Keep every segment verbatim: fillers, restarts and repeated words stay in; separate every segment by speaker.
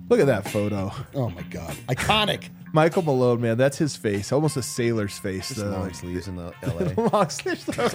Speaker 1: Look at that photo.
Speaker 2: Oh, my God. Iconic.
Speaker 1: Michael Malone, man, that's his face. Almost a sailor's face.
Speaker 3: Just
Speaker 1: uh,
Speaker 3: long sleeves in the L A.
Speaker 1: long sleeves, all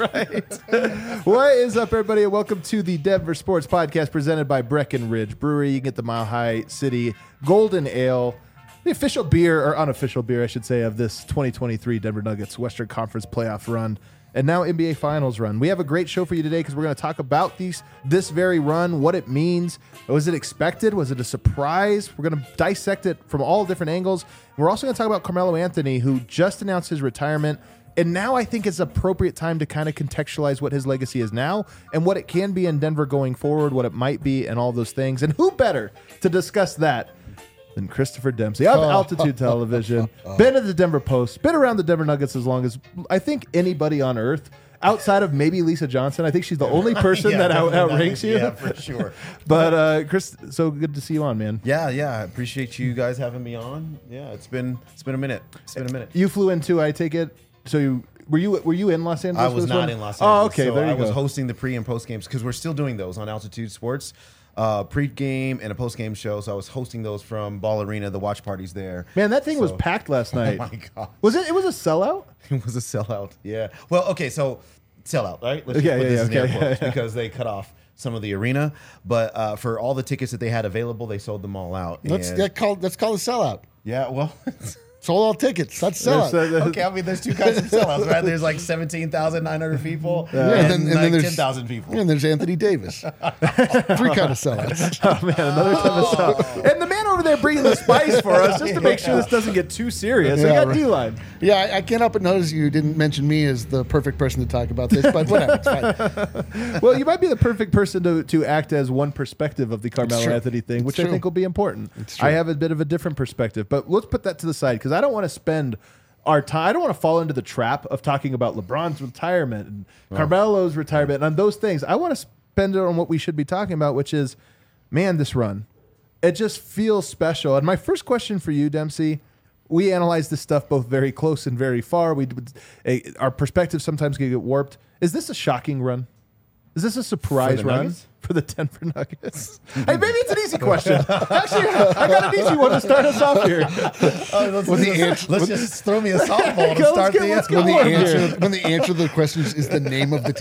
Speaker 1: right. What is up, everybody? And welcome to the Denver Sports Podcast presented by Breckenridge Brewery. You can get the Mile High City Golden Ale, the official beer, or unofficial beer, I should say, of this twenty twenty-three Denver Nuggets Western Conference playoff run. And now N B A Finals run. We have a great show for you today because we're going to talk about these this very run, what it means. Was it expected? Was it a surprise? We're going to dissect it from all different angles. We're also going to talk about Carmelo Anthony, who just announced his retirement. And now I think it's appropriate time to kind of contextualize what his legacy is now and what it can be in Denver going forward, what it might be, and all those things. And who better to discuss that than Christopher Dempsey of Altitude Television, been at the Denver Post, been around the Denver Nuggets as long as I think anybody on earth, outside of maybe Lisa Johnson. I think she's the only person
Speaker 3: yeah,
Speaker 1: that out, outranks you.
Speaker 3: Yeah, for sure.
Speaker 1: But uh, Chris, so good to see you on, man.
Speaker 3: Yeah, yeah. I appreciate you guys having me on. Yeah, it's been it's been a minute. It's been a minute.
Speaker 1: You flew in too, I take it. So you were you were you in Los Angeles?
Speaker 3: I was
Speaker 1: for this
Speaker 3: not
Speaker 1: one?
Speaker 3: in Los Angeles.
Speaker 1: Oh, okay.
Speaker 3: So
Speaker 1: there you
Speaker 3: I
Speaker 1: go.
Speaker 3: was hosting the pre and post games because we're still doing those on Altitude Sports. Uh, pre-game and a post-game show, so I was hosting those from Ball Arena, the watch parties there.
Speaker 1: Man, that thing
Speaker 3: so,
Speaker 1: was packed last night.
Speaker 3: Oh my god,
Speaker 1: was it? It was a sellout.
Speaker 3: It was a sellout. Yeah. Well, okay, so sellout, right? Let's
Speaker 1: Yeah,
Speaker 3: just put
Speaker 1: yeah,
Speaker 3: this
Speaker 1: yeah,
Speaker 3: in air
Speaker 1: okay,
Speaker 3: quotes
Speaker 1: yeah, yeah.
Speaker 3: because they cut off some of the arena, but uh, for all the tickets that they had available, they sold them all out.
Speaker 2: That's,
Speaker 3: and-
Speaker 2: that called, that's called a sellout.
Speaker 3: yeah. Well.
Speaker 2: Sold all tickets. That's sellout.
Speaker 1: There's, uh,
Speaker 3: Okay, I mean, there's two kinds of sellouts, right? There's like seventeen thousand nine hundred people
Speaker 2: Yeah,
Speaker 3: and,
Speaker 2: and then, and then
Speaker 3: like
Speaker 2: there's
Speaker 3: ten thousand people.
Speaker 2: And there's Anthony Davis. Three kind of sellouts.
Speaker 1: Oh man, another time of sellout. And the man over there bringing the spice for us just to make sure this doesn't get too serious. So
Speaker 2: Yeah,
Speaker 1: we got
Speaker 2: right.
Speaker 1: D-line.
Speaker 2: Yeah, I, I can't help but notice you didn't mention me as the perfect person to talk about this, but whatever. It's fine.
Speaker 1: Well, you might be the perfect person to, to act as one perspective of the Carmelo
Speaker 2: true.
Speaker 1: Anthony thing,
Speaker 2: It's
Speaker 1: which I
Speaker 2: true.
Speaker 1: think will be important.
Speaker 2: It's true.
Speaker 1: I have a bit of a different perspective, but let's put that to the side because I don't want to spend our time. I don't want to fall into the trap of talking about LeBron's retirement and Carmelo's retirement and on those things. I want to spend it on what we should be talking about, which is, man, this run. It just feels special. And my first question for you, Dempsey, we analyze this stuff both very close and very far. We uh, our perspectives sometimes can get warped. Is this a shocking run? Is this a surprise
Speaker 3: For the
Speaker 1: run
Speaker 3: Nuggets?
Speaker 1: for the Denver Nuggets? Hey, maybe it's an easy question. Actually, I got an easy one to start us off here.
Speaker 3: Oh, let's,
Speaker 2: When the
Speaker 3: let's-
Speaker 2: answer-
Speaker 3: let's just throw me a softball to
Speaker 1: Let's
Speaker 3: start
Speaker 1: get-
Speaker 3: the
Speaker 1: let's get
Speaker 2: When the,
Speaker 1: warm
Speaker 2: answer,
Speaker 1: here.
Speaker 2: when the answer to the question is, is the name of the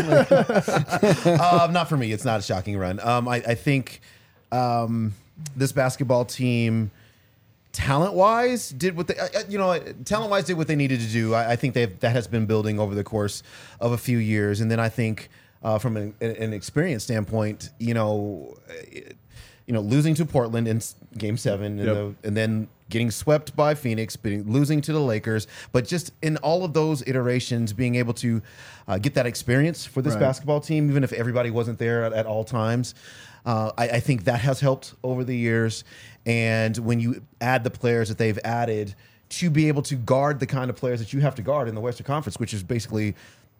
Speaker 2: team.
Speaker 3: um, not for me. It's not a shocking run. Um, I, I think um, this basketball team, talent-wise, did what they, uh, you know, talent-wise did what they needed to do. I, I think they've that has been building over the course of a few years, and then I think uh, from an, an experience standpoint, you know, it, you know, losing to Portland in s- Game Seven, and,
Speaker 1: Yep.
Speaker 3: the, and then getting swept by Phoenix, being, losing to the Lakers, but just in all of those iterations, being able to uh, get that experience for this
Speaker 1: Right.
Speaker 3: basketball team, even if everybody wasn't there at, at all times, uh, I, I think that has helped over the years. And when you add the players that they've added to be able to guard the kind of players that you have to guard in the Western Conference, which is basically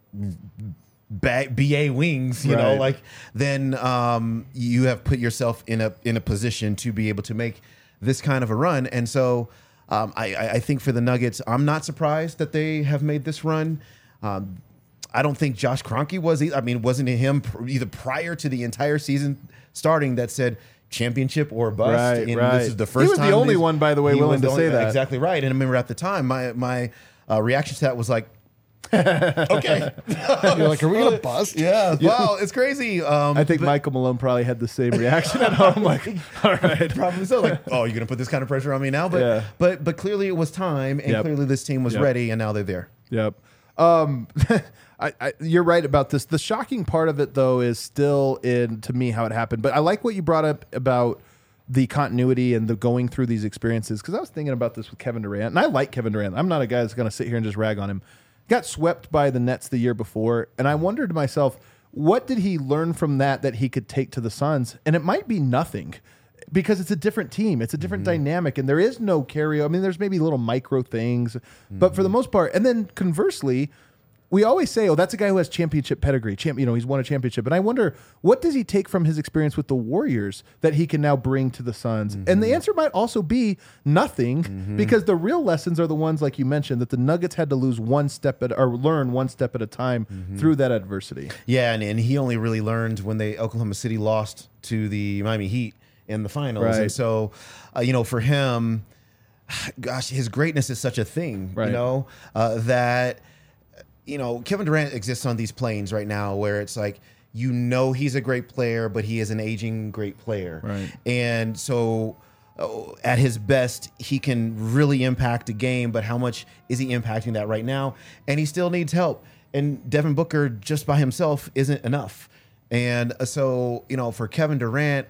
Speaker 3: ba- B A wings, you know,
Speaker 1: Right.
Speaker 3: like then um, you have put yourself in a in a position to be able to make this kind of a run. And so um, I, I I think for the Nuggets, I'm not surprised that they have made this run. Um, I don't think Josh Kroenke was. e- I mean, wasn't it him pr- either prior to the entire season starting that said championship or bust?
Speaker 1: Right,
Speaker 3: and
Speaker 1: right.
Speaker 3: This is the
Speaker 1: He
Speaker 3: first
Speaker 1: was the
Speaker 3: time
Speaker 1: only
Speaker 3: these-
Speaker 1: one, by the way,
Speaker 3: he
Speaker 1: willing
Speaker 3: was the
Speaker 1: to say
Speaker 3: only-
Speaker 1: that.
Speaker 3: Exactly right. And I remember at the time, my my uh, reaction to that was like, okay.
Speaker 2: You're like, are we going to bust?
Speaker 3: Yeah, wow, it's crazy. Um,
Speaker 1: I think
Speaker 3: but
Speaker 1: Michael Malone probably had the same reaction at home. Like, all right.
Speaker 3: probably so. Like, oh, you're gonna put this kind of pressure on me now? But
Speaker 1: Yeah.
Speaker 3: but but clearly it was time, and
Speaker 1: Yep.
Speaker 3: clearly this team was
Speaker 1: Yep.
Speaker 3: ready, and now they're there.
Speaker 1: Yep. Um, I, I, you're right about this. The shocking part of it, though, is still in to me how it happened. But I like what you brought up about the continuity and the going through these experiences because I was thinking about this with Kevin Durant, and I like Kevin Durant. I'm not a guy that's going to sit here and just rag on him. Got swept by the Nets the year before, and I wondered to myself, what did he learn from that that he could take to the Suns? And it might be nothing. Because it's a different team. It's a different
Speaker 3: Mm-hmm.
Speaker 1: dynamic, and there is no carry. I mean, there's maybe little micro things,
Speaker 3: Mm-hmm.
Speaker 1: but for the most part, and then conversely, we always say, "Oh, that's a guy who has championship pedigree. Champ, you know, he's won a championship." And I wonder, what does he take from his experience with the Warriors that he can now bring to the Suns?
Speaker 3: Mm-hmm.
Speaker 1: And the answer might also be nothing, because the real lessons are the ones, like you mentioned, that the Nuggets had to lose one step at or learn one step at a time
Speaker 3: Mm-hmm.
Speaker 1: through that adversity.
Speaker 3: Yeah, and, and he only really learned when they Oklahoma City lost to the Miami Heat in the finals.
Speaker 1: Right.
Speaker 3: And so, uh, you know, for him, gosh, his greatness is such a thing,
Speaker 1: Right.
Speaker 3: you know, uh, that, you know, Kevin Durant exists on these planes right now where it's like, you know, he's a great player, but he is an aging great player.
Speaker 1: Right.
Speaker 3: And so uh, at his best, he can really impact a game, but how much is he impacting that right now? And he still needs help. And Devin Booker just by himself isn't enough. And uh, so, you know, for Kevin Durant,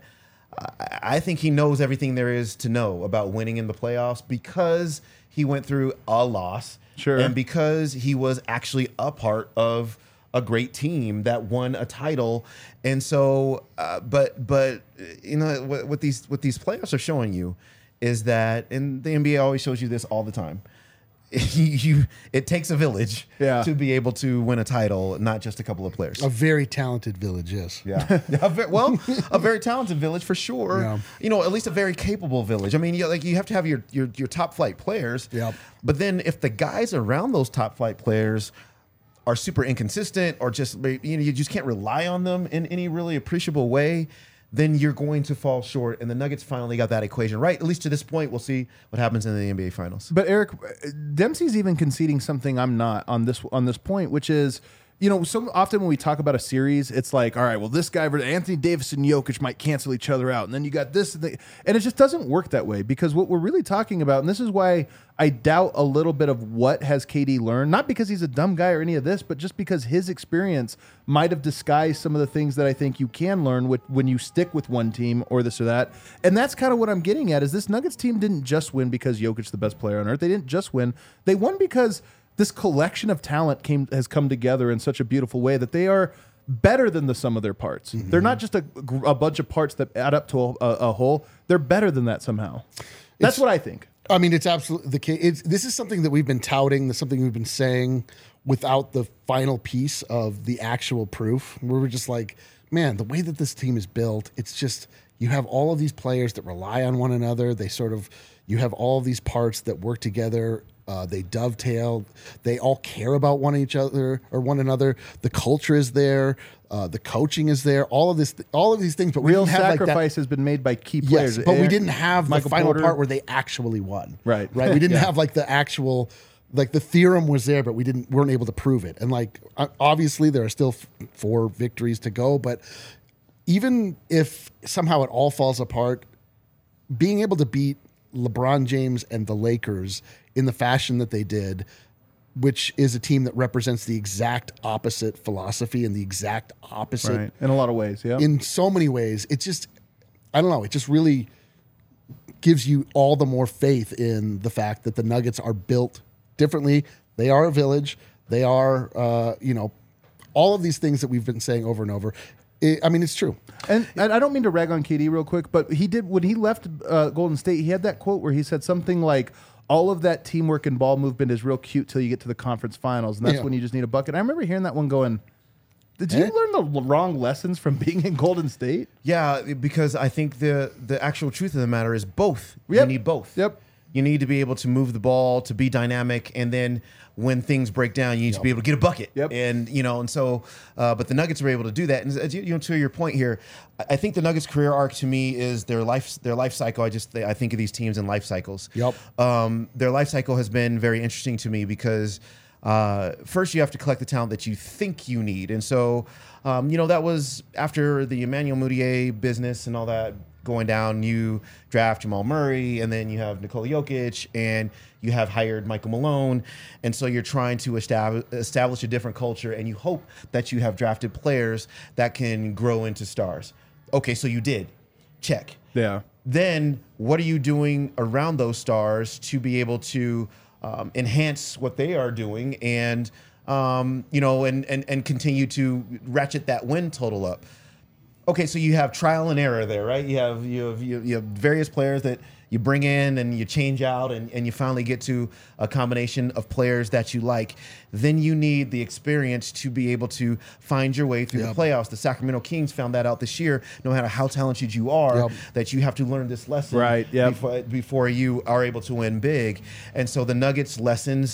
Speaker 3: I, I think he knows everything there is to know about winning in the playoffs because he went through a loss.
Speaker 1: Sure.
Speaker 3: And because he was actually a part of a great team that won a title. And so, uh, but, but, you know, what, what these, what these playoffs are showing you is that, and the N B A always shows you this all the time. You, you, it takes a village
Speaker 1: Yeah.
Speaker 3: to be able to win a title, not just a couple of players.
Speaker 2: A very talented village, yes.
Speaker 3: Yeah. A ve- well, a very talented village for sure.
Speaker 2: Yeah.
Speaker 3: You know, at least a very capable village. I mean, you, like you have to have your your, your top flight players.
Speaker 2: Yep.
Speaker 3: But then if the guys around those top flight players are super inconsistent or just you know you just can't rely on them in any really appreciable way, then you're going to fall short. And the Nuggets finally got that equation right. At least to this point, we'll see what happens in the N B A Finals.
Speaker 1: But Eric, Dempsey's even conceding something I'm not on this on this point, which is, you know, so often when we talk about a series, it's like, all right, well, this guy, Anthony Davis and Jokic might cancel each other out, and then you got this, and, the, and it just doesn't work that way because what we're really talking about, and this is why I doubt a little bit of what has K D learned, not because he's a dumb guy or any of this, but just because his experience might have disguised some of the things that I think you can learn with, when you stick with one team or this or that. And that's kind of what I'm getting at is this Nuggets team didn't just win because Jokic's the best player on earth. They didn't just win. They won because this collection of talent came has come together in such a beautiful way that they are better than the sum of their parts. Mm-hmm. They're not just a, a bunch of parts that add up to a, a, a whole. They're better than that somehow. That's
Speaker 2: It's,
Speaker 1: what I think.
Speaker 2: I mean, it's absolutely the case. It's, this is something that we've been touting, this is something we've been saying without the final piece of the actual proof. Where we're just like, man, the way that this team is built, it's just, you have all of these players that rely on one another. They sort of, you have all of these parts that work together. Uh, they dovetail. They all care about one each other or one another. The culture is there. Uh, the coaching is there. All of this, all of these things. But we
Speaker 1: Real
Speaker 2: didn't have
Speaker 1: sacrifice
Speaker 2: like that.
Speaker 1: has been made by key players.
Speaker 2: Yes, but we
Speaker 1: Eric-
Speaker 2: didn't have
Speaker 1: Michael
Speaker 2: the final
Speaker 1: Porter.
Speaker 2: part where they actually won.
Speaker 1: Right.
Speaker 2: Right. We didn't
Speaker 1: Yeah.
Speaker 2: have like the actual, like the theorem was there, but we didn't weren't able to prove it. And like o- obviously there are still f- four victories to go, but even if somehow it all falls apart, being able to beat LeBron James and the Lakers in the fashion that they did, which is a team that represents the exact opposite philosophy and the exact opposite
Speaker 1: Right. In a lot of ways, yeah.
Speaker 2: in so many ways. It's just, I don't know, it just really gives you all the more faith in the fact that the Nuggets are built differently. They are a village. They are, uh, you know, all of these things that we've been saying over and over. It, I mean, it's true.
Speaker 1: And, and I don't mean to rag on K D real quick, but he did when he left uh, Golden State. He had that quote where he said something like, "All of that teamwork and ball movement is real cute till you get to the conference finals, and that's
Speaker 2: Yeah.
Speaker 1: when you just need a bucket." I remember hearing that one going, "Did you
Speaker 2: Eh?
Speaker 1: learn the wrong lessons from being in Golden State?"
Speaker 3: Yeah, because I think the the actual truth of the matter is both. You
Speaker 1: Yep.
Speaker 3: need both.
Speaker 1: Yep.
Speaker 3: You need to be able to move the ball, to be dynamic, and then when things break down, you need to be able to get a bucket.
Speaker 1: Yep.
Speaker 3: And you know, and so, uh, but the Nuggets were able to do that. And as you, you know, to your point here, I I think the Nuggets' career arc to me is their life their life cycle. I just I think of these teams in life cycles.
Speaker 2: Yep.
Speaker 3: Um, their life cycle has been very interesting to me because uh, first you have to collect the talent that you think you need, and so um, you know that was after the Emmanuel Mudiay business and all that going down. You draft Jamal Murray, and then you have Nikola Jokic, and you have hired Michael Malone, and so you're trying to establish establish a different culture, and you hope that you have drafted players that can grow into stars. Okay, so you did. Check.
Speaker 1: Yeah.
Speaker 3: Then what are you doing around those stars to be able to um, enhance what they are doing and um, you know and, and and continue to ratchet that win total up? Okay, so you have trial and error there, right? You have you have you, you have various players that you bring in and you change out, and, and you finally get to a combination of players that you like. Then you need the experience to be able to find your way through
Speaker 2: Yep.
Speaker 3: the playoffs. The Sacramento Kings found that out this year. No matter how talented you are,
Speaker 2: Yep.
Speaker 3: that you have to learn this lesson
Speaker 1: Right, yep.
Speaker 3: before, before you are able to win big. And so the Nuggets lessons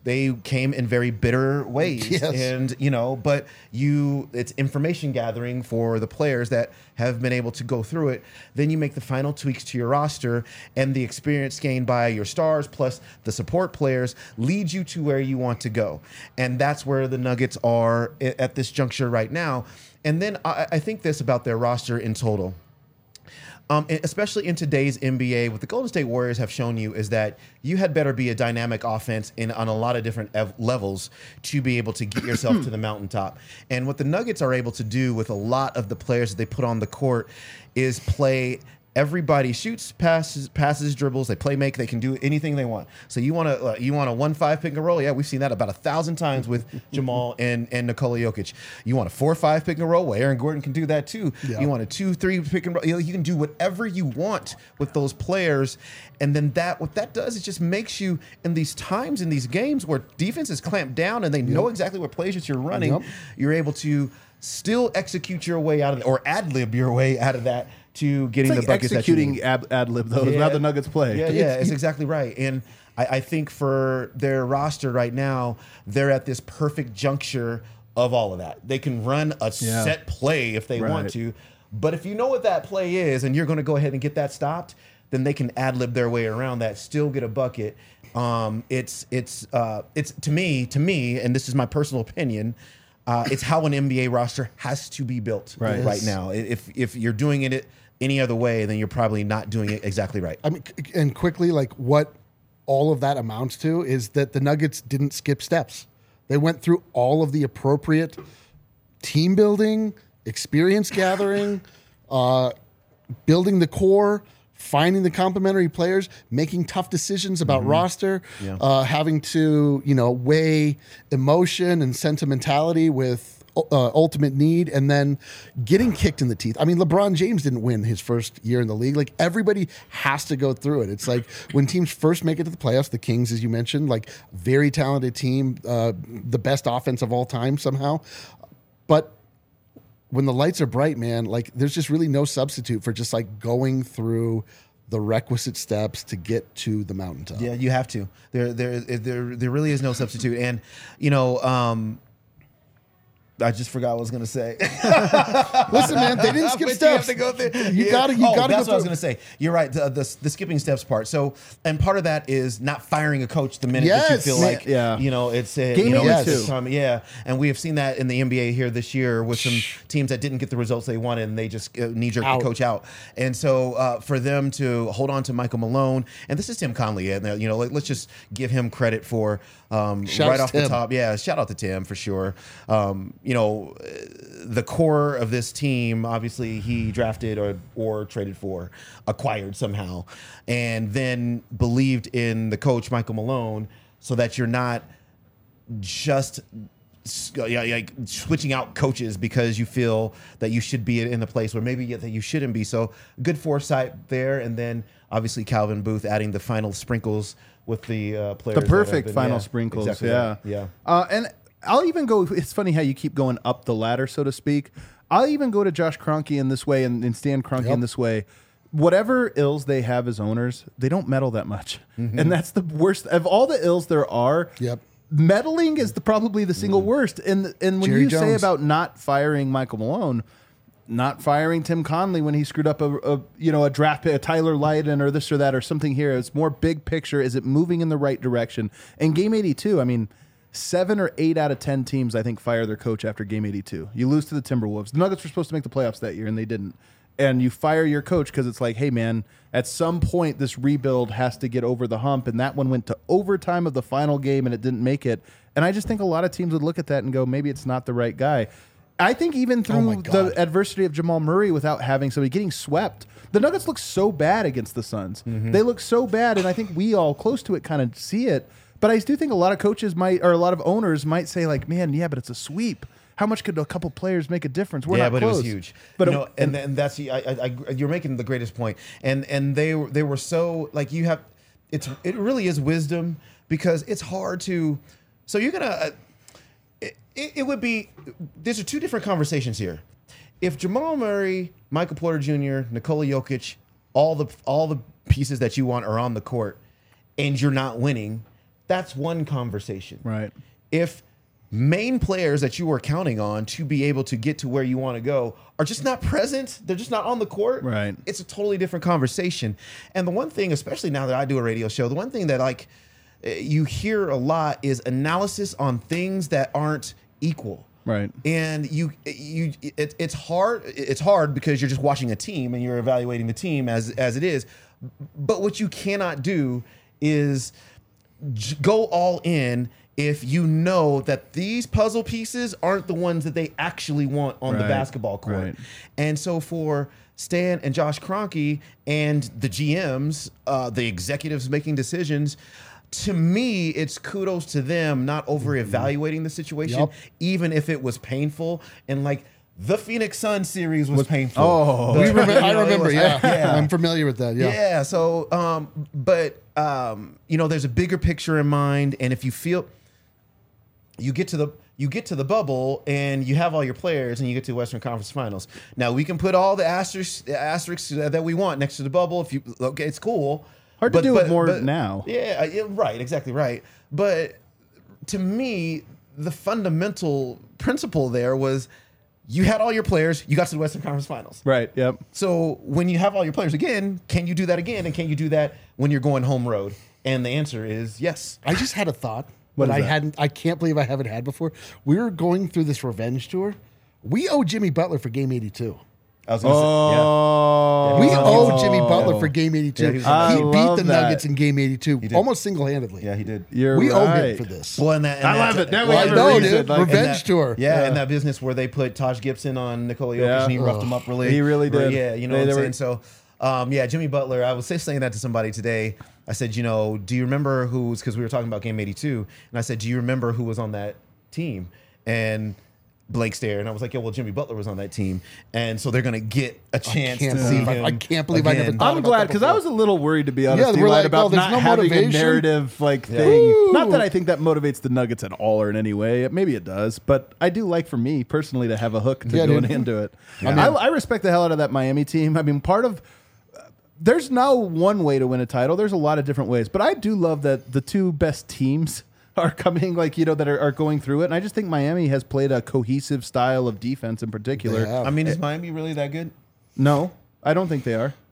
Speaker 3: they came in very bitter ways.
Speaker 2: Yes.
Speaker 3: And, you know, but you, it's information gathering for the players that have been able to go through it. Then you make the final tweaks to your roster, and the experience gained by your stars plus the support players leads you to where you want to go. And that's where the Nuggets are at this juncture right now. And then I, I think this about their roster in total. Um, especially in today's N B A, what the Golden State Warriors have shown you is that you had better be a dynamic offense in on a lot of different ev- levels to be able to get yourself to the mountaintop. And what the Nuggets are able to do with a lot of the players that they put on the court is play. Everybody shoots, passes, passes, dribbles. They play make. They can do anything they want. So you want to uh, you want a one five pick and roll? Yeah, we've seen that about a thousand times with Jamal and and Nikola Jokic. You want a four five pick and roll? Well, Aaron Gordon can do that too. Yeah. You want a two three pick and roll? You know, you can do whatever you want with those players. And then that what that does is just makes you in these times in these games where defense is clamped down and they yep. know exactly what plays that you're running. Yep. You're able to still execute your way out of it or ad lib your way out of that. To getting
Speaker 1: it's like
Speaker 3: the buckets
Speaker 1: executing
Speaker 3: that you
Speaker 1: ad, ad lib though.
Speaker 3: Yeah.
Speaker 1: Now the Nuggets play.
Speaker 3: Yeah, yeah, it's exactly right. And I, I think for their roster right now, they're at this perfect juncture of all of that. They can run a
Speaker 1: Yeah.
Speaker 3: set play if they
Speaker 1: Right.
Speaker 3: want to, but if you know what that play is and you're going to go ahead and get that stopped, then they can ad lib their way around that, still get a bucket. Um, it's it's uh, it's to me to me, and this is my personal opinion. Uh, it's how an N B A roster has to be built
Speaker 1: Right.
Speaker 3: right
Speaker 1: Yes.
Speaker 3: now. If if you're doing it any other way, then you're probably not doing it exactly right.
Speaker 2: I mean, c- and quickly, like what all of that amounts to is that the Nuggets didn't skip steps. They went through all of the appropriate team building, experience gathering, uh, building the core, finding the complementary players, making tough decisions about mm-hmm. roster,
Speaker 3: Yeah.
Speaker 2: uh, having to, you know, weigh emotion and sentimentality with uh, ultimate need, and then getting kicked in the teeth. I mean, LeBron James didn't win his first year in the league. Like, everybody has to go through it. It's like when teams first make it to the playoffs, the Kings, as you mentioned, like very talented team, uh, the best offense of all time somehow. But when the lights are bright, man, like there's just really no substitute for just like going through the requisite steps to get to the mountaintop.
Speaker 3: Yeah, you have to. There, there, there, there really is no substitute. And you know, um, I just forgot what I was going to say.
Speaker 2: Listen, man, they didn't skip
Speaker 3: But
Speaker 2: steps.
Speaker 3: You have to go through.
Speaker 2: You
Speaker 3: Yeah.
Speaker 2: gotta, you
Speaker 3: oh,
Speaker 2: gotta
Speaker 3: that's
Speaker 2: go
Speaker 3: what I was
Speaker 2: through.
Speaker 3: going to say. You're right. The, the the skipping steps part. So, and part of that is not firing a coach the minute that you
Speaker 2: Yes.
Speaker 3: feel like,
Speaker 1: Yeah.
Speaker 3: you know, it's uh,
Speaker 1: Game
Speaker 3: you know,
Speaker 1: eighty-two.
Speaker 3: it's time. Yeah, and we have seen that in the N B A here this year with some teams that didn't get the results they wanted, and they just uh, knee jerk the
Speaker 2: Out.
Speaker 3: coach out. And so, uh, for them to hold on to Michael Malone, and this is Tim Conley, and uh, you know, like, let's just give him credit for um,
Speaker 2: Shouts
Speaker 3: right off the
Speaker 2: Tim.
Speaker 3: top. Yeah, shout out to Tim for sure. Um, you know, the core of this team, obviously, he drafted or or traded for, acquired somehow, and then believed in the coach Michael Malone, so that you're not just yeah, like switching out coaches because you feel that you should be in the place where maybe that you shouldn't be. So good foresight there, and then obviously Calvin Booth adding the final sprinkles with the uh, players.
Speaker 1: The
Speaker 3: that have
Speaker 1: perfect
Speaker 3: been-
Speaker 1: final
Speaker 3: yeah,
Speaker 1: sprinkles.
Speaker 3: exactly
Speaker 1: yeah.
Speaker 3: right. Yeah.
Speaker 1: Uh, and I'll even go. It's funny how you keep going up the ladder, so to speak. I'll even go to Josh Kroenke in this way and, and Stan Kroenke
Speaker 2: Yep.
Speaker 1: in this way. Whatever ills they have as owners, they don't meddle that much,
Speaker 3: Mm-hmm.
Speaker 1: and that's the worst of all the ills there are.
Speaker 2: Yep.
Speaker 1: Meddling is the, probably the single worst. And and when
Speaker 2: Jerry
Speaker 1: you say
Speaker 2: Jones.
Speaker 1: about not firing Michael Malone, not firing Tim Conley when he screwed up a, a you know a draft pick, a Tyler Lydon or this or that or something here. It's more big picture. Is it moving in the right direction? And game eighty-two, I mean, seven or eight out of ten teams I think fire their coach after game eighty-two. You lose to the Timberwolves. The Nuggets were supposed to make the playoffs that year and they didn't. And you fire your coach because it's like, hey man, at some point this rebuild has to get over the hump. And that one went to overtime of the final game and it didn't make it. And I just think a lot of teams would look at that and go, maybe it's not the right guy. I think even
Speaker 2: Oh my
Speaker 1: through
Speaker 2: God.
Speaker 1: the adversity of Jamal Murray without having somebody getting swept, the Nuggets look so bad against the Suns.
Speaker 2: Mm-hmm.
Speaker 1: They look so bad, and I think we all close to it kind of see it. But I do think a lot of coaches might, or a lot of owners might say, like, man, yeah, but it's a sweep. How much could a couple players make a difference? We're
Speaker 3: yeah,
Speaker 1: not
Speaker 3: but
Speaker 1: close.
Speaker 3: it was huge.
Speaker 1: But
Speaker 3: you
Speaker 1: it-
Speaker 3: know, and and that's I, I, I, you're making the greatest point. And and they were- they were so like you have, it's it really is wisdom because it's hard to. So you're gonna. Uh, it, it would be. These are two different conversations here. If Jamal Murray, Michael Porter Junior, Nikola Jokic, all the all the pieces that you want are on the court, and you're not winning, that's one conversation.
Speaker 1: Right.
Speaker 3: If main players that you are counting on to be able to get to where you want to go are just not present, they're just not on the court,
Speaker 1: Right.
Speaker 3: it's a totally different conversation. And the one thing, especially now that I do a radio show, the one thing that like you hear a lot is analysis on things that aren't equal.
Speaker 1: Right.
Speaker 3: And you, you, it, it's hard. It's hard because you're just watching a team and you're evaluating the team as as it is. But what you cannot do is j- go all in if you know that these puzzle pieces aren't the ones that they actually want on the
Speaker 1: Right.
Speaker 3: basketball court.
Speaker 1: Right.
Speaker 3: And so for Stan and Josh Kroenke and the G Ms, uh, the executives making decisions, to me, it's kudos to them not over evaluating the situation,
Speaker 2: Yep.
Speaker 3: even if it was painful. And like the Phoenix Sun series was painful.
Speaker 1: Oh.
Speaker 3: The-
Speaker 2: We remember,
Speaker 3: you
Speaker 2: I
Speaker 3: know, it
Speaker 2: remember.
Speaker 3: was-
Speaker 2: Yeah.
Speaker 3: yeah.
Speaker 2: I'm familiar with that. Yeah.
Speaker 3: Yeah. So, um, but um, you know, there's a bigger picture in mind, and if you feel you get to the you get to the bubble and you have all your players and you get to the Western Conference Finals. Now we can put all the asterisks, asterisks that we want next to the bubble. If you okay, it's cool.
Speaker 1: Hard to do it more now.
Speaker 3: Yeah, yeah, right, exactly right. But to me, the fundamental principle there was you had all your players, you got to the Western Conference Finals.
Speaker 1: Right. Yep.
Speaker 3: So when you have all your players again, can you do that again? And can you do that when you're going home road? And the answer is yes.
Speaker 2: I just had a thought
Speaker 1: What
Speaker 2: that
Speaker 1: is
Speaker 2: I
Speaker 1: that?
Speaker 2: hadn't. I can't believe I haven't had before. We were going through this revenge tour. We owe Jimmy Butler for Game eighty-two.
Speaker 3: I was gonna
Speaker 1: Oh.
Speaker 2: We
Speaker 3: Yeah.
Speaker 2: owe
Speaker 3: Oh.
Speaker 2: Jimmy Butler for Game eighty-two.
Speaker 3: Yeah,
Speaker 2: he
Speaker 3: he was on
Speaker 1: that.
Speaker 2: beat
Speaker 1: I love
Speaker 2: the
Speaker 1: that.
Speaker 2: Nuggets in Game eighty-two
Speaker 3: did.
Speaker 2: almost single-handedly.
Speaker 3: say, yeah, he did.
Speaker 1: You're
Speaker 2: we owe him
Speaker 1: right.
Speaker 2: for this.
Speaker 3: Well, and that, and
Speaker 1: I
Speaker 3: that-
Speaker 1: love it. Now we
Speaker 2: Well,
Speaker 1: have
Speaker 2: I
Speaker 1: a
Speaker 2: know,
Speaker 1: reason,
Speaker 2: dude.
Speaker 1: like-
Speaker 2: Revenge
Speaker 3: and that-
Speaker 2: tour.
Speaker 3: Yeah,
Speaker 1: Yeah.
Speaker 3: and that business where they put Taj Gibson on Nikola Jokic
Speaker 1: Yeah.
Speaker 3: and he roughed him up really.
Speaker 1: He really
Speaker 3: really-
Speaker 1: did.
Speaker 3: Yeah, you know
Speaker 1: They-
Speaker 3: what I'm
Speaker 1: they
Speaker 3: saying?
Speaker 1: were-
Speaker 3: So, um, yeah, Jimmy Butler, I was just saying that to somebody today. I said, you know, do you remember who was, because we were talking about Game eighty-two, and I said, do you remember who was on that team? And Blake stared, and I was like, "Yeah, well, Jimmy Butler was on that team, and so they're gonna get a chance
Speaker 2: can't
Speaker 3: to see
Speaker 2: believe I-
Speaker 3: him."
Speaker 2: I can't believe I never
Speaker 3: again.
Speaker 2: thought
Speaker 1: I'm
Speaker 2: about
Speaker 1: glad
Speaker 2: that
Speaker 1: because I
Speaker 2: before.
Speaker 1: was a little worried, to be honest,
Speaker 2: Yeah, we're
Speaker 1: Eli,
Speaker 2: like,
Speaker 1: about
Speaker 2: oh, there's
Speaker 1: not
Speaker 2: no
Speaker 1: having a
Speaker 2: motivation?
Speaker 1: narrative like
Speaker 3: Yeah.
Speaker 1: thing.
Speaker 2: Woo!
Speaker 1: Not that I think that motivates the Nuggets at all or in any way. Maybe it does, but I do like for me personally to have a hook to
Speaker 2: Yeah,
Speaker 1: going
Speaker 2: dude.
Speaker 1: into it.
Speaker 2: Yeah.
Speaker 1: I, I respect the hell out of that Miami team. I mean, part of there's no one way to win a title. There's a lot of different ways, but I do love that the two best teams are coming, like, you know, that are, are going through it. And I just think Miami has played a cohesive style of defense in particular.
Speaker 2: They have.
Speaker 3: I mean, is Miami really that good?
Speaker 1: No, I don't think they are.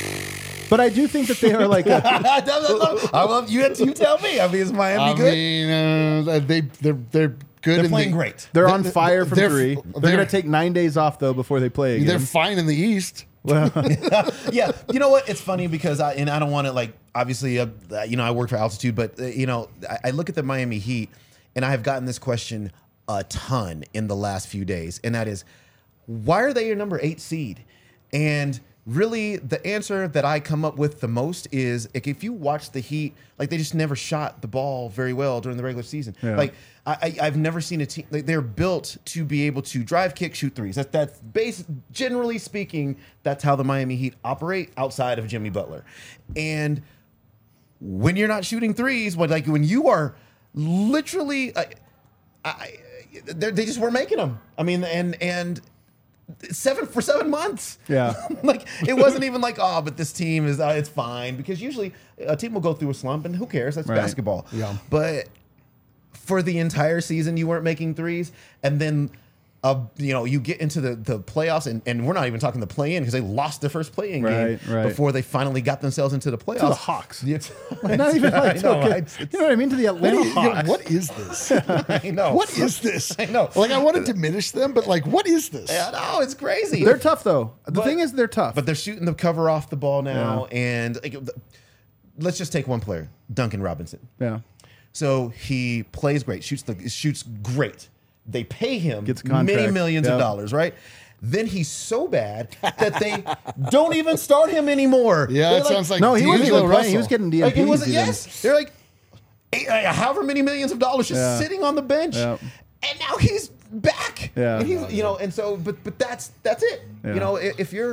Speaker 1: But I do think that they are like a,
Speaker 3: I love you. You tell me. I mean, is Miami
Speaker 2: I
Speaker 3: good?
Speaker 2: mean, uh, they they're they're good.
Speaker 3: They're
Speaker 2: in
Speaker 3: playing
Speaker 2: the,
Speaker 3: great.
Speaker 1: they're
Speaker 2: They're-
Speaker 1: on fire from
Speaker 2: they're-
Speaker 1: three.
Speaker 2: they're-
Speaker 1: They're going to take nine days off though before they play again.
Speaker 2: They're fine in the East.
Speaker 1: well,
Speaker 3: Yeah, you know what? It's funny because I and I don't want to like obviously uh, you know I work for Altitude, but uh, you know I, I look at the Miami Heat and I have gotten this question a ton in the last few days, and that is why are they your number eight seed? And really, the answer that I come up with the most is like, if you watch the Heat, like they just never shot the ball very well during the regular season.
Speaker 1: Yeah.
Speaker 3: Like I, I, I've never seen a team. Like they're built to be able to drive, kick, shoot threes. That's that's base. Generally speaking, that's how the Miami Heat operate outside of Jimmy Butler. And when you're not shooting threes, when like when you are literally, I, I, they're- they just weren't making them. I mean, and and. Seven for seven months.
Speaker 1: Yeah.
Speaker 3: Like it wasn't even like, oh, but this team is uh, it's fine, because usually a team will go through a slump and who cares? That's
Speaker 1: Right.
Speaker 3: basketball.
Speaker 2: Yeah.
Speaker 3: But for the entire season, you weren't making threes, and then uh, you know you get into the the playoffs, and, and we're not even talking the play in because they lost their first play in
Speaker 1: Right,
Speaker 3: game
Speaker 1: right.
Speaker 3: before they finally got themselves into the playoffs.
Speaker 1: to the Hawks.
Speaker 3: Yeah.
Speaker 1: Not even like
Speaker 3: I know,
Speaker 1: okay.
Speaker 3: I-
Speaker 1: You know what I mean? To the Atlanta
Speaker 2: What is, you know,
Speaker 1: Hawks.
Speaker 2: what is this?
Speaker 3: I know.
Speaker 2: What is this?
Speaker 3: I know.
Speaker 2: Like, I want to diminish them, but like, what is this?
Speaker 3: I know, it's crazy.
Speaker 1: They're tough though. The
Speaker 3: But-
Speaker 1: thing is, they're tough.
Speaker 3: But they're shooting the cover off the ball now, and like, th- let's just take one player, Duncan Robinson.
Speaker 1: yeah.
Speaker 3: So he plays great, shoots the shoots great. They pay him
Speaker 1: Gets a
Speaker 3: many
Speaker 1: contract.
Speaker 3: millions
Speaker 1: Yep.
Speaker 3: of dollars, right? Then he's so bad that they don't even start him anymore.
Speaker 2: Yeah,
Speaker 3: They're
Speaker 2: it sounds like
Speaker 1: No, he wasn't
Speaker 2: D'Angelo
Speaker 1: even playing. He
Speaker 2: Russell.
Speaker 1: was getting D M
Speaker 3: like
Speaker 1: Ps.
Speaker 3: it wasn't.
Speaker 1: even.
Speaker 3: Yes, they're like eight, uh, however many millions of dollars just
Speaker 1: Yeah.
Speaker 3: sitting on the bench,
Speaker 1: Yeah.
Speaker 3: and now he's back.
Speaker 1: Yeah.
Speaker 3: and he's you know, and so but but that's that's it.
Speaker 1: Yeah.
Speaker 3: You know, i- if you're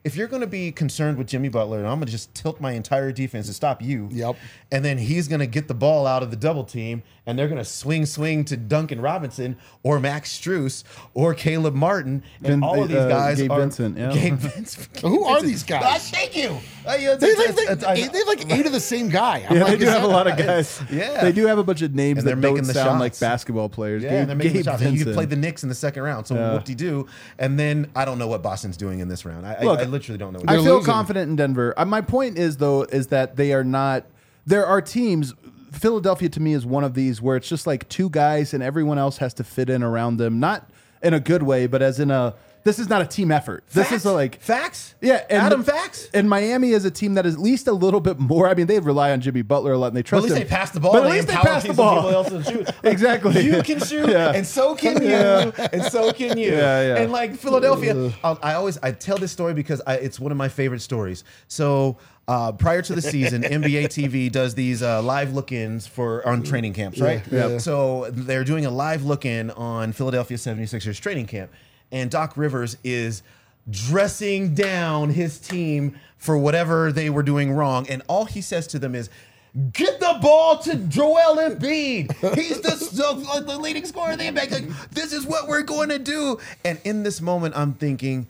Speaker 3: if you're going to be concerned with Jimmy Butler, I'm going to just tilt my entire defense to stop you.
Speaker 2: Yep.
Speaker 3: And then he's going to get the ball out of the double team, and they're going to swing, swing to Duncan Robinson or Max Strus or Caleb Martin, and
Speaker 1: Vin-
Speaker 3: all of these
Speaker 1: uh,
Speaker 3: guys
Speaker 1: Gabe
Speaker 3: are
Speaker 1: Vincent, yeah.
Speaker 3: Gabe Vincent.
Speaker 2: Who are
Speaker 3: Vincent.
Speaker 2: these guys?
Speaker 3: Ah, thank you. Uh, yeah, it's-
Speaker 2: They,
Speaker 3: it's-
Speaker 2: like, they,
Speaker 3: it's- it's-
Speaker 2: they have like eight of the same guy. I'm
Speaker 1: Yeah,
Speaker 2: like,
Speaker 1: they do
Speaker 2: is
Speaker 1: have a
Speaker 2: that-
Speaker 1: lot of guys.
Speaker 3: Yeah.
Speaker 1: They do have a bunch of names
Speaker 3: And
Speaker 1: that
Speaker 3: they're
Speaker 1: don't
Speaker 3: making the
Speaker 1: sound like
Speaker 3: shots.
Speaker 1: basketball players.
Speaker 3: Yeah,
Speaker 1: Gabe,
Speaker 3: and they're making
Speaker 1: Gabe
Speaker 3: the shots. And you
Speaker 1: Vincent.
Speaker 3: could play the Knicks in the second round. So
Speaker 1: Yeah.
Speaker 3: whoop-de-doo. And then I don't know what Boston's doing in this round. I,
Speaker 1: Look,
Speaker 3: I, I literally don't know. What
Speaker 1: I
Speaker 3: they're
Speaker 1: feel
Speaker 2: losing.
Speaker 1: confident in Denver. Uh, my point is, though, is that they are not. There are teams. Philadelphia, to me, is one of these where it's just like two guys and everyone else has to fit in around them. Not in a good way, but as in a. This is not a team effort. This is a, like
Speaker 3: facts.
Speaker 1: Yeah, and
Speaker 3: Adam
Speaker 1: the-
Speaker 3: facts.
Speaker 1: And Miami is a team that is at least a little bit more. I mean, they rely on Jimmy Butler a lot, and they
Speaker 3: But
Speaker 1: trust
Speaker 3: at least
Speaker 1: him.
Speaker 3: they pass the ball.
Speaker 1: But at
Speaker 3: and
Speaker 1: least they
Speaker 3: empower
Speaker 1: pass the
Speaker 3: people-
Speaker 1: ball.
Speaker 3: people else to shoot.
Speaker 1: Exactly.
Speaker 3: You can shoot,
Speaker 1: Yeah.
Speaker 3: and so can you,
Speaker 1: Yeah.
Speaker 3: and so can you.
Speaker 1: Yeah, yeah.
Speaker 3: And like Philadelphia, I'll, I always I tell this story because I, it's one of my favorite stories. So uh, prior to the season, N B A T V does these uh, live look-ins for on training camps, right?
Speaker 2: Yeah, yeah.
Speaker 3: So they're doing a live look-in on Philadelphia seventy-sixers training camp, and Doc Rivers is dressing down his team for whatever they were doing wrong, and all he says to them is, "Get the ball to Joel Embiid. He's the, the, the leading scorer of the N B A. Like, this is what we're going to do." And in this moment, I'm thinking,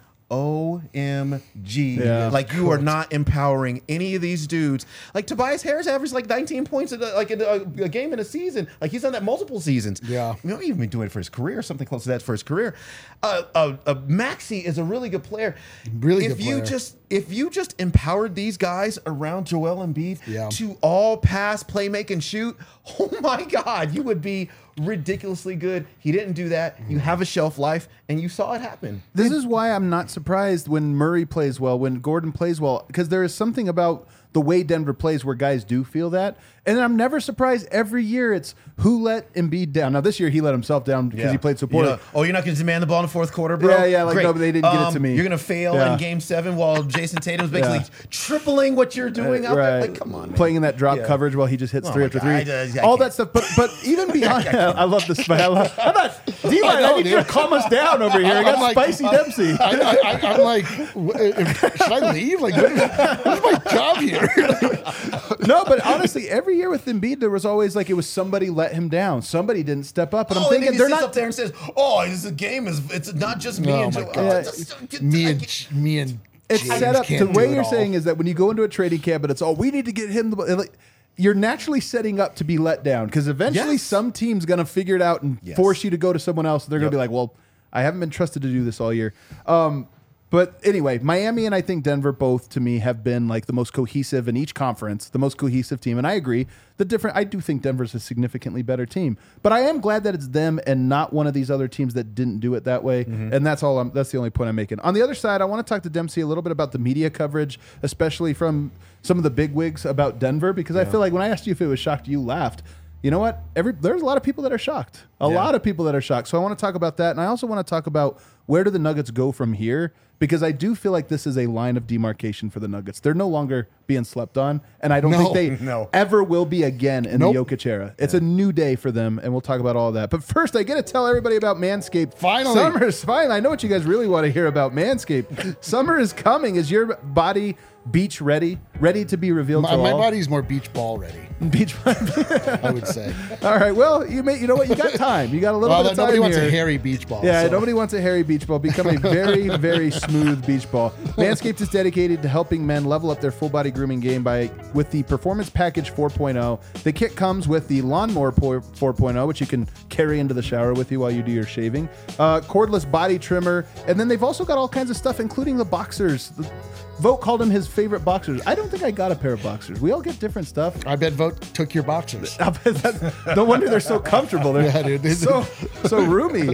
Speaker 3: O M G.
Speaker 1: Yeah.
Speaker 3: Like, you are not empowering any of these dudes. Like, Tobias Harris averaged like nineteen points in a, like in a, a game in a season. Like, he's done that multiple seasons.
Speaker 2: Yeah.
Speaker 3: You know, even been doing it for his career, something close to that for his career. Uh, uh, uh, Maxey is a really good player.
Speaker 2: Really
Speaker 3: if
Speaker 2: good
Speaker 3: you
Speaker 2: player.
Speaker 3: just if you just empowered these guys around Joel Embiid
Speaker 2: Yeah.
Speaker 3: to all pass, play, make, and shoot, oh my God, you would be ridiculously good. He didn't do that. You have a shelf life, and you saw it happen.
Speaker 1: This is why I'm not surprised when Murray plays well, when Gordon plays well, because there is something about the way Denver plays where guys do feel that. And I'm never surprised every year it's who let Embiid down. Now, this year he let himself down because
Speaker 3: Yeah.
Speaker 1: he played so
Speaker 3: You
Speaker 1: poorly.
Speaker 3: know, oh, you're not going to demand the ball in the fourth quarter, bro?
Speaker 1: Yeah, yeah, like,
Speaker 3: Great.
Speaker 1: no, but they didn't get it to
Speaker 3: Um,
Speaker 1: me.
Speaker 3: You're going to fail
Speaker 1: Yeah.
Speaker 3: in game seven while Jason Tatum's basically
Speaker 1: Yeah.
Speaker 3: tripling what you're doing out there.
Speaker 1: Right.
Speaker 3: Like, come on, man.
Speaker 1: Playing in that drop
Speaker 3: Yeah.
Speaker 1: coverage while he just hits
Speaker 3: Oh
Speaker 1: three
Speaker 3: my
Speaker 1: after
Speaker 3: God.
Speaker 1: three.
Speaker 3: I just- I
Speaker 1: All
Speaker 3: can't.
Speaker 1: that stuff. But but even beyond that, I love this. I, love, I thought, D-Line,
Speaker 2: I
Speaker 1: I,
Speaker 2: know,
Speaker 1: need you to
Speaker 2: dude.
Speaker 1: calm us down over here. I got
Speaker 2: I'm like-
Speaker 1: Spicy Dempsey.
Speaker 2: I, I, I, I'm like, w- if- should I leave? Like, what is, what is my job here?
Speaker 1: No, but honestly, every year with Embiid, there was always like it was somebody let him down. Somebody didn't step up. And I'm
Speaker 3: Oh, and then
Speaker 1: thinking
Speaker 3: he
Speaker 1: they're
Speaker 3: sits
Speaker 1: not
Speaker 3: up there and says, "Oh, this is- game is it's not just me
Speaker 2: Oh
Speaker 3: and
Speaker 2: my
Speaker 3: Joel."
Speaker 2: God.
Speaker 3: Oh, it's just-
Speaker 2: me
Speaker 3: I
Speaker 2: and
Speaker 3: can't-
Speaker 2: me and
Speaker 1: It's
Speaker 2: James
Speaker 1: set up.
Speaker 2: can't
Speaker 1: The
Speaker 2: do
Speaker 1: way
Speaker 2: it
Speaker 1: you're
Speaker 2: all.
Speaker 1: saying is that when you go into a trading camp and it's all we need to get him the ball, like, you're naturally setting up to be let down because eventually
Speaker 3: Yes.
Speaker 1: some team's going to figure it out and
Speaker 3: Yes.
Speaker 1: force you to go to someone else. They're going
Speaker 3: Yep.
Speaker 1: to be like, well, I haven't been trusted to do this all year. Um, but anyway, Miami and I think Denver both to me have been like the most cohesive in each conference, the most cohesive team. And I agree. The different, I do think Denver's a significantly better team, but I am glad that it's them and not one of these other teams that didn't do it that way. And that's all. I'm, that's the only point I'm making. On the other side, I want to talk to Dempsey a little bit about the media coverage, especially from some of the bigwigs about Denver, because I feel like when I asked you if it was shocked, you laughed. You know what? Every there's a lot of people that are shocked. A
Speaker 3: Yeah.
Speaker 1: lot of people that are shocked. So I want to talk about that, and I also want to talk about where do the Nuggets go from here, because I do feel like this is a line of demarcation for the Nuggets. They're no longer being slept on, and I don't
Speaker 2: No,
Speaker 1: think they
Speaker 3: no.
Speaker 1: ever will be again in
Speaker 2: Nope.
Speaker 1: the Jokic era. It's a new day for them, and we'll talk about all that. But first, I got to tell everybody about Manscaped.
Speaker 2: Finally.
Speaker 1: Summer's finally. I know what you guys really want to hear about Manscaped. Summer is coming. Is your body beach ready? Ready to be revealed
Speaker 2: My,
Speaker 1: to
Speaker 2: my
Speaker 1: all?
Speaker 2: body's more beach ball ready,
Speaker 1: Beach
Speaker 2: I would say.
Speaker 1: All right. Well, you may. You know what? You got time. You got a little
Speaker 2: Well,
Speaker 1: bit of time
Speaker 2: nobody wants
Speaker 1: here.
Speaker 2: a hairy beach ball.
Speaker 1: Yeah,
Speaker 2: so.
Speaker 1: nobody wants a hairy beach ball. Become a very, very smooth beach ball. Manscaped is dedicated to helping men level up their full body grooming game by with the Performance Package four point oh. The kit comes with the Lawnmower four point oh, which you can carry into the shower with you while you do your shaving. Uh, cordless body trimmer, and then they've also got all kinds of stuff, including the boxers. Vogt called them his favorite boxers. I don't think I got a pair of boxers. We all get different stuff.
Speaker 2: I bet Vote took your boxers.
Speaker 1: No wonder they're so comfortable. They're
Speaker 2: Yeah, dude.
Speaker 1: so so roomy.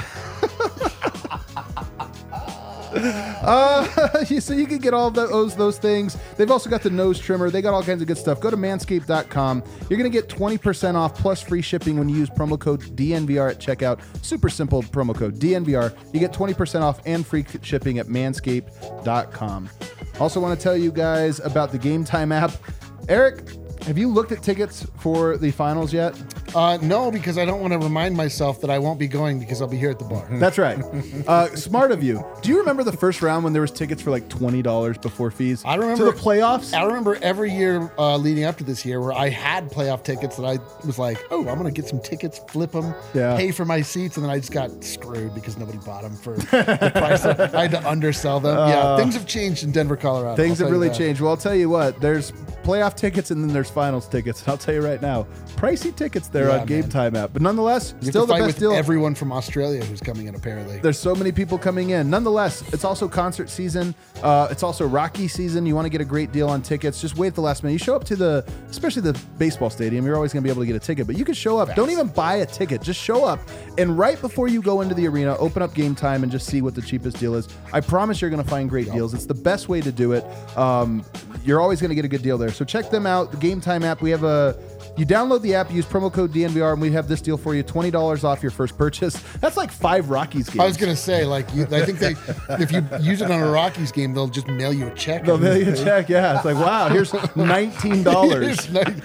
Speaker 1: Uh, so you can get all those those things. They've also got the nose trimmer. They got all kinds of good stuff. Go to manscaped dot com. You're going to get twenty percent off plus free shipping when you use promo code D N V R at checkout. Super simple promo code D N V R. You get twenty percent off and free shipping at manscaped dot com. Also want to tell you guys about the Game Time app. Eric, have you looked at tickets for the finals yet?
Speaker 2: Uh, no, because I don't want to remind myself that I won't be going because I'll be here at the bar.
Speaker 1: That's right. Uh, smart of you. Do you remember the first round when there was tickets for like twenty dollars before fees?
Speaker 2: I remember
Speaker 1: to the playoffs.
Speaker 2: I remember every year uh, leading up to this year where I had playoff tickets that I was like, oh, I'm going to get some tickets, flip them,
Speaker 1: Yeah.
Speaker 2: pay for my seats, and then I just got screwed because nobody bought them for the price. I had to undersell them.
Speaker 1: Uh,
Speaker 2: yeah, things have changed in Denver, Colorado.
Speaker 1: Things
Speaker 2: I'll
Speaker 1: have
Speaker 2: tell you
Speaker 1: really
Speaker 2: that.
Speaker 1: changed. Well, I'll tell you what. There's playoff tickets and then there's finals tickets. And I'll tell you right now, pricey tickets there
Speaker 2: Yeah,
Speaker 1: on Game
Speaker 2: man.
Speaker 1: Time app. But nonetheless,
Speaker 2: You
Speaker 1: still
Speaker 2: have to
Speaker 1: the
Speaker 2: fight
Speaker 1: best
Speaker 2: with
Speaker 1: deal.
Speaker 2: everyone from Australia who's coming in, apparently.
Speaker 1: There's so many people coming in. Nonetheless, it's also concert season. Uh, it's also Rocky season. You want to get a great deal on tickets. Just wait at the last minute. You show up to the, especially the baseball stadium, you're always going to be able to get a ticket. But you can show up.
Speaker 2: Fast.
Speaker 1: Don't even buy a ticket. Just show up. And right before you go into the arena, open up Game Time and just see what the cheapest deal is. I promise you're going to find great deals. It's the best way to do it. Um, you're always going to get a good deal there. So check them out. The Game Time app. We have a... You download the app, use promo code D N V R, and we have this deal for you: twenty dollars off your first purchase. That's like five Rockies games.
Speaker 2: I was gonna say, like, you, I think they, if you use it on a Rockies game, they'll just mail you a check.
Speaker 1: They'll mail you a check, yeah. It's like, wow, here's nineteen dollars.
Speaker 2: Here's nine-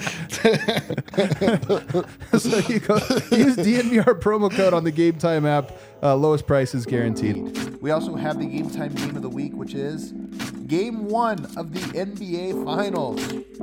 Speaker 1: So you go use D N V R promo code on the Game Time app. Uh, lowest price is guaranteed. We also have the Game Time game of the week, which is Game One of the N B A Finals.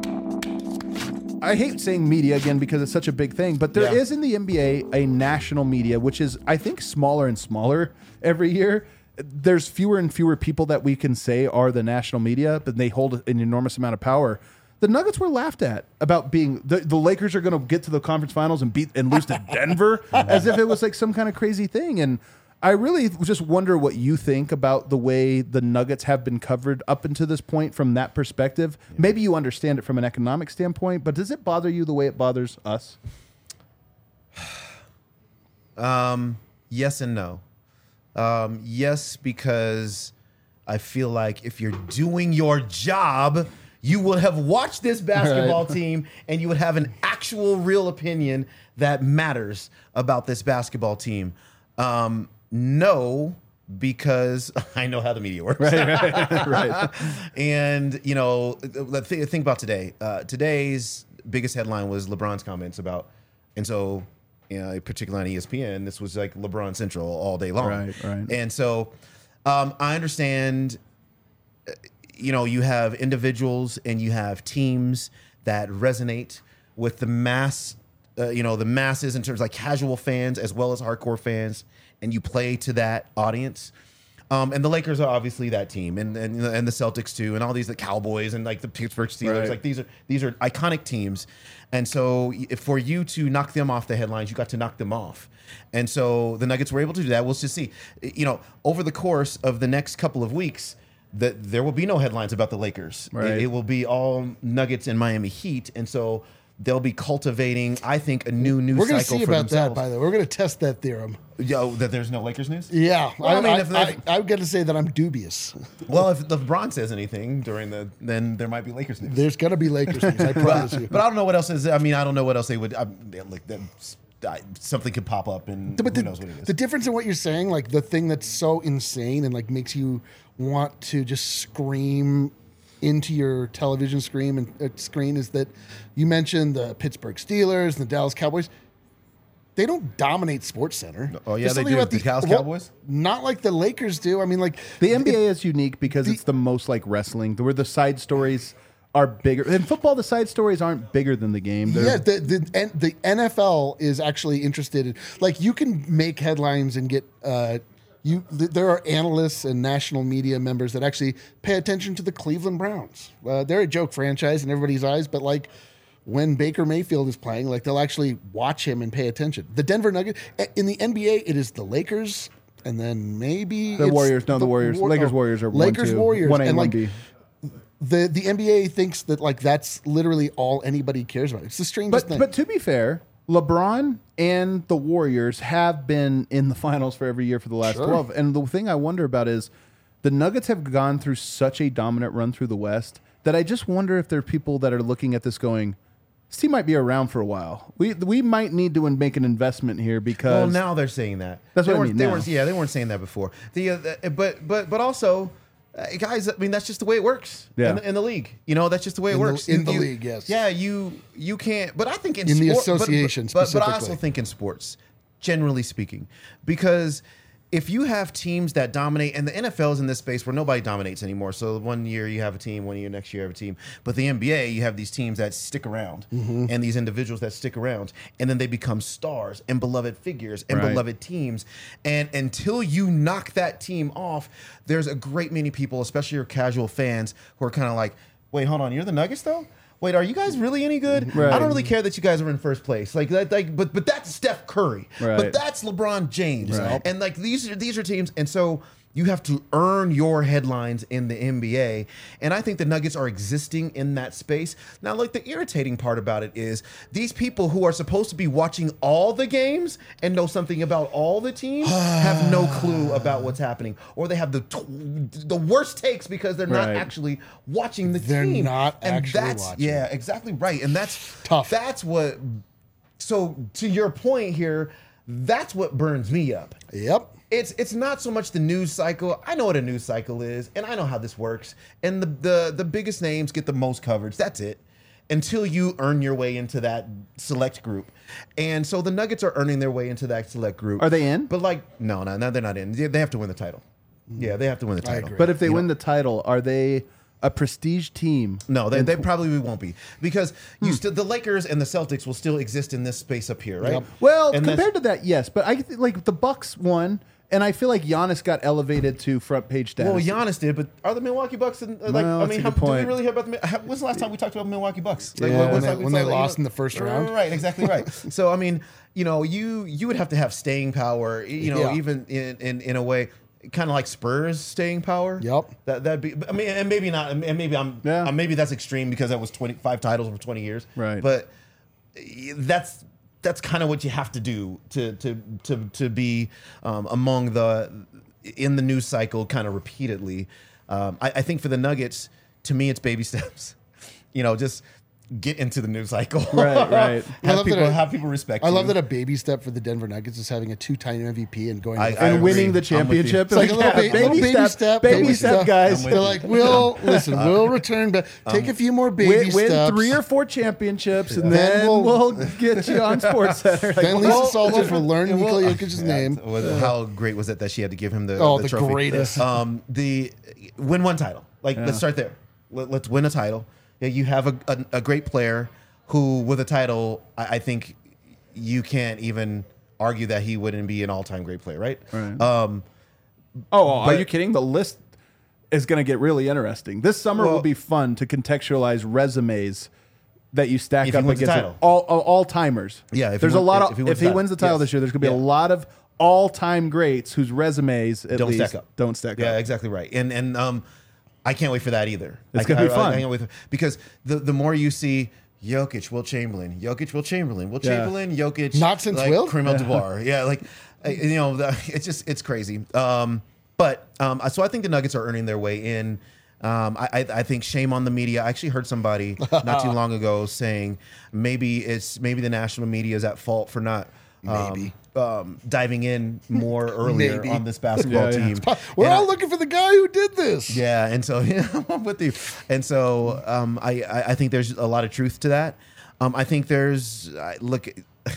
Speaker 1: I hate saying media again because it's such a big thing, but there
Speaker 2: Yeah.
Speaker 1: is in the N B A a national media, which is, I think, smaller and smaller every year. There's fewer and fewer people that we can say are the national media, but they hold an enormous amount of power. The Nuggets were laughed at about being the, the Lakers are going to get to the conference finals and beat and lose to Denver as if it was like some kind of crazy thing. And I really just wonder what you think about the way the Nuggets have been covered up until this point from that perspective. Yeah. Maybe you understand it from an economic standpoint, but does it bother you the way it bothers us?
Speaker 3: Um, yes and no. Um, yes, because I feel like if you're doing your job, you would have watched this basketball
Speaker 1: right.
Speaker 3: team and you would have an actual real opinion that matters about this basketball team. Um, no, because I know how the media works.
Speaker 1: Right, right, right.
Speaker 3: And, you know, th- think about today. Uh, today's biggest headline was LeBron's comments about, and so, you know, particularly on E S P N, this was like LeBron Central all day long.
Speaker 1: Right, right.
Speaker 3: And so um, I understand, you know, you have individuals and you have teams that resonate with the mass, uh, you know, the masses in terms of like casual fans as well as hardcore fans, and you play to that audience. Um, and the Lakers are obviously that team, and and, and the Celtics too, and all these the Cowboys and like the Pittsburgh Steelers.
Speaker 1: Right.
Speaker 3: Like these are these are iconic teams, and so if for you to knock them off the headlines, you got to knock them off. And so the Nuggets were able to do that. We'll just see, you know, over the course of the next couple of weeks, that there will be no headlines about the Lakers.
Speaker 1: Right.
Speaker 3: It, it will be all Nuggets and Miami Heat, and so they'll be cultivating, I think, a new news
Speaker 2: We're going to
Speaker 3: cycle
Speaker 2: see
Speaker 3: for
Speaker 2: about
Speaker 3: themselves.
Speaker 2: that, by the way. We're going to test that theory.
Speaker 3: Yo, that there's no Lakers news?
Speaker 2: Yeah.
Speaker 3: Well, I
Speaker 2: I,
Speaker 3: mean,
Speaker 2: I,
Speaker 3: if-
Speaker 2: I,
Speaker 3: if-
Speaker 2: I'm going to say that I'm dubious.
Speaker 3: Well, if LeBron says anything during the, then there might be Lakers news.
Speaker 2: There's going to be Lakers news, I promise you.
Speaker 3: But I don't know what else is. I mean, I don't know what else they would. I, like that, I, something could pop up, and
Speaker 2: But
Speaker 3: who
Speaker 2: the,
Speaker 3: knows what it is.
Speaker 2: the difference in what you're saying, like the thing that's so insane and like makes you want to just scream into your television screen and uh, screen is that you mentioned the Pittsburgh Steelers and the Dallas Cowboys. They don't dominate Sports Center.
Speaker 3: Oh, yeah,
Speaker 2: There's
Speaker 3: they
Speaker 2: something
Speaker 3: do.
Speaker 2: about
Speaker 3: The Dallas
Speaker 2: well,
Speaker 3: Cowboys?
Speaker 2: not like the Lakers do. I mean, like
Speaker 1: The N B A
Speaker 2: it-
Speaker 1: is unique because
Speaker 2: the-
Speaker 1: it's the most like wrestling, where the side stories are bigger. In football, the side stories aren't bigger than the game. They're-
Speaker 2: Yeah, the the N- the N F L is actually interested in, like, you can make headlines and get uh you th- there are analysts and national media members that actually pay attention to the Cleveland Browns. Uh, they're a joke franchise in everybody's eyes, but like when Baker Mayfield is playing, like they'll actually watch him and pay attention. The Denver Nuggets in the N B A, it is the Lakers, and then maybe
Speaker 1: The
Speaker 2: it's
Speaker 1: Warriors. No, the Warriors.
Speaker 2: War-
Speaker 1: Lakers,
Speaker 2: oh,
Speaker 1: Warriors are
Speaker 2: Lakers,
Speaker 1: one, two.
Speaker 2: Warriors,
Speaker 1: one A,
Speaker 2: and
Speaker 1: one
Speaker 2: like
Speaker 1: B.
Speaker 2: the the N B A thinks that like that's literally all anybody cares about. It's the strangest
Speaker 1: But
Speaker 2: thing.
Speaker 1: but to be fair, LeBron and the Warriors have been in the finals for every year for the last
Speaker 2: Sure.
Speaker 1: twelve. And the thing I wonder about is the Nuggets have gone through such a dominant run through the West that I just wonder if there are people that are looking at this going, this team might be around for a while. We we might need to make an investment here because
Speaker 3: Well, now they're saying that.
Speaker 1: That's
Speaker 3: they
Speaker 1: what I
Speaker 3: weren't-
Speaker 1: mean
Speaker 3: They
Speaker 1: now.
Speaker 3: weren't, yeah, they weren't saying that before. The, uh, the but but but also, Uh, guys, I mean that's just the way it works
Speaker 1: Yeah.
Speaker 3: in, the, in the league. You know, that's just the way it
Speaker 2: In the-
Speaker 3: works
Speaker 2: in the
Speaker 3: You-
Speaker 2: league, yes.
Speaker 3: Yeah, you you can't. But I think in,
Speaker 2: In the
Speaker 3: sport- but-
Speaker 2: association
Speaker 3: but, but, but I also
Speaker 2: specifically.
Speaker 3: think in sports, generally speaking, because if you have teams that dominate, and the N F L is in this space where nobody dominates anymore. So one year you have a team, one year next year you have a team. But the N B A, you have these teams that stick around,
Speaker 2: Mm-hmm.
Speaker 3: and these individuals that stick around, and then they become stars and beloved figures and
Speaker 1: Right.
Speaker 3: beloved teams. And until you knock that team off, there's a great many people, especially your casual fans, who are kind of like, "Wait, hold on, you're the Nuggets though." Wait, are you guys really any good?
Speaker 1: Right.
Speaker 3: I don't really care that you guys are in first place. Like that, like, but but that's Steph Curry.
Speaker 1: Right.
Speaker 3: But that's LeBron James.
Speaker 1: Right.
Speaker 3: And like these are these are teams, and so you have to earn your headlines in the N B A. And I think the Nuggets are existing in that space. Now, like the irritating part about it is these people who are supposed to be watching all the games and know something about all the teams have no clue about what's happening, or they have the tw- the worst takes because they're not
Speaker 1: Right.
Speaker 3: actually watching the
Speaker 2: They're
Speaker 3: team.
Speaker 2: not
Speaker 3: and
Speaker 2: actually
Speaker 3: that's,
Speaker 2: watching.
Speaker 3: Yeah, exactly right. And that's
Speaker 2: Tough.
Speaker 3: That's what. So to your point here, that's what burns me up.
Speaker 2: Yep.
Speaker 3: It's it's not so much the news cycle. I know what a news cycle is, and I know how this works. And the the the biggest names get the most coverage. That's it. Until you earn your way into that select group. And so the Nuggets are earning their way into that select group.
Speaker 1: Are they in?
Speaker 3: But like, no, no, no, they're not in. They they have to win the title. Yeah, they have to win the title.
Speaker 2: agree.
Speaker 1: But if they
Speaker 3: You
Speaker 1: win
Speaker 3: know?
Speaker 1: the title, are they a prestige team?
Speaker 3: No, they,
Speaker 1: in
Speaker 3: they
Speaker 1: tw-
Speaker 3: probably won't be, because you still the Lakers and the Celtics will still exist in this space up here, right?
Speaker 2: Yep.
Speaker 1: Well,
Speaker 3: And that's-
Speaker 1: compared to that, yes. But I th- like the Bucks won, and I feel like Giannis got elevated to front page status.
Speaker 3: Well, Giannis did, but are the Milwaukee Bucks in, uh, like?
Speaker 1: Well,
Speaker 3: I
Speaker 1: that's
Speaker 3: mean,
Speaker 1: a
Speaker 3: how,
Speaker 1: good
Speaker 3: do we
Speaker 1: point.
Speaker 3: really hear about the? How, when's the last time we talked about Milwaukee Bucks? Like,
Speaker 1: Yeah.
Speaker 3: when-
Speaker 1: When
Speaker 3: when's
Speaker 2: they-
Speaker 3: like-
Speaker 2: when
Speaker 3: it's
Speaker 2: they
Speaker 3: like, you
Speaker 2: lost
Speaker 3: know-
Speaker 2: in the first round.
Speaker 3: Right, exactly right. So I mean, you know, you you would have to have staying power, you know,
Speaker 2: Yeah.
Speaker 3: even in, in in a way, kind of like Spurs staying power.
Speaker 2: Yep.
Speaker 3: That that'd be. I mean, and maybe not. And maybe I'm.
Speaker 1: Yeah.
Speaker 3: uh, maybe that's extreme because that was twenty-five titles over twenty years.
Speaker 1: Right.
Speaker 3: But that's that's kind of what you have to do to to to to be um, among the in the news cycle kind of repeatedly. Um, I, I think for the Nuggets, to me, it's baby steps. You know, just get into the news cycle.
Speaker 1: Right, right.
Speaker 2: I
Speaker 3: have
Speaker 2: love that
Speaker 3: people
Speaker 2: a-
Speaker 3: have people respect.
Speaker 2: I love
Speaker 3: you.
Speaker 2: that a baby step for the Denver Nuggets is having a two-time M V P and going.
Speaker 3: I-
Speaker 2: to the
Speaker 3: I
Speaker 1: and
Speaker 2: finals.
Speaker 1: winning
Speaker 3: agree.
Speaker 1: the
Speaker 3: I'm with you.
Speaker 1: championship.
Speaker 2: It's like a little,
Speaker 1: Yeah,
Speaker 2: ba- little baby, step,
Speaker 1: baby step, guys.
Speaker 3: I'm with
Speaker 2: They're
Speaker 3: you.
Speaker 2: like, we'll listen. We'll return back. Take a few more baby
Speaker 1: Win, win
Speaker 2: steps.
Speaker 1: three or four championships, and
Speaker 2: Then
Speaker 1: then
Speaker 2: we'll-
Speaker 1: we'll, get you on Sports Center. Like,
Speaker 2: Then Lisa
Speaker 1: well,
Speaker 2: Salter for learning
Speaker 3: well,
Speaker 2: Nikola Jokic's name.
Speaker 3: Was- How great was it that she had to give him the,
Speaker 2: Oh,
Speaker 3: the
Speaker 2: the
Speaker 3: trophy?
Speaker 2: greatest.
Speaker 3: Um, the win one title. Like let's start there. Let, let's win a title. Yeah, you have a, a, a great player who, with a title, I, I think you can't even argue that he wouldn't be an all-time great player, right?
Speaker 1: Right.
Speaker 3: Um,
Speaker 1: oh, are
Speaker 3: but-
Speaker 1: you kidding? The list is going to get really interesting. This summer
Speaker 3: Well-
Speaker 1: will be fun to contextualize resumes that you stack
Speaker 3: If he
Speaker 1: up
Speaker 3: wins the
Speaker 1: against
Speaker 3: title.
Speaker 1: all all, all timers.
Speaker 3: Yeah, if he
Speaker 1: there's a
Speaker 3: win-
Speaker 1: lot
Speaker 3: if-
Speaker 1: of
Speaker 3: if he
Speaker 1: if
Speaker 3: wins
Speaker 1: he
Speaker 3: the
Speaker 1: wins the
Speaker 3: title.
Speaker 1: title
Speaker 3: Yes.
Speaker 1: this year, there's going to be
Speaker 3: Yeah.
Speaker 1: a lot of all time greats whose resumes at
Speaker 3: don't
Speaker 1: least
Speaker 3: stack up.
Speaker 1: don't stack
Speaker 3: Yeah,
Speaker 1: up.
Speaker 3: exactly right. And and um, I can't wait for that either.
Speaker 1: It's
Speaker 3: I-
Speaker 1: gonna be
Speaker 3: I- I-
Speaker 1: fun.
Speaker 3: I can't wait for- because the the more you see Jokic, Will Chamberlain, Jokic, Will Chamberlain, Will
Speaker 1: Yeah.
Speaker 3: Chamberlain, Jokic,
Speaker 2: Not since
Speaker 3: like,
Speaker 2: Will?
Speaker 3: Kareem Abdul-Jabbar. Yeah, like uh, you know, the, it's just it's crazy. Um, but um, so I think the Nuggets are earning their way in. Um, I, I, I think shame on the media. I actually heard somebody not too long ago saying maybe it's maybe the national media is at fault for not um,
Speaker 2: Maybe.
Speaker 3: um, diving in more earlier
Speaker 2: Maybe.
Speaker 3: on this basketball
Speaker 1: Yeah, yeah.
Speaker 3: team.
Speaker 2: We're
Speaker 3: And
Speaker 2: all
Speaker 3: I-
Speaker 2: looking for the guy who did this.
Speaker 3: yeah, and so yeah, I'm with you. And so um, I, I I think there's a lot of truth to that. Um, I think there's I, look.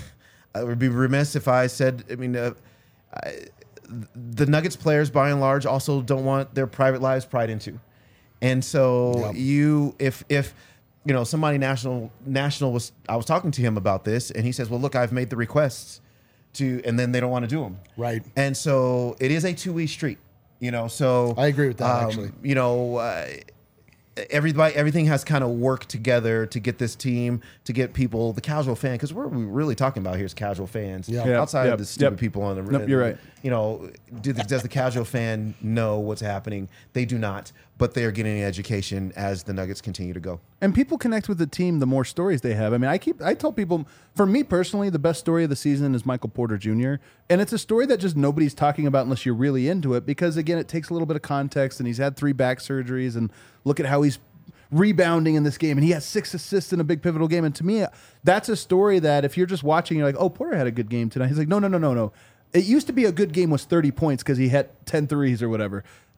Speaker 3: I would be remiss if I said. I mean, uh, I, the Nuggets players, by and large, also don't want their private lives pried into. And so
Speaker 2: Yep.
Speaker 3: you, if if you know somebody national national was, I was talking to him about this, and he says, "Well, look, I've made the requests to," and then they don't want to do them.
Speaker 2: Right.
Speaker 3: And so it is a two-way street, you know. So
Speaker 2: I agree with that,
Speaker 3: um,
Speaker 2: actually.
Speaker 3: You know, uh, everybody, everything has kind of worked together to get this team, to get people, the casual fan, because what we're really talking about here is casual fans.
Speaker 2: Yeah.
Speaker 1: Yep,
Speaker 3: Outside
Speaker 1: yep,
Speaker 3: of the stupid
Speaker 1: yep.
Speaker 3: people on the.
Speaker 1: Nope, you're right.
Speaker 3: You know, do the, does the casual fan know what's happening? They do not, but they are getting an education as the Nuggets continue to go.
Speaker 1: And people connect with the team the more stories they have. I mean, I keep I tell people, for me personally, the best story of the season is Michael Porter Junior And it's a story that just nobody's talking about unless you're really into it, because again, it takes a little bit of context, and he's had three back surgeries, and look at how he's rebounding in this game, and he has six assists in a big pivotal game. And to me, that's a story that if you're just watching, you're like, oh, Porter had a good game tonight. He's like, no, no, no, no, no. It used to be a good game was thirty points because he hit ten threes or whatever.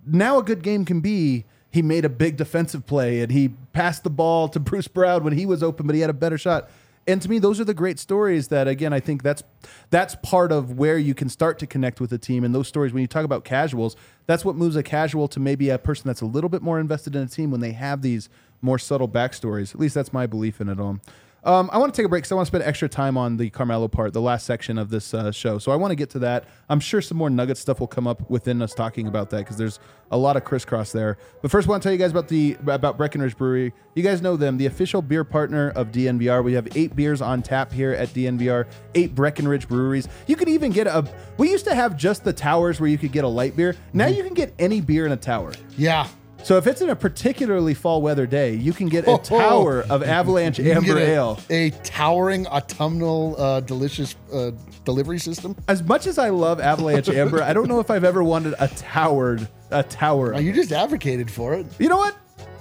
Speaker 1: now a good game can be he made a big defensive play and he passed the ball to Bruce Brown when he was open, but he had a better shot. And to me, those are the great stories that, again, I think that's that's part of where you can start to connect with a team. And those stories, when you talk about casuals, that's what moves a casual to maybe a person that's a little bit more invested in a team when they have these more subtle backstories. At least that's my belief in it all. Um, I want to take a break because I want to spend extra time on the Carmelo part, the last section of this uh, show. So I want to get to that. I'm sure some more Nugget stuff will come up within us talking about that because there's a lot of crisscross there. But first, I want to tell you guys about the about Breckenridge Brewery. You guys know them, the official beer partner of D N V R. We have eight beers on tap here at D N V R, eight Breckenridge breweries. You can even get a. We used to have just the towers where you could get a light beer. Now you can get any beer in a tower.
Speaker 2: Yeah.
Speaker 1: So if it's in a particularly fall weather day, you can get a tower of Avalanche
Speaker 2: You can
Speaker 1: Amber
Speaker 2: get a,
Speaker 1: Ale.
Speaker 2: A towering autumnal uh, delicious uh, delivery system.
Speaker 1: As much as I love Avalanche Amber, I don't know if I've ever wanted a towered a tower.
Speaker 2: Oh, you just advocated for it.
Speaker 1: You know what?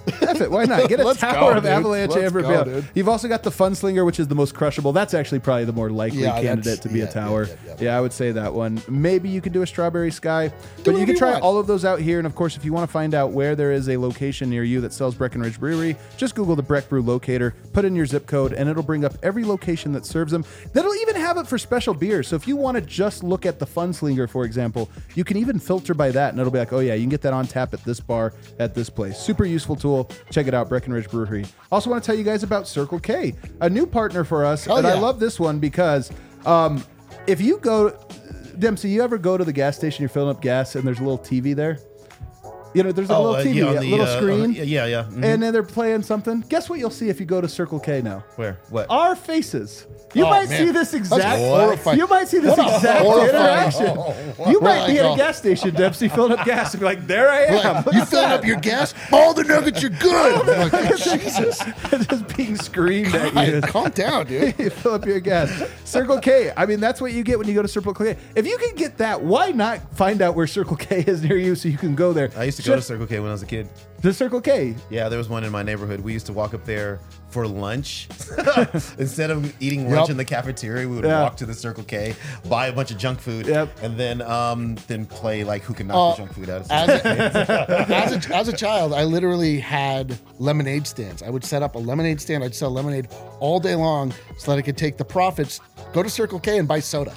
Speaker 1: F it. Why not? Get a
Speaker 2: Let's
Speaker 1: tower
Speaker 2: go,
Speaker 1: of
Speaker 2: dude.
Speaker 1: Avalanche
Speaker 2: Let's
Speaker 1: Amber
Speaker 2: go,
Speaker 1: Ale.
Speaker 2: dude.
Speaker 1: You've also got the Funslinger, which is the most crushable. That's actually probably the more likely
Speaker 2: Yeah,
Speaker 1: candidate
Speaker 2: that's-
Speaker 1: to be
Speaker 2: yeah,
Speaker 1: a tower.
Speaker 2: yeah, yeah,
Speaker 1: Yeah,
Speaker 2: yeah.
Speaker 1: I would say that one. Maybe you could do a Strawberry Sky, but you
Speaker 2: whatever
Speaker 1: can
Speaker 2: you
Speaker 1: try
Speaker 2: want.
Speaker 1: all of those out here. And of course, if you want to find out where there is a location near you that sells Breckenridge Brewery, just Google the Breck Brew locator, put in your zip code, and it'll bring up every location that serves them. That'll even have it for special beers. So if you want to just look at the Funslinger, for example, you can even filter by that, and it'll be like, oh yeah, you can get that on tap at this bar at this place. Super useful tool. Check it out, Breckenridge Brewery. Also want to tell you guys about Circle K, a new partner for us.
Speaker 2: Oh,
Speaker 1: and I
Speaker 2: yeah.
Speaker 1: love this one because um, if you go, Dempsey, you ever go to the gas station, you're filling up gas, and there's a little T V there? You know, there's a
Speaker 3: Oh,
Speaker 1: little
Speaker 3: uh,
Speaker 1: T V,
Speaker 3: yeah, on
Speaker 1: a
Speaker 3: the,
Speaker 1: little
Speaker 3: uh,
Speaker 1: screen.
Speaker 3: on the- yeah, yeah. mhm.
Speaker 1: And then they're playing something. Guess what you'll see if you go to Circle K now?
Speaker 3: Where? What?
Speaker 1: Our faces. You
Speaker 2: Oh,
Speaker 1: might
Speaker 2: man.
Speaker 1: see this exact.
Speaker 2: That's horrifying.
Speaker 1: You might see this
Speaker 2: What a
Speaker 1: exact
Speaker 2: horrifying-
Speaker 1: interaction.
Speaker 2: Oh,
Speaker 1: You might
Speaker 2: wow.
Speaker 1: be at a
Speaker 2: Oh.
Speaker 1: gas station, Dempsey, filling up gas, and be like, "There I am."
Speaker 2: Like, you filling up your gas? All the nuggets are good. I'm like, Jesus.
Speaker 1: Just being screamed at you.
Speaker 2: Hey, calm down, dude.
Speaker 1: You fill up your gas. Circle K. I mean, that's what you get when you go to Circle K. If you can get that, why not find out where Circle K is near you so you can go there?
Speaker 3: I used to go to Circle K when I was a kid.
Speaker 1: The Circle K.
Speaker 3: Yeah, there was one in my neighborhood. We used to walk up there for lunch. Instead of eating lunch
Speaker 2: Yep.
Speaker 3: in the cafeteria, we would
Speaker 1: Yeah.
Speaker 3: walk to the Circle K, buy a bunch of junk food,
Speaker 1: Yep.
Speaker 3: and then um, then play like who can knock the
Speaker 2: Uh,
Speaker 3: junk food out of
Speaker 2: As
Speaker 3: something.
Speaker 2: a, as, a, as a child, I literally had lemonade stands. I would set up a lemonade stand. I'd sell lemonade all day long so that I could take the profits, go to Circle K and buy soda.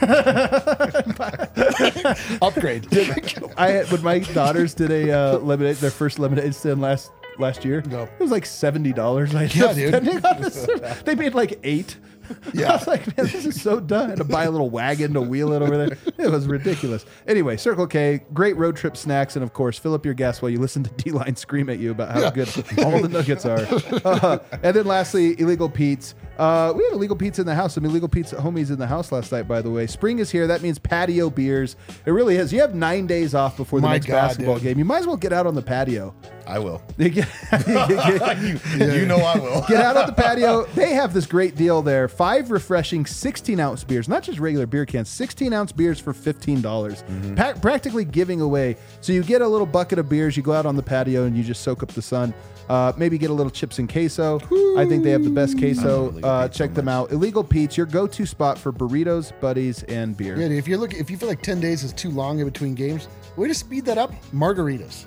Speaker 2: Upgrade.
Speaker 1: I had when my daughters did a uh, lemonade, their first lemonade stand last last year.
Speaker 2: No.
Speaker 1: It was like seventy dollars. I ended
Speaker 2: Yeah,
Speaker 1: up
Speaker 2: dude.
Speaker 1: spending on this. They made like eight.
Speaker 2: Yeah.
Speaker 1: I was like, man, this is so done. I had to buy a little wagon to wheel it over there. It was ridiculous. Anyway, Circle K, great road trip snacks, and of course, fill up your gas while you listen to D-Line scream at you about how
Speaker 2: Yeah.
Speaker 1: good all the nuggets are. Uh, and then lastly, Illegal Pete's. Uh, we had Illegal Pete's in the house. Some Illegal Pete's homies in the house last night, by the way. Spring is here. That means patio beers. It really is. You have nine days off before the
Speaker 2: My
Speaker 1: next
Speaker 2: God,
Speaker 1: basketball
Speaker 2: dude.
Speaker 1: game. You might as well get out on the patio.
Speaker 3: I will.
Speaker 1: You get,
Speaker 3: you, you know I will.
Speaker 1: get out on the patio. They have this great deal there. Five refreshing sixteen ounce beers, not just regular beer cans, sixteen ounce beers for fifteen dollars. Pa- practically giving away. So you get a little bucket of beers, you go out on the patio and you just soak up the sun. Uh, maybe get a little chips and queso. I think they have the best queso.
Speaker 3: Illegal
Speaker 1: Uh,
Speaker 3: Pete's
Speaker 1: check
Speaker 3: so
Speaker 1: them out. Illegal Pete's, your go-to spot for burritos, buddies, and beer.
Speaker 2: Yeah, dude, if you're looking, if you feel like ten days is too long in between games, way to speed that up. Margaritas.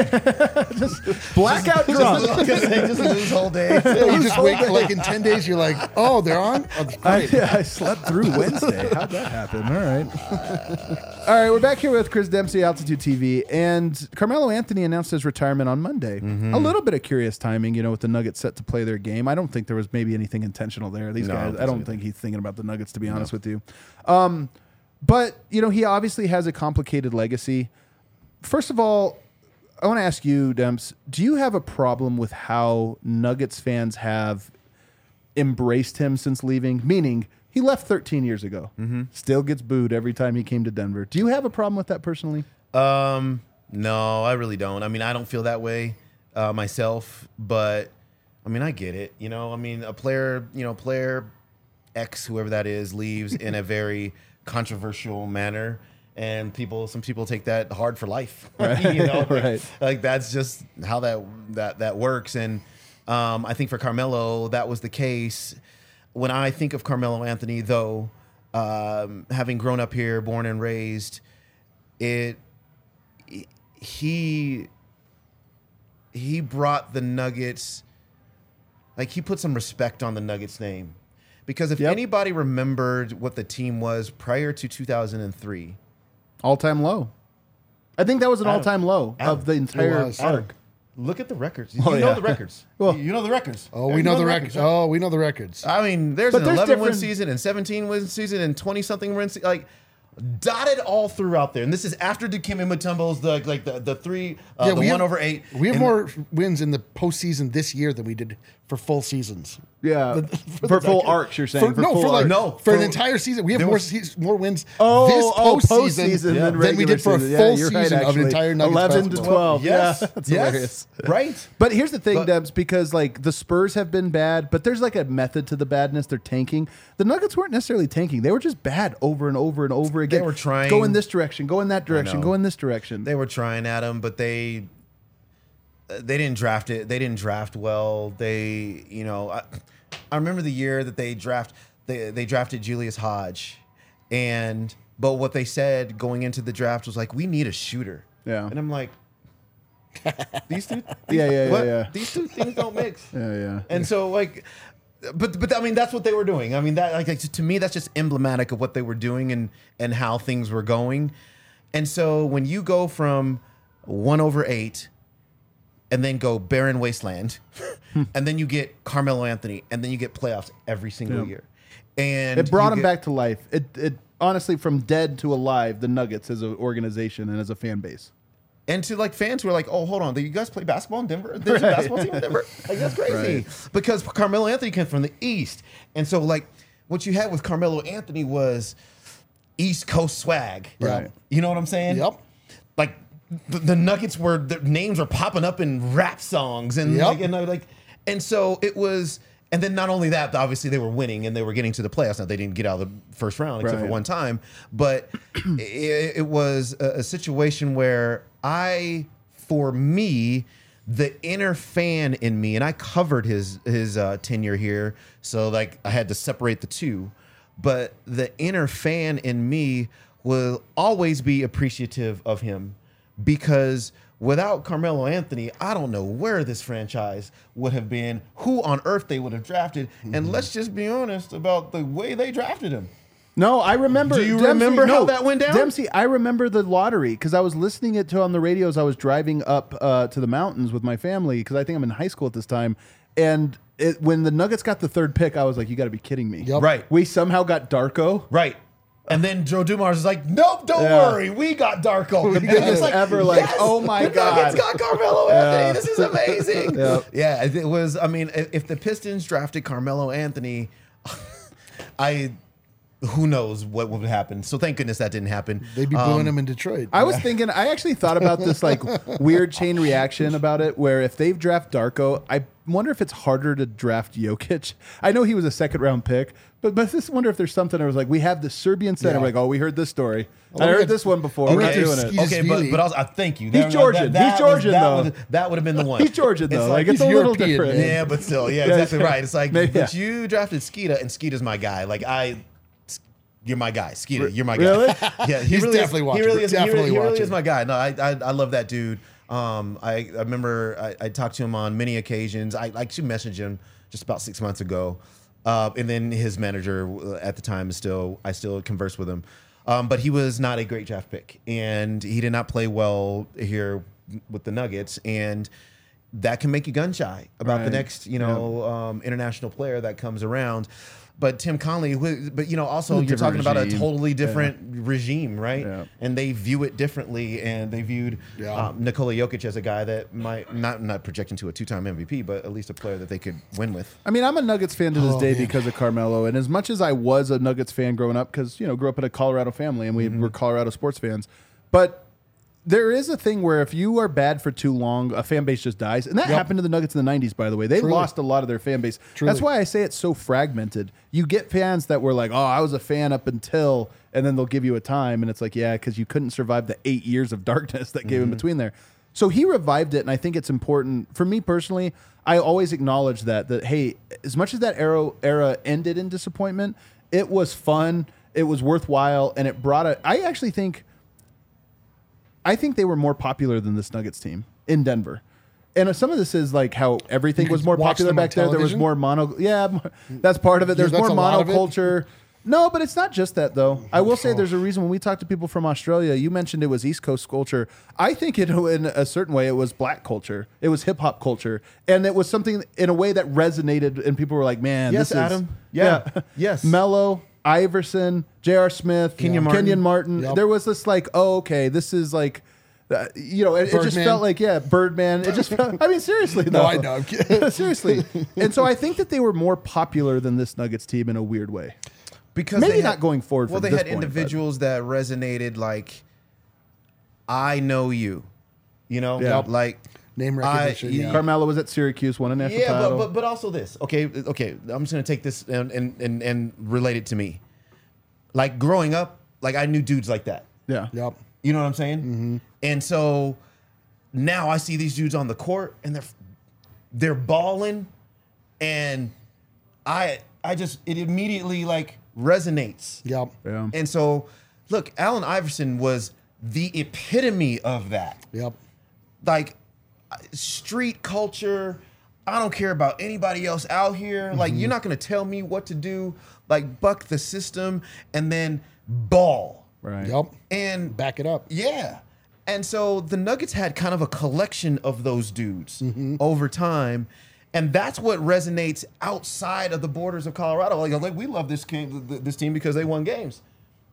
Speaker 1: Blackout drunk.
Speaker 3: Just, just lose whole day.
Speaker 2: Yeah, you just wake like in ten days. You're like, oh, they're on. Oh, that's
Speaker 1: I,
Speaker 2: great.
Speaker 1: I slept through Wednesday. How'd that happen? All right. All right, we're back here with Chris Dempsey, Altitude T V, and Carmelo Anthony announced his retirement on Monday. A little bit of curious timing, you know, with the Nuggets set to play their game. I don't think there was maybe anything intentional there. These
Speaker 3: No, I
Speaker 1: guys,
Speaker 3: don't
Speaker 1: I don't
Speaker 3: think so
Speaker 1: think he's thinking about the Nuggets, to be honest with you. Um, but, you know, he obviously has a complicated legacy. First of all, I want to ask you, Demps, do you have a problem with how Nuggets fans have embraced him since leaving? Meaning, he left thirteen years ago.
Speaker 3: Mm-hmm.
Speaker 1: Still gets booed every time he came to Denver. Do you have a problem with that personally?
Speaker 3: Um, no, I really don't. I mean, I don't feel that way uh, myself, but I mean, I get it. You know, I mean, a player, you know, player X, whoever that is, leaves in a very controversial manner, and people, some people take that hard for life.
Speaker 1: Right.
Speaker 3: You know,
Speaker 1: Right.
Speaker 3: like that's just how that that that works. And um, I think for Carmelo, that was the case. When I think of Carmelo Anthony, though, um, having grown up here, born and raised, it he he brought the Nuggets, like he put some respect on the Nuggets name. Because if
Speaker 1: Yep.
Speaker 3: anybody remembered what the team was prior to two thousand three,
Speaker 1: All time low. I think that was an
Speaker 3: Adam,
Speaker 1: all time low
Speaker 3: Adam,
Speaker 1: of the entire
Speaker 2: was.
Speaker 1: arc.
Speaker 3: look at the records.
Speaker 1: Oh,
Speaker 3: you know
Speaker 1: yeah.
Speaker 3: the records.
Speaker 1: Well-
Speaker 3: you know the records.
Speaker 2: Oh, we
Speaker 3: You
Speaker 2: know the records.
Speaker 3: right?
Speaker 2: Oh, we know the records.
Speaker 3: I mean, there's
Speaker 1: But
Speaker 3: an
Speaker 1: there's
Speaker 3: eleven win
Speaker 1: different-
Speaker 3: season and seventeen win season and twenty something win season, like dotted all throughout there. And this is after Dikembe Mutombo's the like the the three uh, the
Speaker 2: we
Speaker 3: one
Speaker 2: have,
Speaker 3: over eight.
Speaker 2: We have
Speaker 3: And-
Speaker 2: more wins in the postseason this year than we did for full seasons.
Speaker 1: Yeah.
Speaker 2: The-
Speaker 1: for
Speaker 2: the
Speaker 1: full
Speaker 2: decade.
Speaker 1: arcs, you're saying.
Speaker 2: For, no,
Speaker 1: full
Speaker 2: for like
Speaker 1: arcs.
Speaker 3: No,
Speaker 2: for,
Speaker 3: for-
Speaker 2: an entire season. We have
Speaker 3: there
Speaker 2: more
Speaker 3: was-
Speaker 2: se- more wins
Speaker 1: Oh,
Speaker 2: this
Speaker 1: oh,
Speaker 2: postseason,
Speaker 1: postseason
Speaker 2: than,
Speaker 1: than
Speaker 2: we
Speaker 1: regular
Speaker 2: did for a
Speaker 1: season.
Speaker 2: full
Speaker 1: Yeah, you're right,
Speaker 2: season of
Speaker 1: actually.
Speaker 2: entire Nuggets
Speaker 1: eleven to
Speaker 2: basketball.
Speaker 1: twelve.
Speaker 3: Yes,
Speaker 1: Yeah, that's
Speaker 3: yes,
Speaker 1: hilarious.
Speaker 3: right.
Speaker 1: But here's the thing,
Speaker 3: But-
Speaker 1: Debs, because like the Spurs have been bad, but there's like a method to the badness. They're tanking. The Nuggets weren't necessarily tanking. They were just bad over and over and over again.
Speaker 3: were trying-
Speaker 1: Go in this direction. Go in that direction.
Speaker 3: know.
Speaker 1: Go in this direction.
Speaker 3: They were trying at him, but they they didn't draft it. They didn't draft well. They, you know, I, I remember the year that they draft they they drafted Julius Hodge, and but what they said going into the draft was like, we need a shooter.
Speaker 1: Yeah.
Speaker 3: And I'm like, these two,
Speaker 1: Yeah, yeah, yeah,
Speaker 3: what?
Speaker 1: yeah.
Speaker 3: These two things don't mix.
Speaker 1: yeah, yeah.
Speaker 3: And so like, but but I mean that's what they were doing. I mean that like to me that's just emblematic of what they were doing and and how things were going. And so when you go from one over eight, and then go barren wasteland, and then you get Carmelo Anthony, and then you get playoffs every single
Speaker 1: Yeah.
Speaker 3: year, and
Speaker 1: It brought
Speaker 3: you
Speaker 1: them
Speaker 3: get-
Speaker 1: back to life. It, it honestly, from dead to alive, the Nuggets as an organization and as a fan base.
Speaker 3: And to like fans who are like, oh, hold on, do you guys play basketball in Denver? There's a basketball team in Denver? Like, that's crazy.
Speaker 1: Right.
Speaker 3: Because Carmelo Anthony came from the East. And so, like, what you had with Carmelo Anthony was East Coast swag.
Speaker 1: Right.
Speaker 3: You know what I'm saying?
Speaker 2: Yep.
Speaker 3: Like, the, the Nuggets were, their names were popping up in rap songs. And,
Speaker 2: Yep.
Speaker 3: like, and, I, like, and so it was, and then not only that, obviously they were winning and they were getting to the playoffs. Now, they didn't get out of the first round except
Speaker 1: Right.
Speaker 3: for one time. But it, it was a, a situation where I, for me, the inner fan in me, and I covered his his uh, tenure here, so like I had to separate the two. But the inner fan in me will always be appreciative of him because without Carmelo Anthony, I don't know where this franchise would have been, who on earth they would have drafted, and let's just be honest about the way they drafted him.
Speaker 1: No, I remember.
Speaker 3: Do you remember how that went down?
Speaker 1: Dempsey, I remember the lottery because I was listening it to on the radio as I was driving up uh, to the mountains with my family because I think I'm in high school at this time. And it, when the Nuggets got the third pick, I was like, "You got to be kidding me!"
Speaker 2: Yep.
Speaker 3: Right.
Speaker 1: We somehow got Darko.
Speaker 3: Right. And then Joe Dumars is like, nope, don't
Speaker 1: Yeah.
Speaker 3: worry, we got Darko. And
Speaker 1: biggest
Speaker 3: it's like,
Speaker 1: ever, like,
Speaker 3: yes,
Speaker 1: oh my
Speaker 3: the Nuggets
Speaker 1: God.
Speaker 3: got Carmelo Anthony. This is amazing.
Speaker 1: Yep.
Speaker 3: Yeah, it was. I mean, if, if the Pistons drafted Carmelo Anthony, I, who knows what would happen. So thank goodness that didn't happen.
Speaker 2: They'd be booing him in Detroit.
Speaker 1: I was thinking, I actually thought about this like weird chain reaction about it, where if they've draft Darko, I wonder if it's harder to draft Jokic. I know he was a second round pick, but but I just wonder if there's something that was like, we have the Serbian center.
Speaker 2: Yeah.
Speaker 1: We're like, oh, we heard this story.
Speaker 2: Oh,
Speaker 1: I
Speaker 2: we
Speaker 1: heard
Speaker 2: had-
Speaker 1: this one before.
Speaker 2: we
Speaker 1: We're
Speaker 2: had
Speaker 1: not
Speaker 2: to
Speaker 1: doing it.
Speaker 2: ski-
Speaker 3: Okay, but
Speaker 2: Skeely.
Speaker 3: but also, I thank you.
Speaker 1: He's
Speaker 3: That-
Speaker 1: Georgian.
Speaker 3: that-
Speaker 1: He's
Speaker 3: that was-
Speaker 1: Georgian,
Speaker 3: that
Speaker 1: though.
Speaker 3: would- That would have been the one.
Speaker 1: He's Georgian,
Speaker 3: It's
Speaker 1: though. Like,
Speaker 3: like,
Speaker 1: it's a
Speaker 2: he's
Speaker 1: little
Speaker 2: European,
Speaker 1: different.
Speaker 2: man.
Speaker 3: yeah, but still, yeah,
Speaker 1: Yeah,
Speaker 3: exactly
Speaker 1: yeah.
Speaker 3: right. It's like,
Speaker 1: Maybe,
Speaker 3: but
Speaker 1: yeah.
Speaker 3: you drafted Skeeta, and Skeeta's my guy. Like I, you're my guy, Skeeta. You're my guy.
Speaker 1: Really?
Speaker 3: Yeah, he
Speaker 2: He's
Speaker 3: really
Speaker 2: definitely
Speaker 3: is,
Speaker 2: watching.
Speaker 3: He really is.
Speaker 2: Definitely
Speaker 3: he really, he really
Speaker 2: watching.
Speaker 3: is my guy. No, I, I, I love that dude. Um, I, I remember I, I talked to him on many occasions. I, I actually messaged him just about six months ago, uh, and then his manager at the time is still. I still converse with him. Um, but he was not a great draft pick, and he did not play well here with the Nuggets, and that can make you gun shy about the
Speaker 1: Right.
Speaker 3: next, you know, um, international player that comes around. But Tim Conley, who, but you know, also
Speaker 1: A
Speaker 3: you're talking
Speaker 1: different
Speaker 3: about a
Speaker 1: regime.
Speaker 3: totally different regime, right?
Speaker 1: Yeah.
Speaker 3: And they view it differently, and they viewed
Speaker 2: Yeah.
Speaker 3: um, Nikola Jokic as a guy that might not not projecting to a two-time M V P, but at least a player that they could win with.
Speaker 1: I mean, I'm a Nuggets fan to this
Speaker 2: Oh,
Speaker 1: day
Speaker 2: man.
Speaker 1: because of Carmelo. And as much as I was a Nuggets fan growing up, because, you know, grew up in a Colorado family and we
Speaker 3: Mm-hmm.
Speaker 1: were Colorado sports fans. But there is a thing where if you are bad for too long, a fan base just dies. And that
Speaker 2: Yep.
Speaker 1: happened to the Nuggets in the nineties, by the way. They
Speaker 2: Truly.
Speaker 1: lost a lot of their fan base.
Speaker 2: Truly.
Speaker 1: That's why I say it's so fragmented. You get fans that were like, oh, I was a fan up until, and then they'll give you a time. And it's like, yeah, because you couldn't survive the eight years of darkness that gave in between there. So he revived it, and I think it's important for me personally. I always acknowledge that that hey, as much as that era era ended in disappointment, it was fun, it was worthwhile, and it brought a. I actually think I think they were more popular than this Nuggets team in Denver. And some of this is like how everything
Speaker 2: You
Speaker 1: was
Speaker 2: could
Speaker 1: more
Speaker 2: watch
Speaker 1: popular
Speaker 2: them on
Speaker 1: back there. There was
Speaker 2: television?
Speaker 1: more mono. Yeah, more- that's part of it.
Speaker 2: Yeah,
Speaker 1: There's
Speaker 2: that's
Speaker 1: more
Speaker 2: a lot of it.
Speaker 1: monoculture. No, but it's not just that, though. I will say there's a reason when we talk to people from Australia, you mentioned it was East Coast culture. I think it, in a certain way, it was black culture. It was hip hop culture. And it was something in a way that resonated, and people were like, man,
Speaker 3: Yes,
Speaker 1: this
Speaker 3: Adam.
Speaker 1: is.
Speaker 3: Yeah. Yes.
Speaker 1: Mello, Iverson, J R. Smith,
Speaker 3: Kenyon Martin.
Speaker 1: Kenyon Martin.
Speaker 2: Yep.
Speaker 1: There was this like, oh, okay, this is like. Uh, you know, it, it just
Speaker 2: Birdman.
Speaker 1: felt like, yeah, Birdman. It just felt, I mean, seriously,
Speaker 2: No,
Speaker 1: though.
Speaker 2: I know. I'm kidding.
Speaker 1: Seriously. And so I think that they were more popular than this Nuggets team in a weird way.
Speaker 3: Because
Speaker 1: Maybe
Speaker 3: they
Speaker 1: not
Speaker 3: had-
Speaker 1: going forward
Speaker 3: Well,
Speaker 1: from
Speaker 3: they
Speaker 1: this
Speaker 3: had
Speaker 1: point, but-
Speaker 3: individuals that resonated like, I know you, you know,
Speaker 1: Yeah.
Speaker 3: like
Speaker 2: Name
Speaker 3: I-
Speaker 2: recognition.
Speaker 3: you-
Speaker 2: yeah.
Speaker 1: Carmelo was at Syracuse, won a national
Speaker 3: yeah,
Speaker 1: title.
Speaker 3: but, but but also this. Okay, okay. I'm just gonna take this and and and, and relate it to me. Like growing up, like I knew dudes like that.
Speaker 1: yeah.
Speaker 2: Yep.
Speaker 3: You know what I'm saying? Mm-hmm. And so now I see these dudes on the court and they're they're balling, and I I just it immediately like resonates.
Speaker 2: Yep.
Speaker 1: Yeah.
Speaker 3: And so, look, Allen Iverson was the epitome of that.
Speaker 2: Yep.
Speaker 3: Like street culture. I don't care about anybody else out here. Like you're not gonna tell me what to do. Like buck the system and then ball.
Speaker 1: Right.
Speaker 2: Yep.
Speaker 3: And
Speaker 2: Back it up.
Speaker 3: yeah. And so the Nuggets had kind of a collection of those dudes over time. And that's what resonates outside of the borders of Colorado. Like, like we love this game, this team because they won games.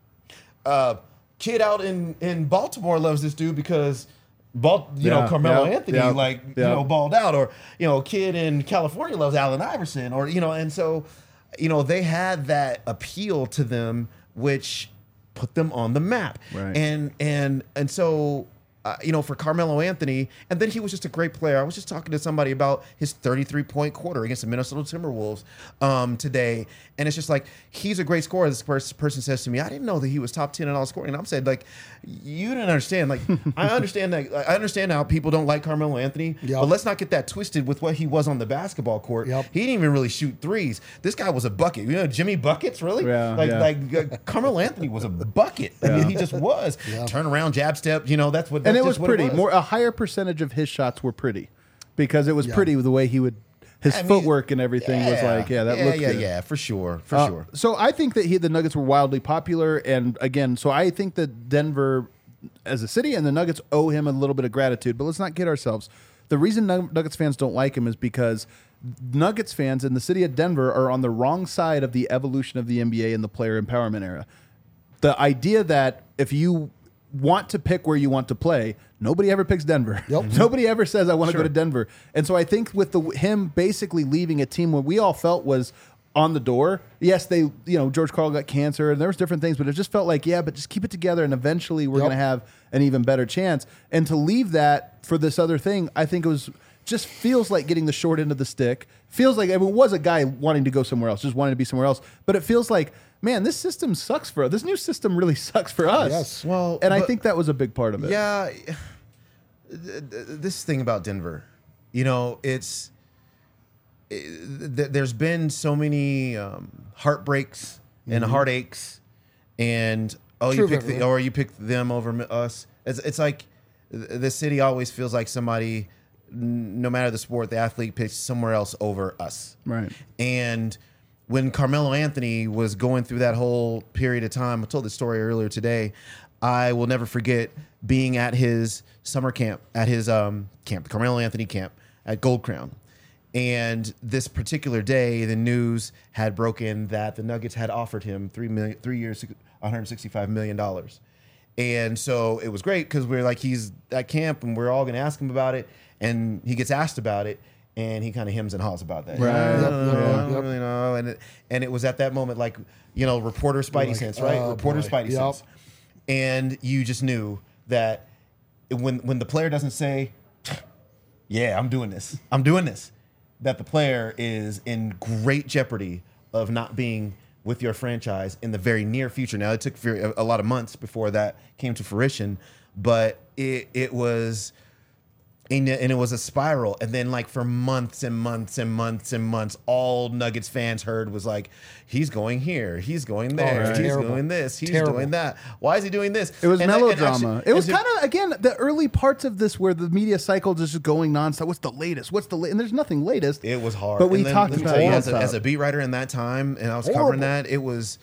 Speaker 3: Uh, kid out in, in Baltimore loves this dude because, Bal- you
Speaker 1: Yeah,
Speaker 3: know, Carmelo
Speaker 1: yeah,
Speaker 3: Anthony,
Speaker 1: yeah,
Speaker 3: like,
Speaker 1: yeah.
Speaker 3: you know, balled out. Or, you know, kid in California loves Allen Iverson. Or, you know, and so, you know, they had that appeal to them, which put them on the map.
Speaker 1: Right.
Speaker 3: And and and so uh, you know, for Carmelo Anthony, and then he was just a great player. I was just talking to somebody about his thirty-three point quarter against the Minnesota Timberwolves um, today, and it's just like he's a great scorer. This pers- person says to me, "I didn't know that he was top ten in all scoring." And I'm saying, like, you didn't understand. Like, I understand that. I understand how people don't like Carmelo Anthony,
Speaker 2: Yep.
Speaker 3: but let's not get that twisted with what he was on the basketball court.
Speaker 2: Yep.
Speaker 3: He didn't even really shoot threes. This guy was a bucket. You know, Jimmy Buckets, really?
Speaker 1: Yeah,
Speaker 3: like,
Speaker 1: yeah.
Speaker 3: like uh, Carmelo Anthony was a bucket. I mean, he just was. Turn around, jab step. You know, that's what.
Speaker 1: And
Speaker 3: that's
Speaker 1: it was
Speaker 3: just what
Speaker 1: pretty.
Speaker 3: was.
Speaker 1: More a higher percentage of his shots were pretty because it was
Speaker 2: Yeah.
Speaker 1: pretty the way he would his
Speaker 3: I mean,
Speaker 1: footwork and everything was
Speaker 3: yeah,
Speaker 1: like, yeah, that
Speaker 3: yeah,
Speaker 1: looked
Speaker 3: yeah,
Speaker 1: good.
Speaker 3: yeah, for sure, for
Speaker 1: Uh,
Speaker 3: sure.
Speaker 1: So I think that he, the Nuggets were wildly popular, and again, so I think that Denver, as a city, and the Nuggets owe him a little bit of gratitude. But let's not kid ourselves. The reason Nug- Nuggets fans don't like him is because Nuggets fans in the city of Denver are on the wrong side of the evolution of the N B A and the player empowerment era. The idea that if you want to pick where you want to play, nobody ever picks Denver.
Speaker 2: Yep.
Speaker 1: Nobody ever says I want to
Speaker 3: Sure.
Speaker 1: go to Denver. And so I think with the him basically leaving a team where we all felt was on the door. Yes, they, you know, George Karl got cancer and there was different things, but it just felt like, yeah, but just keep it together and eventually we're
Speaker 2: Yep.
Speaker 1: going to have an even better chance. And to leave that for this other thing, I think it was just feels like getting the short end of the stick. Feels like it was a guy wanting to go somewhere else, just wanting to be somewhere else. But it feels like, man, this system sucks for us. This new system really sucks for us.
Speaker 2: Yes.
Speaker 3: Well,
Speaker 1: and I
Speaker 3: but-
Speaker 1: think that was a big part of it.
Speaker 3: Yeah, th- th- this thing about Denver, you know, it's it, th- there's been so many um, heartbreaks and heartaches, and oh,
Speaker 2: True
Speaker 3: you pick
Speaker 2: of
Speaker 3: the,
Speaker 2: everyone.
Speaker 3: or you pick them over m- us. It's it's like th- the city always feels like somebody, n- no matter the sport, the athlete picks somewhere else over us.
Speaker 1: Right.
Speaker 3: And when Carmelo Anthony was going through that whole period of time, I told this story earlier today. I will never forget being at his summer camp, at his um, camp, the Carmelo Anthony camp at Gold Crown. And this particular day, the news had broken that the Nuggets had offered him three million, three years, one hundred sixty-five million dollars. And so it was great because we we're like, he's at camp and we're all going to ask him about it. And he gets asked about it. And he kind of hems and haws about that.
Speaker 1: Right.
Speaker 3: I
Speaker 1: Yep,
Speaker 3: don't know,
Speaker 2: yep,
Speaker 3: I don't
Speaker 2: yep.
Speaker 3: really know. And it, and it was at that moment, like, you know, reporter Spidey
Speaker 2: Like,
Speaker 3: sense, right?
Speaker 2: oh,
Speaker 3: reporter
Speaker 2: boy.
Speaker 3: Spidey
Speaker 2: Yep.
Speaker 3: sense. And you just knew that when when the player doesn't say, yeah, I'm doing this, I'm doing this, that the player is in great jeopardy of not being with your franchise in the very near future. Now, it took very- a lot of months before that came to fruition, but it it was And, and it was a spiral. And then, like, for months and months and months and months, all Nuggets fans heard was like, he's going here, he's going there,
Speaker 2: right.
Speaker 3: he's
Speaker 2: Terrible.
Speaker 3: doing this, he's
Speaker 2: Terrible.
Speaker 3: doing that. Why is he doing this?
Speaker 1: It was
Speaker 3: And I- and
Speaker 1: melodrama.
Speaker 3: actually-
Speaker 1: it was
Speaker 3: and
Speaker 1: kind of, again, the early parts of this where the media cycle is just going nonstop. What's the latest? What's the latest? And there's nothing latest.
Speaker 3: It was hard.
Speaker 1: But we
Speaker 3: And then,
Speaker 1: talked
Speaker 3: let me
Speaker 1: about
Speaker 3: tell you,
Speaker 1: it
Speaker 3: as a,
Speaker 1: nonstop.
Speaker 3: as a beat writer in that time, and I was
Speaker 2: Horrible.
Speaker 3: covering that, it was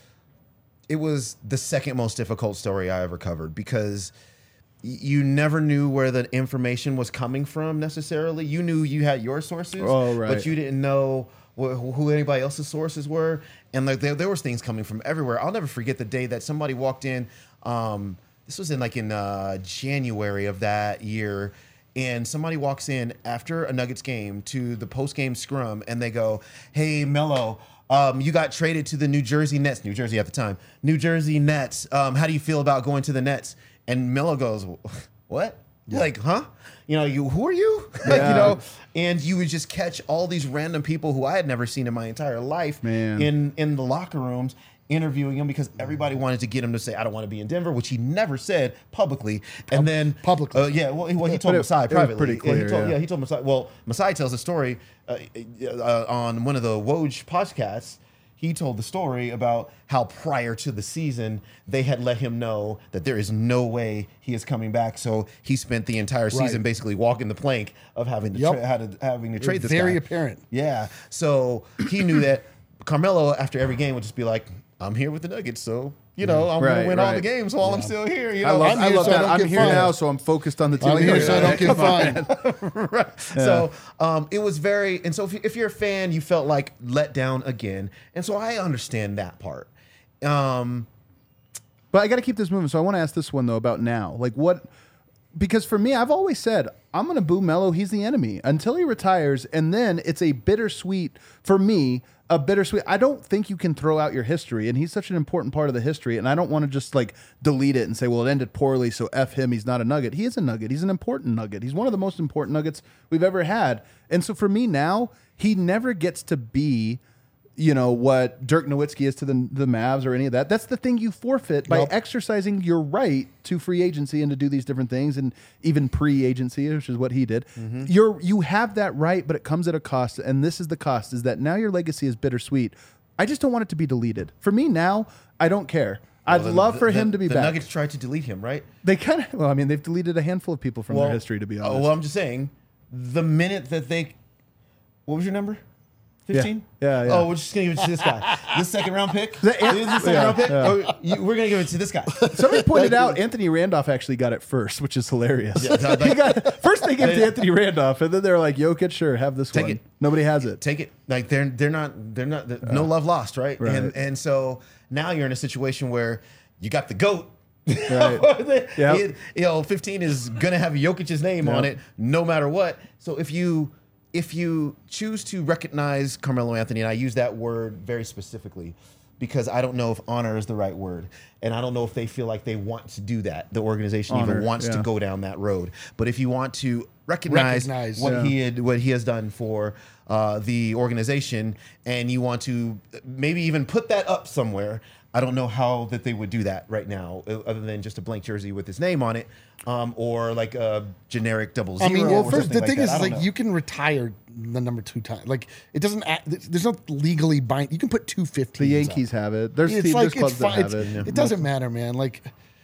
Speaker 3: it was the second most difficult story I ever covered because y- you never knew where the information was coming from necessarily. You knew you had your sources,
Speaker 1: Oh, right.
Speaker 3: but you didn't know wh- who anybody else's sources were. And like there, there was things coming from everywhere. I'll never forget the day that somebody walked in. Um, this was in like in uh, January of that year. And somebody walks in after a Nuggets game to the post-game scrum, and they go, "Hey, Melo, um, you got traded to the New Jersey Nets, New Jersey at the time, New Jersey Nets. Um, how do you feel about going to the Nets?" And Melo goes, "What? Like, huh? You know, you who are you?
Speaker 1: Yeah.
Speaker 3: You know?" And you would just catch all these random people who I had never seen in my entire life
Speaker 1: Man.
Speaker 3: in in the locker rooms, interviewing him because everybody wanted to get him to say, "I don't want to be in Denver," which he never said publicly. And then
Speaker 2: publicly.
Speaker 3: uh, yeah, well, he, well, he
Speaker 1: But
Speaker 3: told
Speaker 1: it-
Speaker 3: Masai
Speaker 1: it was
Speaker 3: privately.
Speaker 1: pretty
Speaker 3: Yeah,
Speaker 1: clear,
Speaker 3: he told,
Speaker 1: yeah.
Speaker 3: yeah, he told Masai. Well, Masai tells a story uh, uh, on one of the Woj podcasts. He told the story about how prior to the season they had let him know that there is no way he is coming back. So he spent the entire season
Speaker 2: Right.
Speaker 3: basically walking the plank of having to
Speaker 2: Yep.
Speaker 3: tra- had to, having to trade this
Speaker 2: very
Speaker 3: guy.
Speaker 2: apparent.
Speaker 3: Yeah. So he knew that Carmelo after every game would just be like, "I'm here with the Nuggets, so you know I'm
Speaker 1: Right,
Speaker 3: gonna win all
Speaker 1: right.
Speaker 3: the games while I'm still here." You
Speaker 1: I
Speaker 3: know,
Speaker 1: love,
Speaker 2: I'm
Speaker 1: I
Speaker 2: here
Speaker 1: love
Speaker 2: so I
Speaker 1: that.
Speaker 2: don't
Speaker 1: I'm
Speaker 2: get
Speaker 1: here
Speaker 2: fined.
Speaker 1: now, so I'm focused on the team.
Speaker 2: I'm here so I don't get fined.
Speaker 3: right. So um, it was very, and so if, you, if you're a fan, you felt like let down again, and so I understand that part. Um,
Speaker 1: But I got to keep this moving. So I want to ask this one though about now. Like what? Because for me, I've always said I'm going to boo Melo. He's the enemy until he retires, and then it's a bittersweet for me. A bittersweet. I don't think you can throw out your history, and he's such an important part of the history. And I don't want to just like delete it and say, "Well, it ended poorly, so f him. He's not a Nugget. He is a Nugget. He's an important Nugget. He's one of the most important Nuggets we've ever had." And so for me now, he never gets to be, you know, what Dirk Nowitzki is to the the Mavs or any of that. That's the thing you forfeit by
Speaker 2: Yep.
Speaker 1: exercising your right to free agency and to do these different things, and even pre-agency, which is what he did. You're you have that right, but it comes at a cost, and this is the cost: is that now your legacy is bittersweet. I just don't want it to be deleted. For me now, I don't care. I'd
Speaker 3: well, the-
Speaker 1: love for
Speaker 3: the-
Speaker 1: him to be
Speaker 3: the
Speaker 1: back.
Speaker 3: Nuggets tried to delete him, right?
Speaker 1: They kind of well, I mean, they've deleted a handful of people from their history, to be honest.
Speaker 3: Oh, well, I'm just saying, the minute that they, what was your number? fifteen?
Speaker 1: Yeah, yeah.
Speaker 3: Oh, we're just gonna give it to this guy. This second round pick.
Speaker 1: The-
Speaker 3: this second
Speaker 1: yeah,
Speaker 3: round pick.
Speaker 1: yeah.
Speaker 3: Oh, you, we're gonna give it to this guy.
Speaker 1: Somebody pointed out Anthony Randolph actually got it first, which is hilarious.
Speaker 3: Yeah, like-
Speaker 1: he got, first they gave it to Anthony Randolph, and then they're like, Jokic, sure, have this
Speaker 3: Take
Speaker 1: one.
Speaker 3: it.
Speaker 1: Nobody has it.
Speaker 3: Take it. Like they're they're not they're not they're, no love lost, right?
Speaker 1: Right.
Speaker 3: And and so now you're in a situation where you got the GOAT.
Speaker 1: Right. Yep.
Speaker 3: It- you know, fifteen is gonna have Jokic's name on
Speaker 1: Yep.
Speaker 3: it, no matter what. So if you if you choose to recognize Carmelo Anthony, and I use that word very specifically because I don't know if honor is the right word, and I don't know if they feel like they want to do that. The organization
Speaker 1: Honor,
Speaker 3: even wants to
Speaker 1: yeah.
Speaker 3: go down that road. But if you want to recognize,
Speaker 2: Recognize,
Speaker 3: what
Speaker 1: yeah.
Speaker 3: he had, what he has done for uh, the organization, and you want to maybe even put that up somewhere. I don't know how that they would do that right now, uh, other than just a blank jersey with his name on it, um, or like a generic double
Speaker 2: I
Speaker 3: zero.
Speaker 2: mean, well,
Speaker 3: or
Speaker 2: first
Speaker 3: something
Speaker 2: the thing
Speaker 3: like
Speaker 2: is,
Speaker 3: that. I
Speaker 2: is
Speaker 3: don't
Speaker 2: like
Speaker 3: know.
Speaker 2: you can retire the number two time. Like it doesn't. Act, there's no legally bind. You can put two fifteen.
Speaker 1: The Yankees have it. There's,
Speaker 2: It's
Speaker 1: teams,
Speaker 2: like
Speaker 1: there's clubs
Speaker 2: it's
Speaker 1: that
Speaker 2: fine.
Speaker 1: have
Speaker 2: It's,
Speaker 1: it.
Speaker 2: it doesn't matter, man. Like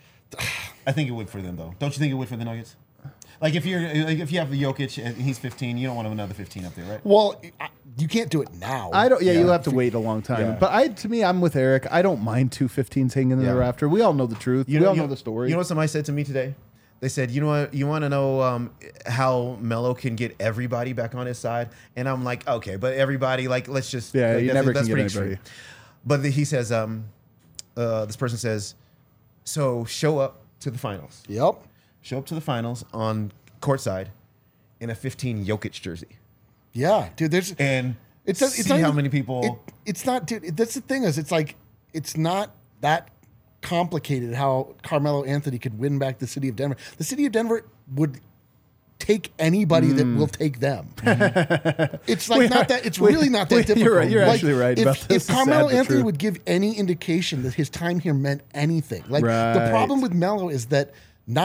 Speaker 3: I think it would for them though. Don't you think it would for the Nuggets? Like if you're like if you have the Jokic and he's fifteen, you don't want another fifteen up there, right?
Speaker 2: well, I, you can't do it now.
Speaker 1: I don't. Yeah,
Speaker 3: Yeah.
Speaker 1: you'll have to wait a long time.
Speaker 3: Yeah.
Speaker 1: But I, to me, I'm with Eric. I don't mind two fifteens hanging in
Speaker 3: Yeah.
Speaker 1: the rafter. We all know the truth.
Speaker 3: You
Speaker 1: we all
Speaker 3: you
Speaker 1: know the story.
Speaker 3: You know what somebody said to me today? They said, "You know what? You want to know um, how Melo can get everybody back on his side?" And I'm like, "Okay, but everybody, like, let's just
Speaker 1: Yeah,
Speaker 3: like,
Speaker 1: you
Speaker 3: that's-
Speaker 1: never
Speaker 3: that's
Speaker 1: can get
Speaker 3: pretty
Speaker 1: anybody.
Speaker 3: extreme." But the, he says, um, uh, this person says, "So show up to the finals.
Speaker 2: Yep.
Speaker 3: Show up to the finals on courtside in a fifteen Jokic jersey,
Speaker 2: Yeah, dude. There's
Speaker 3: and
Speaker 2: it's
Speaker 3: it's
Speaker 2: it's
Speaker 3: see
Speaker 2: not
Speaker 3: how
Speaker 2: even-
Speaker 3: many people."
Speaker 2: It, it's not, dude. it- That's the thing is, it's like it's not that complicated how Carmelo Anthony could win back the city of Denver. The city of Denver would take anybody that will take them. It's like
Speaker 1: We
Speaker 2: not
Speaker 1: are-
Speaker 2: that. It's
Speaker 1: we-
Speaker 2: really not that
Speaker 1: we-
Speaker 2: difficult.
Speaker 1: you're right- you're
Speaker 2: Like,
Speaker 1: actually right
Speaker 2: If,
Speaker 1: about this.
Speaker 2: if
Speaker 1: It's
Speaker 2: Carmelo
Speaker 1: sad but
Speaker 2: Anthony
Speaker 1: true.
Speaker 2: would give any indication that his time here meant anything, like the
Speaker 1: Right.
Speaker 2: problem with Melo is that not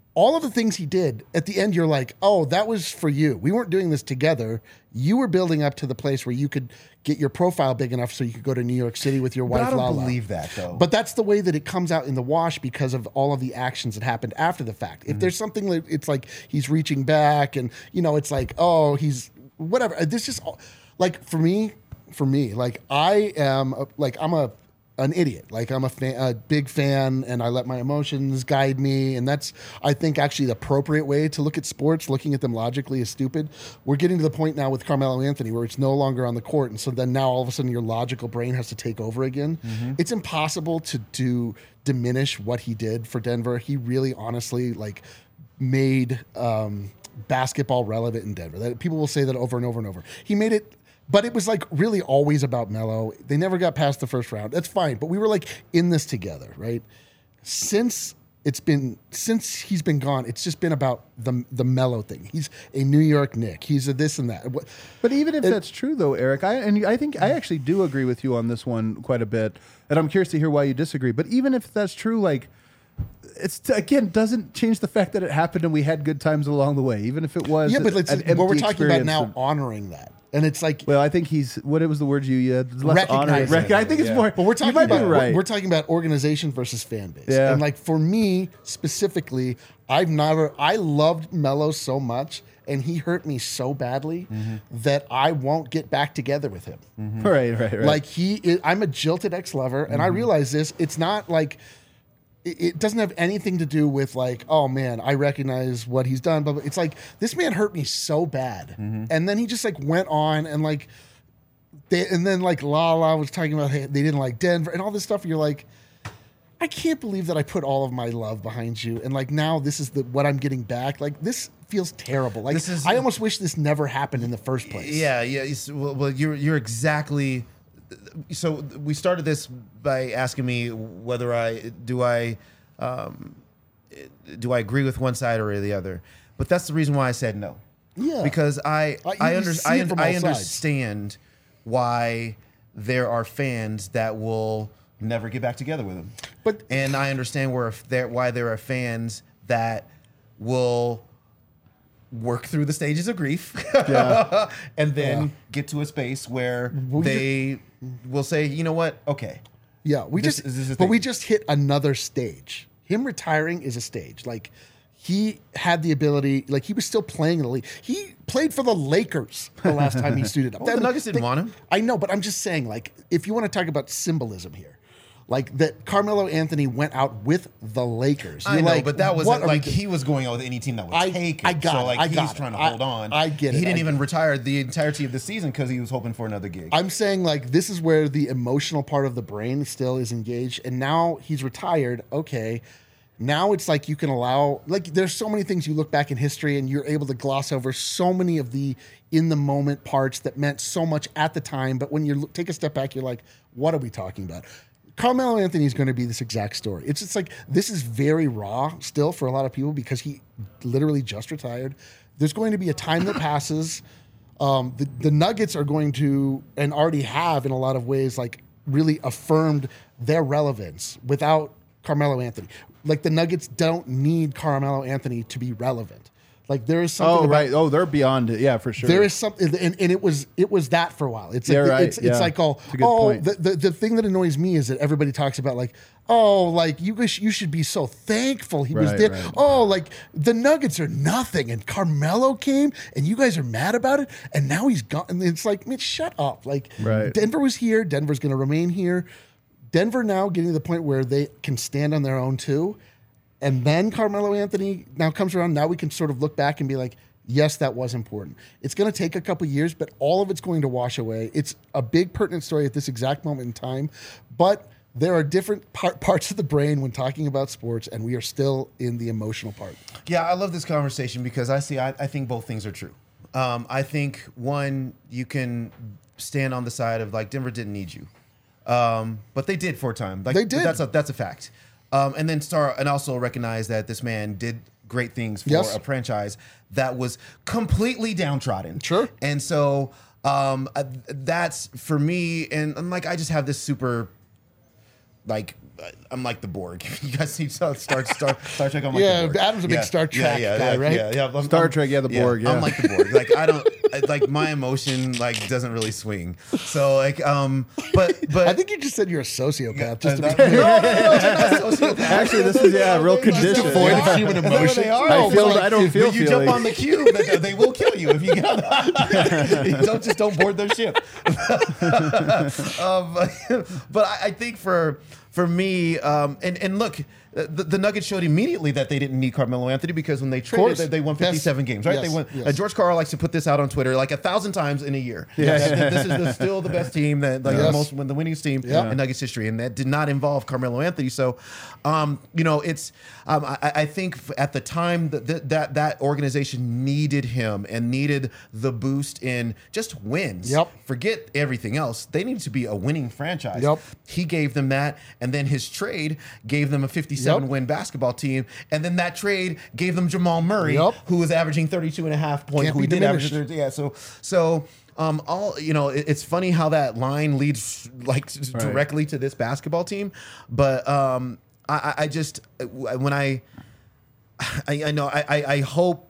Speaker 2: all of the things he did at the end, you're like, oh, that was for you. We weren't doing this together. You were building up to the place where you could get your profile big enough so you could go to New York City with your
Speaker 3: But
Speaker 2: wife,
Speaker 3: I don't
Speaker 2: Lala.
Speaker 3: believe that, though.
Speaker 2: But that's the way that it comes out in the wash because of all of the actions that happened after the fact. If there's something that it's like he's reaching back and, you know, it's like, oh, he's whatever. This just like for me, for me, like I am a, like I'm a an idiot. Like I'm a, fan, a big fan and I let my emotions guide me. And that's, I think, actually the appropriate way to look at sports. Looking at them logically is stupid. We're getting to the point now with Carmelo Anthony where it's no longer on the court. And so then now all of a sudden your logical brain has to take over again. Mm-hmm. It's impossible to, to diminish what he did for Denver. He really honestly like made um, basketball relevant in Denver. That, people will say that over and over and over. He made it. But it was like really always about Melo. They never got past the first round. That's fine. But we were like in this together, right? Since it's been since he's been gone, it's just been about the the Melo thing. He's a New York Knick. He's a this and that.
Speaker 1: But even if
Speaker 2: it,
Speaker 1: that's true, though, Eric, I and I think I actually do agree with you on this one quite a bit, and I'm curious to hear why you disagree. But even if that's true, like. It's again doesn't change the fact that it happened and we had good times along the way, even if it was.
Speaker 2: Yeah, but it's,
Speaker 1: an
Speaker 2: what we're
Speaker 1: empty
Speaker 2: talking about now,
Speaker 1: and,
Speaker 2: honoring that, and it's like.
Speaker 1: Well, I think he's what it was the words you used. Less
Speaker 2: Recognizing
Speaker 1: honor. Rec- I think it's
Speaker 3: yeah.
Speaker 1: more.
Speaker 2: But we're talking
Speaker 1: you might
Speaker 2: about
Speaker 1: be right.
Speaker 2: we're, we're talking about organization versus fan base,
Speaker 1: Yeah.
Speaker 2: and like for me specifically, I've never I loved Melo so much, and he hurt me so badly mm-hmm. that I won't get back together with him.
Speaker 1: Mm-hmm. Right, right, right.
Speaker 2: Like he, is, I'm a jilted ex-lover, and mm-hmm. I realize this. It's not like. It doesn't have anything to do with like, oh man, I recognize what he's done, but it's like this man hurt me so bad, mm-hmm. and then he just like went on and like, they, and then like Lala was talking about hey, they didn't like Denver and all this stuff. And you're like, I can't believe that I put all of my love behind you, and like now this is the what I'm getting back. Like this feels terrible. Like
Speaker 3: This is-
Speaker 2: I almost wish this never happened in the first place.
Speaker 3: Yeah, yeah. it's- Well, well, you're you're exactly. So we started this by asking me whether I do I um, do I agree with one side or the other, but that's the reason why I said no.
Speaker 2: Yeah,
Speaker 3: because I
Speaker 2: Uh, you
Speaker 3: I,
Speaker 2: can
Speaker 3: under,
Speaker 2: see
Speaker 3: I,
Speaker 2: it from
Speaker 3: I
Speaker 2: all sides.
Speaker 3: understand why there are fans that will never get back together with him,
Speaker 2: But-
Speaker 3: and I understand where there why there are fans that will work through the stages of grief
Speaker 1: Yeah.
Speaker 3: and then
Speaker 2: Yeah.
Speaker 3: get to a space where
Speaker 2: We
Speaker 3: they will say, you know what, okay.
Speaker 2: Yeah, we
Speaker 3: This-
Speaker 2: just
Speaker 3: this is the
Speaker 2: but we
Speaker 3: thing.
Speaker 2: just hit another stage. Him retiring is a stage. Like he had the ability, like he was still playing in the league. He played for the Lakers the last time he suited up.
Speaker 3: Well, the Nuggets didn't want him.
Speaker 2: I know, but I'm just saying, like, if you want to talk about symbolism here, like that Carmelo Anthony went out with the Lakers.
Speaker 3: I
Speaker 2: You're
Speaker 3: know,
Speaker 2: like,
Speaker 3: but that
Speaker 2: what
Speaker 3: wasn't
Speaker 2: are
Speaker 3: like
Speaker 2: we
Speaker 3: he was going out with any team that would
Speaker 2: I-
Speaker 3: take it.
Speaker 2: I got
Speaker 3: so
Speaker 2: it,
Speaker 3: like
Speaker 2: I
Speaker 3: he's
Speaker 2: got it.
Speaker 3: trying to
Speaker 2: I-
Speaker 3: hold on.
Speaker 2: I get
Speaker 3: He
Speaker 2: it,
Speaker 3: didn't
Speaker 2: I
Speaker 3: even
Speaker 2: get
Speaker 3: retire the entirety of the season because he was hoping for another gig.
Speaker 2: I'm saying like this is where the emotional part of the brain still is engaged, and now he's retired. Okay, now it's like you can allow like there's so many things you look back in history and you're able to gloss over so many of the in the moment parts that meant so much at the time, but when you look, take a step back, you're like, what are we talking about? Carmelo Anthony is going to be this exact story. It's just like this is very raw still for a lot of people because he literally just retired. There's going to be a time that passes. Um, the, the Nuggets are going to, and already have in a lot of ways, like really affirmed their relevance without Carmelo Anthony. Like the Nuggets don't need Carmelo Anthony to be relevant. Like there is something
Speaker 1: Oh
Speaker 2: about,
Speaker 1: right. Oh, they're beyond it. Yeah, for sure.
Speaker 2: there is something, and, and it was it was that for a while. It's like
Speaker 1: Yeah,
Speaker 2: the-
Speaker 1: right,
Speaker 2: it's,
Speaker 1: yeah.
Speaker 2: it's like oh
Speaker 1: It's a good
Speaker 2: oh
Speaker 1: point.
Speaker 2: the, the the thing that annoys me is that everybody talks about like oh like you guys you should be so thankful he was
Speaker 1: Right,
Speaker 2: there.
Speaker 1: right.
Speaker 2: Oh like the Nuggets are nothing and Carmelo came and you guys are mad about it and now he's gone. And it's like man, shut up. Like
Speaker 1: Right.
Speaker 2: Denver was here. Denver's going to remain here. Denver now getting to the point where they can stand on their own too. And then Carmelo Anthony now comes around. Now we can sort of look back and be like, yes, that was important. It's going to take a couple years, but all of it's going to wash away. It's a big pertinent story at this exact moment in time. But there are different par- parts of the brain when talking about sports, and we are still in the emotional part.
Speaker 3: Yeah, I love this conversation because I see. I, I think both things are true. Um, I think one, you can stand on the side of like Denver didn't need you, um, but they did for a time. Like
Speaker 2: They did.
Speaker 3: That's a that's a fact. Um, and then start and also recognize that this man did great things for
Speaker 2: Yes.
Speaker 3: a franchise that was completely downtrodden.
Speaker 2: Sure.
Speaker 3: And so um, uh, that's for me. And, and like I just have this super like I'm like the Borg. You guys see Star Star Star, Star Trek? I'm like
Speaker 2: Yeah,
Speaker 3: the Borg.
Speaker 2: Adam's a big Star Trek
Speaker 3: yeah, yeah,
Speaker 2: guy,
Speaker 3: yeah,
Speaker 2: right?
Speaker 3: Yeah, yeah. I'm-
Speaker 1: Star
Speaker 3: I'm-
Speaker 1: Trek, yeah, the Borg, yeah.
Speaker 3: I'm like the Borg. Like I don't I- like my emotion like doesn't really swing. So like um, but but
Speaker 2: I think you just said you're a sociopath. Just to
Speaker 3: no,
Speaker 2: be
Speaker 3: no, no, no, no, sociopath.
Speaker 1: Actually, this is yeah, a real
Speaker 3: Just
Speaker 1: condition.
Speaker 2: devoid
Speaker 3: Yeah.
Speaker 2: of human
Speaker 3: Is that what
Speaker 2: emotion.
Speaker 3: they are?
Speaker 1: I
Speaker 3: No,
Speaker 1: feel.
Speaker 3: but, like,
Speaker 1: I don't
Speaker 3: if
Speaker 1: feel.
Speaker 3: you
Speaker 1: feelings.
Speaker 3: jump on the cube, they, they will kill you if you get on. The, don't just don't board their ship. um, but I, I think for for me, um, and and look, the, the Nuggets showed immediately that they didn't need Carmelo Anthony because when they traded,
Speaker 2: course.
Speaker 3: they, they won
Speaker 2: Yes.
Speaker 3: fifty-seven games, right?
Speaker 2: Yes.
Speaker 3: They won.
Speaker 2: Yes.
Speaker 3: Uh, George Karl likes to put this out on Twitter like a thousand times in a year.
Speaker 1: Yeah.
Speaker 3: That- that this is the, still the best team, that like
Speaker 2: Yes.
Speaker 3: the most, when the winningest team
Speaker 2: Yeah.
Speaker 3: in Nuggets history, and that did not involve Carmelo Anthony. So, um, you know, it's um, I, I think at the time that, that that that organization needed him and needed the boost in just wins.
Speaker 2: Yep.
Speaker 3: Forget everything else. They needed to be a winning franchise.
Speaker 2: Yep.
Speaker 3: He gave them that, and then his trade gave them a fifty-seven
Speaker 2: Yep.
Speaker 3: win basketball team, and then that trade gave them Jamal Murray,
Speaker 2: Yep.
Speaker 3: who was averaging thirty-two and a half points.
Speaker 2: Can't
Speaker 3: Who
Speaker 2: be
Speaker 3: did average
Speaker 2: diminished.
Speaker 3: thirty, yeah. So so. Um, all you know, it, it's funny how that line leads like s-
Speaker 1: Right.
Speaker 3: directly to this basketball team, but um, I, I I just when I I, I know I, I I hope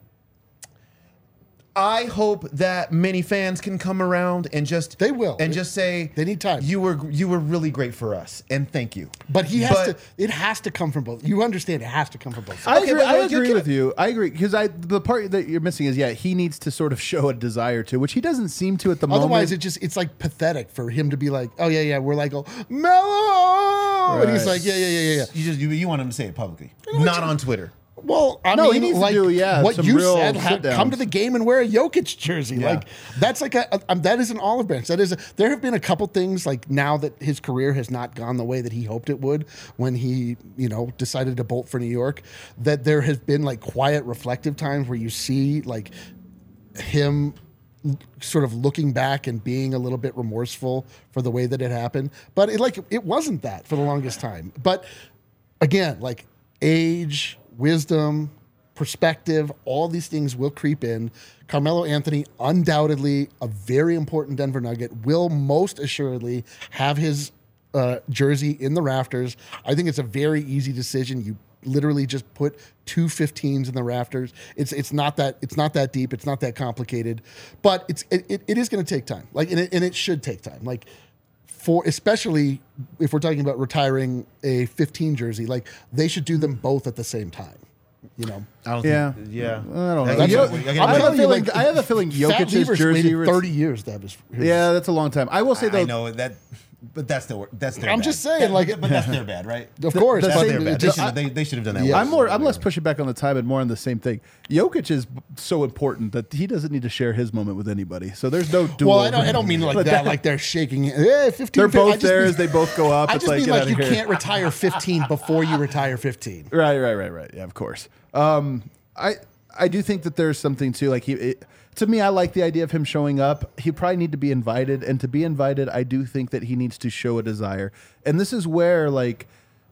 Speaker 3: I hope that many fans can come around and just
Speaker 2: They will.
Speaker 3: and just say
Speaker 2: They need time.
Speaker 3: You were you were really great for us, and thank you.
Speaker 2: But he has
Speaker 3: But-
Speaker 2: to. It has to come from both. You understand? It has to come from both.
Speaker 1: I
Speaker 2: sides.
Speaker 3: Okay,
Speaker 1: agree,
Speaker 3: but
Speaker 1: I
Speaker 3: look, you're
Speaker 1: agree
Speaker 3: gonna-
Speaker 1: with you. I agree because I the part that you're missing is yeah he needs to sort of show a desire to, which he doesn't seem to at the moment.
Speaker 2: Otherwise, it just it's like pathetic for him to be like, oh yeah, yeah, we're like, oh Mellow, and he's
Speaker 1: Right.
Speaker 2: like, yeah, yeah, yeah, yeah, yeah.
Speaker 3: You just you, you want him to say it publicly, not on Twitter.
Speaker 2: Well, I
Speaker 1: No, he
Speaker 2: mean,
Speaker 1: needs to
Speaker 2: like
Speaker 1: do, yeah,
Speaker 2: what
Speaker 1: some
Speaker 2: you
Speaker 1: real
Speaker 2: said, ha-
Speaker 1: sit-downs.
Speaker 2: come to the game and wear a Jokic jersey.
Speaker 3: Yeah.
Speaker 2: Like that's like a, a um, that is an olive branch. That is a, there have been a couple things like now that his career has not gone the way that he hoped it would when he you know decided to bolt for New York. That there has been like quiet, reflective times where you see like him sort of looking back and being a little bit remorseful for the way that it happened. But it like it wasn't that for the longest time. But again, like age, wisdom, perspective, all these things will creep in. Carmelo Anthony, undoubtedly a very important Denver Nugget, will most assuredly have his uh, jersey in the rafters. I think it's a very easy decision. You literally just put two fifteens in the rafters. It's it's not that it's not that deep. It's not that complicated, but it's it, it, it is going to take time. Like and it, and it should take time. Like for especially if we're talking about retiring a fifteen jersey, like they should do them both at the same time. You know,
Speaker 3: I don't
Speaker 1: Yeah.
Speaker 3: think, yeah.
Speaker 1: I don't know.
Speaker 3: That's
Speaker 1: Yo-
Speaker 3: what- I gotta
Speaker 1: I have
Speaker 3: wait.
Speaker 1: a feeling- I have a feeling
Speaker 2: Fat
Speaker 1: Jokic's
Speaker 2: Lever's
Speaker 1: jersey
Speaker 2: waited
Speaker 1: ret-
Speaker 2: thirty years to have his. his
Speaker 1: Yeah, that's a long time. I will say though,
Speaker 3: I know that, but that's the that's their.
Speaker 2: I'm
Speaker 3: bad.
Speaker 2: just saying,
Speaker 3: That-
Speaker 2: like-
Speaker 3: but that's their bad, right?
Speaker 2: Of course,
Speaker 1: the
Speaker 3: That's
Speaker 2: but
Speaker 1: same-
Speaker 3: their bad.
Speaker 2: it
Speaker 3: They
Speaker 2: just-
Speaker 3: should, they, they should have done that.
Speaker 2: Yeah.
Speaker 3: way
Speaker 1: I'm more. I'm
Speaker 3: earlier.
Speaker 1: less pushing back on the time and more on the same thing. Jokic is so important that he doesn't need to share his moment with anybody. So there's no duel.
Speaker 2: well, I don't. I don't mean like
Speaker 1: But
Speaker 2: that. Like they're shaking. Hey, fifteen.
Speaker 1: They're
Speaker 2: I
Speaker 1: both
Speaker 2: just
Speaker 1: there
Speaker 2: mean-
Speaker 1: as they both go up.
Speaker 2: I
Speaker 1: It's
Speaker 2: just
Speaker 1: like,
Speaker 2: mean
Speaker 1: get
Speaker 2: like
Speaker 1: outta
Speaker 2: you
Speaker 1: here.
Speaker 2: can't retire fifteen before you retire fifteen.
Speaker 1: Right, right, right, right. Yeah, of course. Um, I I do think that there's something too. Like he, it, to me, I like the idea of him showing up. He probably need to be invited, and to be invited, I do think that he needs to show a desire. And this is where like.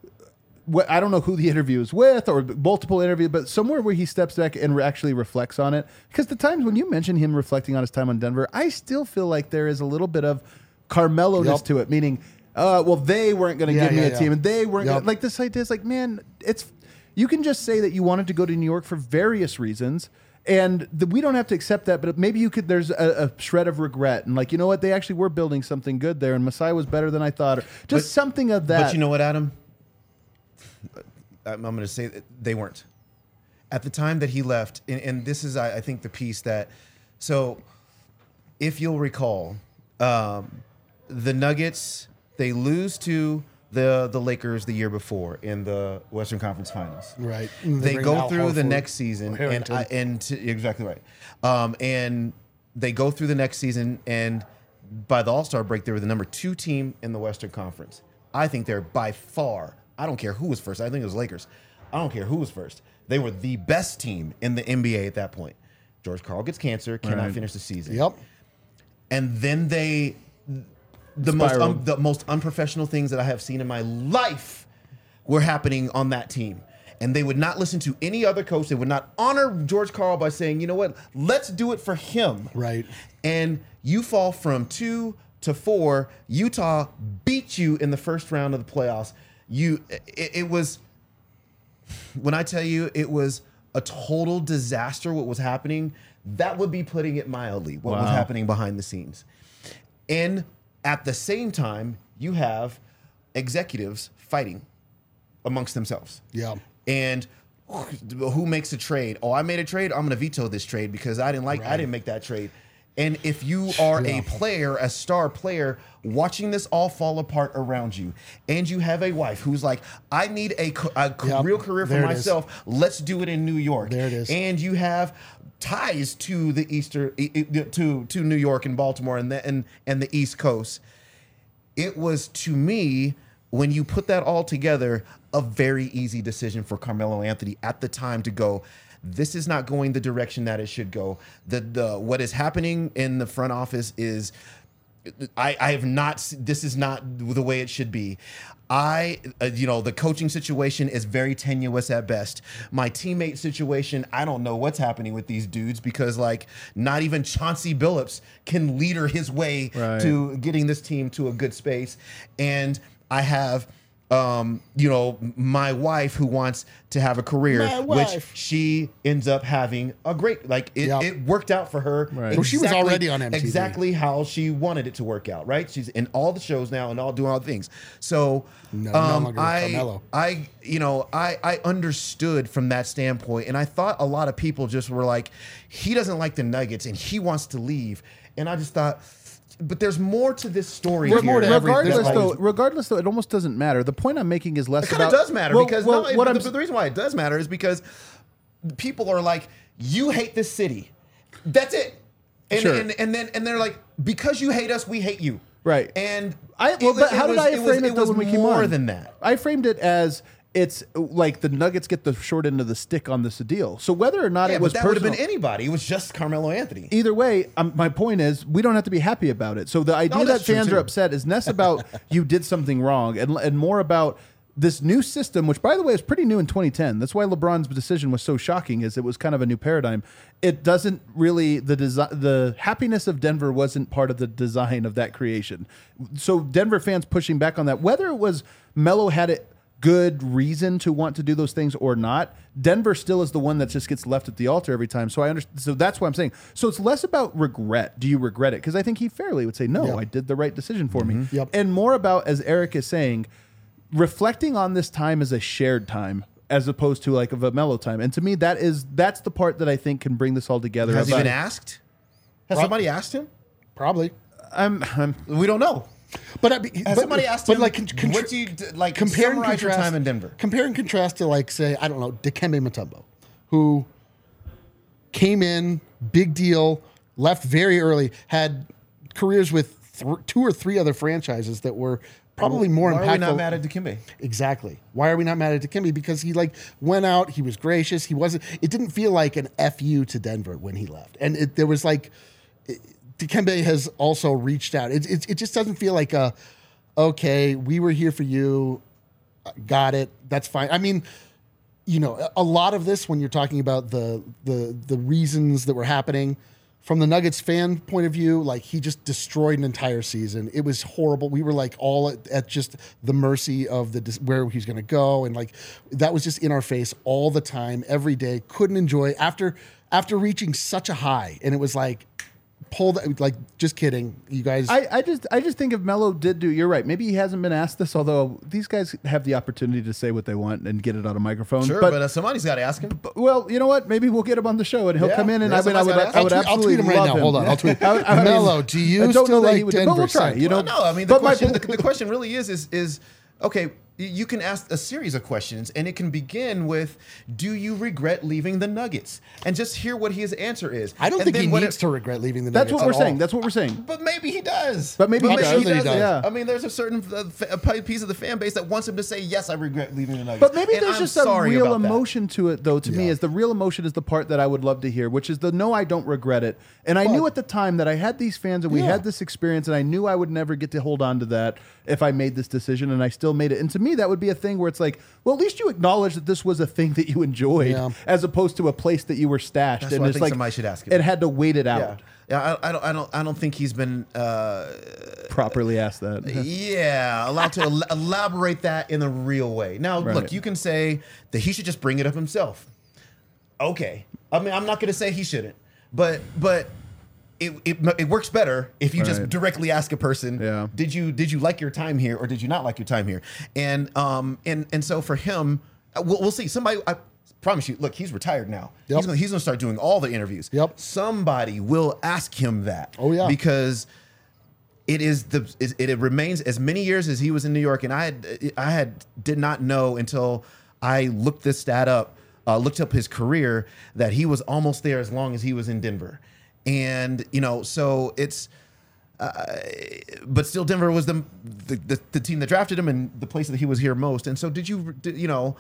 Speaker 1: What, I don't know who the interview is with or multiple interviews, but somewhere where he steps back and re- actually reflects on it. Because the times when you mention him reflecting on his time on Denver, I still feel like there is a little bit of Carmelo-ness
Speaker 2: Yep.
Speaker 1: to it, meaning, uh, well, they weren't going to
Speaker 2: Yeah,
Speaker 1: give me
Speaker 2: yeah,
Speaker 1: a
Speaker 2: yeah.
Speaker 1: team, and they weren't
Speaker 2: Yep.
Speaker 1: gonna, like this idea is like, man, it's you can just say that you wanted to go to New York for various reasons. And the, we don't have to accept that, but maybe you could. There's a, a shred of regret, and like you know what, they actually were building something good there, and Masai was better than I thought, or just
Speaker 3: But-
Speaker 1: something of that.
Speaker 3: But you know what, Adam? I'm, I'm going to say that they weren't. At the time that he left, and, and this is, I, I think, the piece that. So, if you'll recall, um, the Nuggets, they lose to the the Lakers the year before in the Western Conference Finals.
Speaker 2: Right.
Speaker 3: They,
Speaker 2: bring
Speaker 3: go
Speaker 2: Al
Speaker 3: through the
Speaker 2: Horford
Speaker 3: next season,
Speaker 2: or
Speaker 3: and
Speaker 2: Harrington.
Speaker 3: I, and to, exactly right. Um, and they go through the next season, and by the All Star break, they were the number two team in the Western Conference. I think they're by far. I don't care who was first. I think it was Lakers. I don't care who was first. They were the best team in the N B A at that point. George Karl gets cancer, cannot
Speaker 1: Right.
Speaker 3: finish the season.
Speaker 2: Yep.
Speaker 3: And then they, the most
Speaker 1: Spiraled.
Speaker 3: un, the most unprofessional things that I have seen in my life were happening on that team. And they would not listen to any other coach. They would not honor George Karl by saying, you know what, let's do it for him.
Speaker 2: Right.
Speaker 3: And you fall from two to four. Utah beat you in the first round of the playoffs. you it, it was when I tell you it was a total disaster what was happening, that would be putting it mildly, what
Speaker 1: Wow.
Speaker 3: was happening behind the scenes. And at the same time, you have executives fighting amongst themselves.
Speaker 2: Yeah.
Speaker 3: And who makes a trade? Oh, I made a trade. I'm going to veto this trade because I didn't like. I
Speaker 2: Right.
Speaker 3: didn't make that trade. And if you are
Speaker 2: Yeah.
Speaker 3: a player, a star player, watching this all fall apart around you, and you have a wife who's like, I need a, co- a co-
Speaker 2: Yep.
Speaker 3: real career for
Speaker 2: There it is.
Speaker 3: myself. Let's do it in New York.
Speaker 2: There it is.
Speaker 3: And you have ties to the Easter, e- e- to to New York and Baltimore and the and and the East Coast. It was, to me, when you put that all together, a very easy decision for Carmelo Anthony at the time to go, this is not going the direction that it should go. The the what is happening in the front office is I, I have not, s- this is not the way it should be. I, uh, you know, the coaching situation is very tenuous at best. My teammate situation, I don't know what's happening with these dudes because, like, not even Chauncey Billups can leader his way
Speaker 1: Right.
Speaker 3: to getting this team to a good space. And I have, um, you know, my wife who wants to have a career,
Speaker 2: My
Speaker 3: which
Speaker 2: wife.
Speaker 3: she ends up having a great, like, it,
Speaker 2: Yep.
Speaker 3: it worked out for her.
Speaker 1: Right.
Speaker 2: Well, she was already on M T V.
Speaker 3: Exactly how she wanted it to work out, right? She's in all the shows now and all doing all the things. So
Speaker 2: No, no
Speaker 3: um,
Speaker 2: longer with
Speaker 3: I,
Speaker 2: Carmelo.
Speaker 3: I, you know, I, I understood from that standpoint, and I thought a lot of people just were like, he doesn't like the Nuggets and he wants to leave, and I just thought, but there's more to this story.
Speaker 2: There's
Speaker 3: here.
Speaker 2: more to every-
Speaker 1: regardless,
Speaker 2: there's
Speaker 1: though,
Speaker 2: always-
Speaker 1: regardless though, it almost doesn't matter. The point I'm making is less
Speaker 3: It kind
Speaker 1: about.
Speaker 3: of does matter
Speaker 1: Well,
Speaker 3: because
Speaker 1: well,
Speaker 3: no,
Speaker 1: what
Speaker 3: the,
Speaker 1: I'm
Speaker 3: the reason why it does matter is because people are like, you hate this city. That's it. And,
Speaker 1: Sure.
Speaker 3: and and then and they're like, because you hate us, we hate you.
Speaker 1: Right.
Speaker 3: And
Speaker 1: I
Speaker 3: it
Speaker 1: well,
Speaker 3: was-
Speaker 1: but how
Speaker 3: it
Speaker 1: did
Speaker 3: was-
Speaker 1: I
Speaker 3: it
Speaker 1: frame
Speaker 3: was-
Speaker 1: it,
Speaker 3: it
Speaker 1: though
Speaker 3: was
Speaker 1: when we came
Speaker 3: more
Speaker 1: on?
Speaker 3: than that.
Speaker 1: I framed it as it's like the Nuggets get the short end of the stick on this deal. So whether or not
Speaker 3: Yeah,
Speaker 1: it was
Speaker 3: but that would have
Speaker 1: personal,
Speaker 3: been anybody. It was just Carmelo Anthony.
Speaker 1: either way, um, my point is we don't have to be happy about it. So the idea
Speaker 3: No,
Speaker 1: that
Speaker 3: that's true,
Speaker 1: fans
Speaker 3: too.
Speaker 1: are upset is less about you did something wrong and and more about this new system, which by the way is pretty new in twenty ten. That's why LeBron's decision was so shocking, is it was kind of a new paradigm. It doesn't really the design, the happiness of Denver wasn't part of the design of that creation. So Denver fans pushing back on that, whether it was Melo had it good reason to want to do those things or not, Denver still is the one that just gets left at the altar every time. So I understand. So that's what I'm saying. So it's less about regret. Do you regret it? Because I think he fairly would say, no,
Speaker 2: Yeah.
Speaker 1: I did the right decision for me.
Speaker 2: Yep.
Speaker 1: And more about, as Eric is saying, reflecting on this time as a shared time as opposed to like of a mellow time. And to me, that is that's the part that I think can bring this all together.
Speaker 3: Has he
Speaker 1: About-
Speaker 3: been asked? Has
Speaker 2: Prob-
Speaker 3: somebody asked him?
Speaker 2: Probably.
Speaker 1: I'm, I'm
Speaker 3: We don't know.
Speaker 2: But, I mean,
Speaker 3: Has
Speaker 2: but,
Speaker 3: somebody asked
Speaker 2: but
Speaker 3: him,
Speaker 2: like, con- con-
Speaker 3: what do you, d- like,
Speaker 2: compare and
Speaker 3: summarize your
Speaker 2: contrast-
Speaker 3: time in Denver?
Speaker 2: Compare and contrast to, like, say, I don't know, Dikembe Mutombo, who came in, big deal, left very early, had careers with th- two or three other franchises that were probably more
Speaker 3: Why
Speaker 2: impactful.
Speaker 3: are we not mad at Dikembe?
Speaker 2: Exactly. Why are we not mad at Dikembe? Because he like went out, he was gracious, he wasn't. It didn't feel like an F U to Denver when he left, and it, there was like it, Dikembe has also reached out. It, it it just doesn't feel like a okay. We were here for you, got it. That's fine. I mean, you know, a lot of this when you're talking about the the the reasons that were happening. From the Nuggets fan point of view, like he just destroyed an entire season. It was horrible. We were like all at, at just the mercy of the where he's going to go, and like that was just in our face all the time, every day. Couldn't enjoy after after reaching such a high, and it was like pull that like just kidding, you guys.
Speaker 1: I, I just I just think if Melo did do, you're right. Maybe he hasn't been asked this, although these guys have the opportunity to say what they want and get it on a microphone.
Speaker 3: Sure, but, uh, somebody's got to ask him.
Speaker 1: But- well, you know what? Maybe we'll get him on the show and he'll
Speaker 3: Yeah,
Speaker 1: come in and
Speaker 3: yeah,
Speaker 1: I mean I would
Speaker 3: somebody's
Speaker 1: I would
Speaker 3: gotta ask him.
Speaker 2: I'll tweet- I'll
Speaker 1: absolutely
Speaker 2: tweet him right
Speaker 1: love
Speaker 2: now.
Speaker 1: him.
Speaker 2: Hold on, I'll tweet-
Speaker 1: I would- I mean,
Speaker 2: Melo, do you
Speaker 1: I don't know
Speaker 2: still
Speaker 1: that
Speaker 2: like
Speaker 1: he would, but we'll
Speaker 2: Denver
Speaker 1: try. You know,
Speaker 3: Well, no, I mean the
Speaker 1: but my
Speaker 3: question.
Speaker 1: po-
Speaker 3: the, the question really is is is okay. You can ask a series of questions, and it can begin with, "Do you regret leaving the Nuggets?" And just hear what his answer is.
Speaker 2: I don't
Speaker 3: And
Speaker 2: think
Speaker 3: then
Speaker 2: he
Speaker 3: what
Speaker 2: needs
Speaker 3: it-
Speaker 2: to regret leaving the
Speaker 1: that's
Speaker 2: Nuggets
Speaker 1: what we're
Speaker 2: at
Speaker 1: saying.
Speaker 2: all.
Speaker 1: That's what we're saying.
Speaker 3: But maybe he does.
Speaker 1: But maybe he
Speaker 2: I'm
Speaker 1: does.
Speaker 2: sure that he does.
Speaker 1: Yeah.
Speaker 3: I mean, there's a certain uh, fa- a piece of the fan base that wants him to say, "Yes, I regret leaving the Nuggets."
Speaker 1: But maybe
Speaker 3: And
Speaker 1: there's
Speaker 3: I'm
Speaker 1: just a
Speaker 3: sorry
Speaker 1: real
Speaker 3: about that.
Speaker 1: emotion to it, though. To me,
Speaker 2: Yeah.
Speaker 1: is the real emotion is the part that I would love to hear, which is the no, I don't regret it. And I
Speaker 2: But-
Speaker 1: knew at the time that I had these fans and we
Speaker 2: Yeah.
Speaker 1: had this experience, and I knew I would never get to hold on to that if I made this decision, and I still made it. And to me, me, that would be a thing where it's like, well, at least you acknowledge that this was a thing that you enjoyed,
Speaker 2: Yeah.
Speaker 1: as opposed to a place that you were stashed.
Speaker 3: That's
Speaker 1: and
Speaker 3: what I
Speaker 1: it's
Speaker 3: think
Speaker 1: like
Speaker 3: somebody should ask him.
Speaker 1: It had to wait it
Speaker 3: Yeah,
Speaker 1: out.
Speaker 3: yeah. I, I don't, I don't, I don't think he's been. Uh,
Speaker 1: Properly asked that.
Speaker 3: Yeah, allowed to el- elaborate that in a real way. Now,
Speaker 1: Right.
Speaker 3: look, you can say that he should just bring it up himself. Okay, I mean, I'm not going to say he shouldn't, but but it, it it works better if you just
Speaker 1: Right.
Speaker 3: directly ask a person,
Speaker 1: Yeah.
Speaker 3: did you did you like your time here or did you not like your time here? And um and and so for him, uh, we'll, we'll see. Somebody, I promise you, look, he's retired now.
Speaker 2: Yep.
Speaker 3: He's gonna he's gonna start doing all the interviews.
Speaker 2: Yep.
Speaker 3: Somebody will ask him that.
Speaker 2: Oh, yeah.
Speaker 3: because. It is the it, it remains as many years as he was in New York, and I had I had did not know until I looked this stat up, uh, looked up his career, that he was almost there as long as he was in Denver, and you know so it's, uh, but still Denver was the, the the the team that drafted him and the place that he was here most, and so did you did, you know.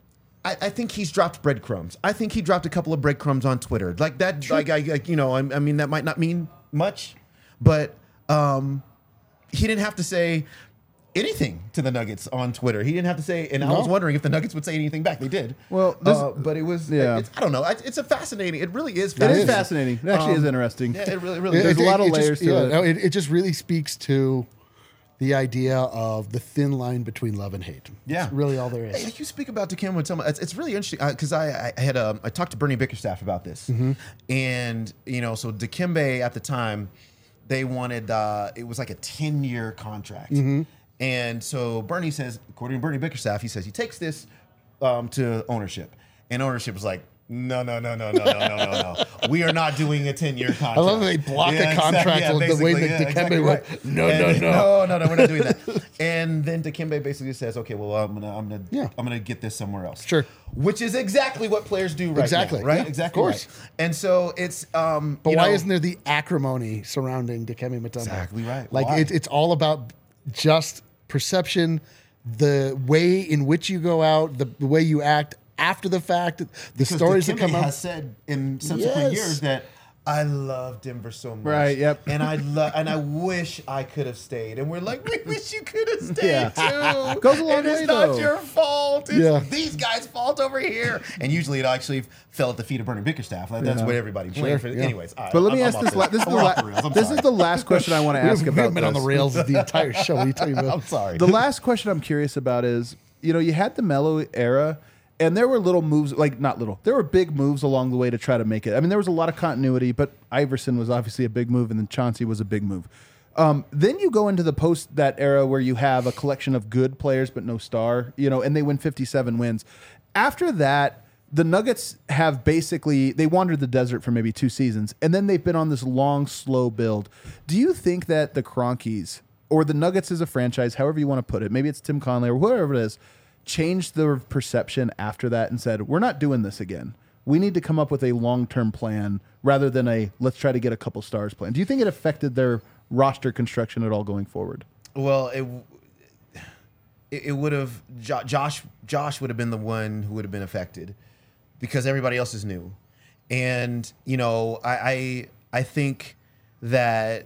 Speaker 3: I, I think he's dropped breadcrumbs. I think he dropped a couple of breadcrumbs on Twitter, like that. Sure. Like I, like, you know, I, I mean, that might not mean much, but. Um, he didn't have to say anything to the Nuggets on Twitter. He didn't have to say, and I
Speaker 2: No.
Speaker 3: was wondering if the Nuggets would say anything back. They did.
Speaker 1: Well, this-
Speaker 3: uh, but it was,
Speaker 1: yeah.
Speaker 3: it's, I don't know. It's, it's a fascinating. It really is
Speaker 1: It
Speaker 3: fascinating.
Speaker 1: is fascinating. It actually
Speaker 3: Um,
Speaker 1: is interesting.
Speaker 3: Yeah, it really, really
Speaker 2: It-
Speaker 3: is.
Speaker 1: There's a lot of
Speaker 2: it just-
Speaker 1: layers to
Speaker 2: yeah,
Speaker 1: it.
Speaker 2: no, it. It just really speaks to the idea of the thin line between love and hate.
Speaker 3: Yeah.
Speaker 2: It's really all there
Speaker 3: Hey,
Speaker 2: is.
Speaker 3: you speak about Dikembe Mutombo. It's, it's really interesting because I, I had um, I talked to Bernie Bickerstaff about this,
Speaker 2: Mm-hmm.
Speaker 3: and you know, so Dikembe at the time, they wanted uh, it was like a ten year contract,
Speaker 2: Mm-hmm.
Speaker 3: and so Bernie says, according to Bernie Bickerstaff, he says he takes this um, to ownership, and ownership was like. No, no, no, no, no, no, no, no, no. We are not doing a ten year contract.
Speaker 2: I love that they block a contract
Speaker 3: yeah,
Speaker 2: with the way
Speaker 3: basically,
Speaker 2: that
Speaker 3: yeah,
Speaker 2: Dikembe
Speaker 3: exactly
Speaker 2: went,
Speaker 3: right.
Speaker 2: "No,
Speaker 3: And-
Speaker 2: no, no."
Speaker 3: no, no, no, we're not doing that. And then Dikembe basically says, okay, well, I'm gonna, I'm gonna,
Speaker 2: Yeah.
Speaker 3: I'm gonna get this somewhere else.
Speaker 2: Sure.
Speaker 3: Which is exactly what players do right
Speaker 2: Exactly,
Speaker 3: now, right?
Speaker 2: yeah,
Speaker 3: exactly.
Speaker 2: of course.
Speaker 3: Right. And so it's, um,
Speaker 2: But
Speaker 3: you
Speaker 2: why
Speaker 3: know,
Speaker 2: isn't there the acrimony surrounding Dikembe Mutombo?
Speaker 3: Exactly right.
Speaker 2: Like
Speaker 3: Why?
Speaker 2: it, it's all about just perception, the way in which you go out, the, the way you act after the fact, the
Speaker 3: because
Speaker 2: stories that
Speaker 3: Dikembe
Speaker 2: come out.
Speaker 3: has said in subsequent
Speaker 2: Yes.
Speaker 3: years that I love Denver so much.
Speaker 1: Right, yep.
Speaker 3: And I love, and I wish I could have stayed. And we're like, we wish you could have stayed
Speaker 1: Yeah.
Speaker 3: too.
Speaker 1: Goes a long
Speaker 3: and it's
Speaker 1: way,
Speaker 3: not
Speaker 1: though.
Speaker 3: your fault. It's
Speaker 2: Yeah.
Speaker 3: these guys' fault over here. And usually it actually fell at the feet of Bernie Bickerstaff. Like, that's
Speaker 1: Yeah.
Speaker 3: what everybody blamed for.
Speaker 2: yeah.
Speaker 3: Anyways, all right,
Speaker 1: But let me
Speaker 3: I'm-
Speaker 1: ask
Speaker 3: I'm
Speaker 1: this.
Speaker 3: off
Speaker 1: La- this is the,
Speaker 3: We're
Speaker 1: la-
Speaker 3: off the rails. I'm
Speaker 1: this
Speaker 3: sorry.
Speaker 1: is the last question I want to ask
Speaker 2: We've
Speaker 1: about
Speaker 2: been on the
Speaker 1: this.
Speaker 2: rails the entire show. What are you talking about?
Speaker 3: I'm sorry.
Speaker 1: The last question I'm curious about is, you know, you had the Melo era, and there were little moves, like not little, there were big moves along the way to try to make it. I mean, there was a lot of continuity, but Iverson was obviously a big move, and then Chauncey was a big move. Um, then you go into the post that era where you have a collection of good players but no star, you know, and they win fifty-seven wins. After that, the Nuggets have basically, they wandered the desert for maybe two seasons, and then they've been on this long, slow build. Do you think that the Cronkies, or the Nuggets as a franchise, however you want to put it, maybe it's Tim Conley or whoever it is, changed the perception after that and said, we're not doing this again. We need to come up with a long-term plan rather than a let's try to get a couple stars plan. Do you think it affected their roster construction at all going forward?
Speaker 3: Well, it it, it would have jo- Josh Josh would have been the one who would have been affected because everybody else is new, and you know I I, I think that.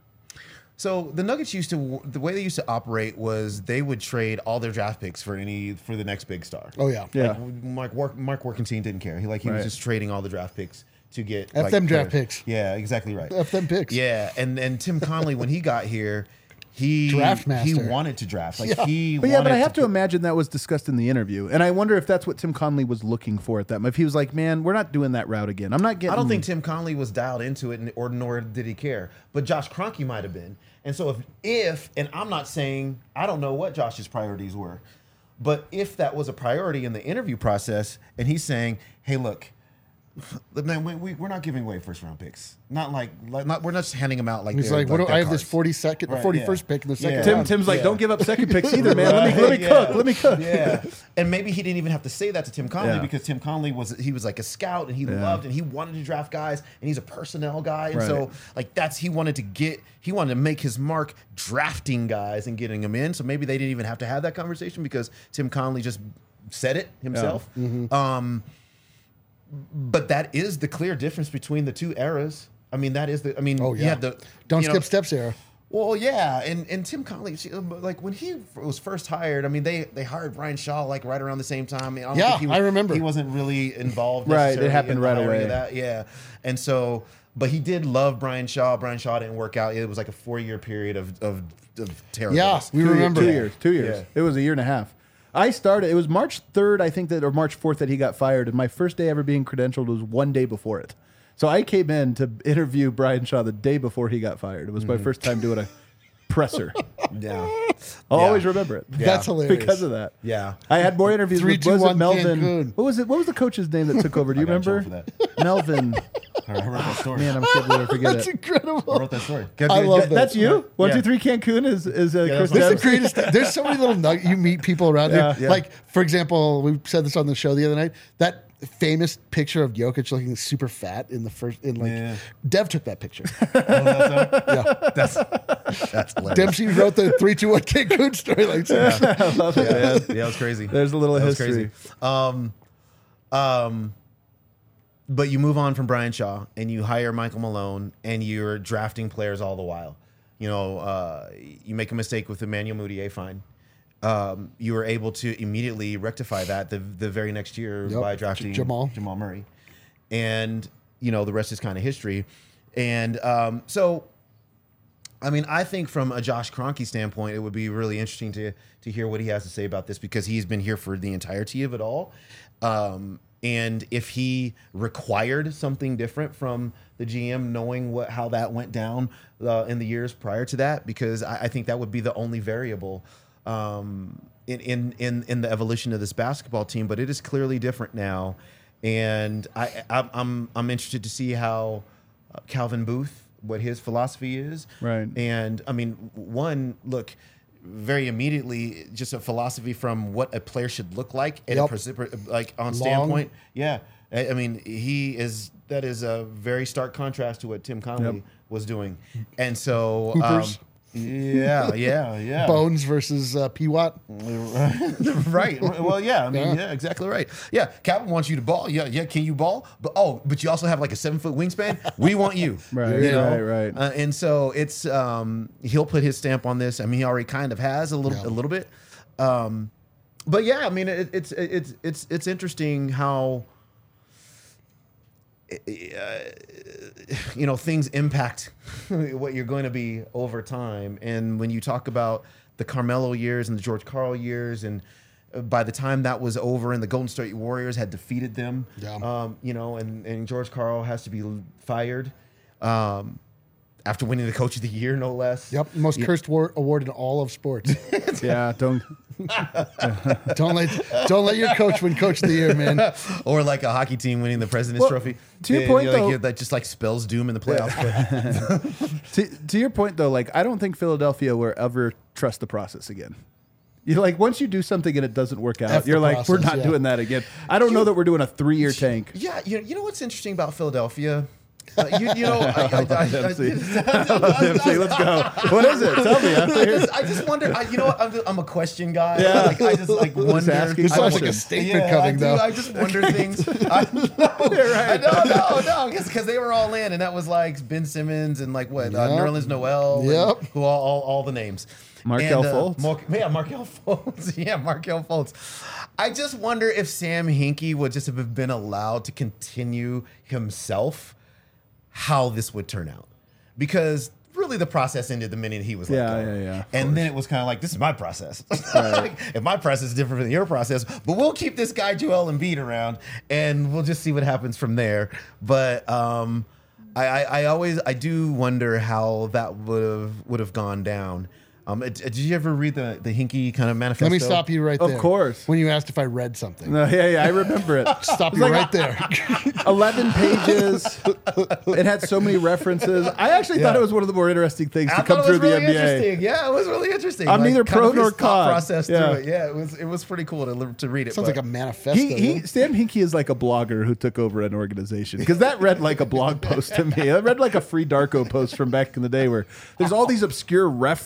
Speaker 3: So the Nuggets used to the way they used to operate was they would trade all their draft picks for any for the next big star.
Speaker 2: Oh yeah,
Speaker 1: Yeah.
Speaker 3: Like, Mark Work, Mark Workentine didn't care. He like he
Speaker 1: Right.
Speaker 3: was just trading all the draft picks to get
Speaker 2: F
Speaker 3: like,
Speaker 2: them draft
Speaker 3: players.
Speaker 2: picks.
Speaker 3: Yeah, exactly right.
Speaker 2: F them picks.
Speaker 3: Yeah, and and Tim Conley when he got here, he
Speaker 2: Draft
Speaker 3: he
Speaker 2: master.
Speaker 3: wanted to draft. Like
Speaker 2: Yeah.
Speaker 3: he
Speaker 1: But yeah, but
Speaker 3: wanted
Speaker 1: I have to,
Speaker 3: put-
Speaker 1: imagine that was discussed in the interview. And I wonder if that's what Tim Conley was looking for at that. If he was like, man, we're not doing that route again. I'm not getting.
Speaker 3: I don't think Tim Conley was dialed into it, and- or nor did he care. But Josh Kroenke might have been. And so if, if, and I'm not saying, I don't know what Josh's priorities were, but if that was a priority in the interview process, and he's saying, hey, look, man, we, we, we're not giving away first round picks. Not like, like not, we're not just handing them out like
Speaker 2: He's
Speaker 3: they're-
Speaker 2: like, what do,
Speaker 3: they're
Speaker 2: I have this
Speaker 3: cards.
Speaker 2: forty second,
Speaker 3: Right,
Speaker 2: forty
Speaker 3: yeah.
Speaker 2: first pick in the second
Speaker 3: Yeah.
Speaker 1: Tim,
Speaker 2: round.
Speaker 1: Tim's like,
Speaker 3: Yeah.
Speaker 1: don't give up second picks either, man. Let me let me
Speaker 3: Yeah.
Speaker 1: cook. Let me cook.
Speaker 3: Yeah, and maybe he didn't even have to say that to Tim Conley
Speaker 1: Yeah.
Speaker 3: because Tim Conley was he was like a scout and he
Speaker 1: Yeah.
Speaker 3: loved and he wanted to draft guys and he's a personnel guy and
Speaker 1: Right.
Speaker 3: so like that's he wanted to get he wanted to make his mark drafting guys and getting them in. So maybe they didn't even have to have that conversation because Tim Conley just said it himself. Um, but that is the clear difference between the two eras. I mean, that is the. I mean,
Speaker 2: Oh
Speaker 3: you
Speaker 2: yeah.
Speaker 3: had the
Speaker 2: Don't
Speaker 3: you
Speaker 2: skip
Speaker 3: know,
Speaker 2: steps era.
Speaker 3: Well, yeah, and, and Tim Connolly, she- like when he was first hired, I mean, they, they hired Brian Shaw like right around the same time. I, mean, I don't
Speaker 2: Yeah,
Speaker 3: think he was,
Speaker 2: I remember.
Speaker 3: he wasn't really involved.
Speaker 1: Right, it
Speaker 3: necessarily
Speaker 1: happened
Speaker 3: in the
Speaker 1: right
Speaker 3: hiring
Speaker 1: away.
Speaker 3: of that. Yeah, and so, but he did love Brian Shaw. Brian Shaw didn't work out. It was like a four year period of of, of terribleness.
Speaker 2: We
Speaker 1: Two-
Speaker 2: remember.
Speaker 1: two years. Two years.
Speaker 3: Yeah.
Speaker 1: It was a year and a half. I started. It was March third, I think that, or March fourth that he got fired, and my first day ever being credentialed was one day before it. So I came in to interview Brian Shaw the day before he got fired. It was my first time doing a presser.
Speaker 3: Yeah,
Speaker 1: I'll
Speaker 3: Yeah.
Speaker 1: always remember it.
Speaker 2: That's hilarious.
Speaker 1: Because of that.
Speaker 3: yeah.
Speaker 1: I had more interviews
Speaker 2: Three,
Speaker 1: with
Speaker 2: two,
Speaker 1: was
Speaker 2: one,
Speaker 1: it Melvin.
Speaker 2: Cancun.
Speaker 1: What was it? What was the coach's name that took over? Do you
Speaker 4: I got in
Speaker 1: remember?
Speaker 4: trouble for
Speaker 1: Melvin.
Speaker 4: I wrote that story.
Speaker 1: Man, I'm kidding. I forget
Speaker 2: That's
Speaker 1: it.
Speaker 4: I
Speaker 2: incredible.
Speaker 4: wrote that story.
Speaker 2: I love that.
Speaker 1: That's you. One,
Speaker 4: Yeah.
Speaker 1: two, three. Cancun is is uh,
Speaker 4: Yeah,
Speaker 1: Chris
Speaker 4: that's
Speaker 2: This is
Speaker 1: Dempsey.
Speaker 2: the greatest thing. There's so many little nug- you meet people around
Speaker 1: Yeah.
Speaker 2: here.
Speaker 3: Yeah.
Speaker 2: Like, for example, we said this on the show the other night. That famous picture of Jokic looking super fat in the first in like
Speaker 4: Yeah.
Speaker 2: Dev took that picture.
Speaker 3: That's that's hilarious.
Speaker 2: Dempsey wrote the three two one Cancun story. Like,
Speaker 1: I love it,
Speaker 3: Yeah,
Speaker 1: man.
Speaker 3: yeah, it was crazy.
Speaker 1: There's a little
Speaker 3: That was
Speaker 1: history.
Speaker 3: crazy. Um, um, but you move on from Brian Shaw and you hire Michael Malone and you're drafting players all the while. You know, uh, you make a mistake with Emmanuel Mudiay, fine. Um, you were able to immediately rectify that the the very next year
Speaker 2: Yep.
Speaker 3: by drafting
Speaker 2: J- Jamal.
Speaker 3: Jamal Murray, and you know the rest is kind of history. And um, so, I mean, I think from a Josh Kroenke standpoint, it would be really interesting to to hear what he has to say about this because he's been here for the entirety of it all. Um, and if he required something different from the G M, knowing what how that went down uh, in the years prior to that, because I, I think that would be the only variable um, in, in in in the evolution of this basketball team. But it is clearly different now, and I I'm I'm, I'm interested to see how uh, Calvin Booth, what his philosophy is.
Speaker 1: Right.
Speaker 3: And I mean, one, look, very immediately, just a philosophy from what a player should look like at
Speaker 2: Yep.
Speaker 3: a precip- like on
Speaker 2: Long.
Speaker 3: standpoint. Yeah. I, I mean, he is, that is a very stark contrast to what Tim Connolly
Speaker 1: Yep.
Speaker 3: was doing. And so,
Speaker 2: Hoopers.
Speaker 3: um, yeah, yeah, yeah.
Speaker 2: Bones versus uh, P Watt.
Speaker 3: Right. Well, yeah. I mean,
Speaker 2: Yeah.
Speaker 3: yeah. exactly right. Yeah. Calvin wants you to ball. Yeah, yeah. Can you ball? But oh, but you also have like a seven foot wingspan. We want you.
Speaker 1: Right,
Speaker 3: You know?
Speaker 1: right, right.
Speaker 3: Uh, and so it's um, he'll put his stamp on this. I mean, he already kind of has a little,
Speaker 2: Yeah.
Speaker 3: a little bit. Um, but yeah, I mean, it, it's it's it's it's interesting how. Uh, you know, things impact what you're going to be over time. And when you talk about the Carmelo years and the George Karl years, and uh, by the time that was over and the Golden State Warriors had defeated them,
Speaker 2: Yeah.
Speaker 3: um, you know, and, and George Karl has to be fired um, after winning the Coach of the Year, no less.
Speaker 2: Yep, most cursed war- award in all of sports.
Speaker 1: Yeah, don't.
Speaker 2: don't let don't let your coach win Coach of the Year, man.
Speaker 3: Or like a hockey team winning the President's
Speaker 1: Well,
Speaker 3: Trophy.
Speaker 1: to your
Speaker 3: Yeah,
Speaker 1: point,
Speaker 3: you know, like,
Speaker 1: though-
Speaker 3: you- that just like spells doom in the playoffs.
Speaker 1: To, to your point, though, like I don't think Philadelphia will ever trust the process again. You like once you do something and it doesn't work out,
Speaker 2: F the
Speaker 1: you're like, we're
Speaker 2: process,
Speaker 1: not
Speaker 2: yeah.
Speaker 1: doing that again. I don't know that we're doing a three year tank.
Speaker 3: Yeah, you, you know what's interesting about Philadelphia? Uh, you, you know, I, I, I, I,
Speaker 1: Dempsey. Dempsey, let's go. What is it? Tell me. I'm
Speaker 3: I
Speaker 1: here.
Speaker 3: just, I just wonder. I, you know what? I'm, just, I'm a question guy.
Speaker 1: Yeah.
Speaker 3: Like, I just like wonder.
Speaker 1: asking
Speaker 2: This sounds like a
Speaker 1: questions.
Speaker 2: statement
Speaker 3: Yeah,
Speaker 2: coming,
Speaker 3: I do.
Speaker 2: though.
Speaker 3: I just wonder things. I know. I know, no, no, because they were all in, and that was like Ben Simmons and like what uh,
Speaker 2: Yep.
Speaker 3: Nerlens Noel. and
Speaker 2: Yep.
Speaker 3: who all, all all the names.
Speaker 1: Markelle
Speaker 3: And, uh,
Speaker 1: Fultz.
Speaker 3: Mar- yeah, Markelle Fultz. Yeah, Markelle Fultz. I just wonder if Sam Hinkie would just have been allowed to continue himself, how this would turn out. Because really the process ended the minute he was let
Speaker 1: Yeah,
Speaker 3: go.
Speaker 1: yeah, yeah, of
Speaker 3: And then it was kind of like, this is my process. Like, if my process is different than your process, but we'll keep this guy Joel Embiid around and we'll just see what happens from there. But um, I, I, I always, I do wonder how that would have would have gone down. Um, did did you ever read the the Hinkie kind of manifesto?
Speaker 2: Let me stop you right
Speaker 1: Of
Speaker 2: there.
Speaker 1: course.
Speaker 2: When you asked if I read something.
Speaker 1: No, yeah, yeah, I remember it.
Speaker 2: Stop you right there.
Speaker 1: eleven pages. It had so many references. I actually thought
Speaker 3: Yeah.
Speaker 1: it was one of the more interesting things
Speaker 3: I
Speaker 1: to come
Speaker 3: thought it
Speaker 1: through
Speaker 3: was
Speaker 1: the
Speaker 3: really
Speaker 1: N B A.
Speaker 3: interesting. Yeah, it was really interesting.
Speaker 1: I'm neither
Speaker 3: kind
Speaker 1: pro
Speaker 3: of his
Speaker 1: nor
Speaker 3: thought
Speaker 1: con.
Speaker 3: process
Speaker 1: Yeah.
Speaker 3: through it. Yeah, it was it was pretty cool to to read it.
Speaker 2: Sounds
Speaker 3: but-
Speaker 2: like a manifesto.
Speaker 1: He, he,
Speaker 2: yeah.
Speaker 1: Sam Hinkie is like a blogger who took over an organization because that read like a blog post to me. I read like a free Darko post from back in the day where there's all these obscure references and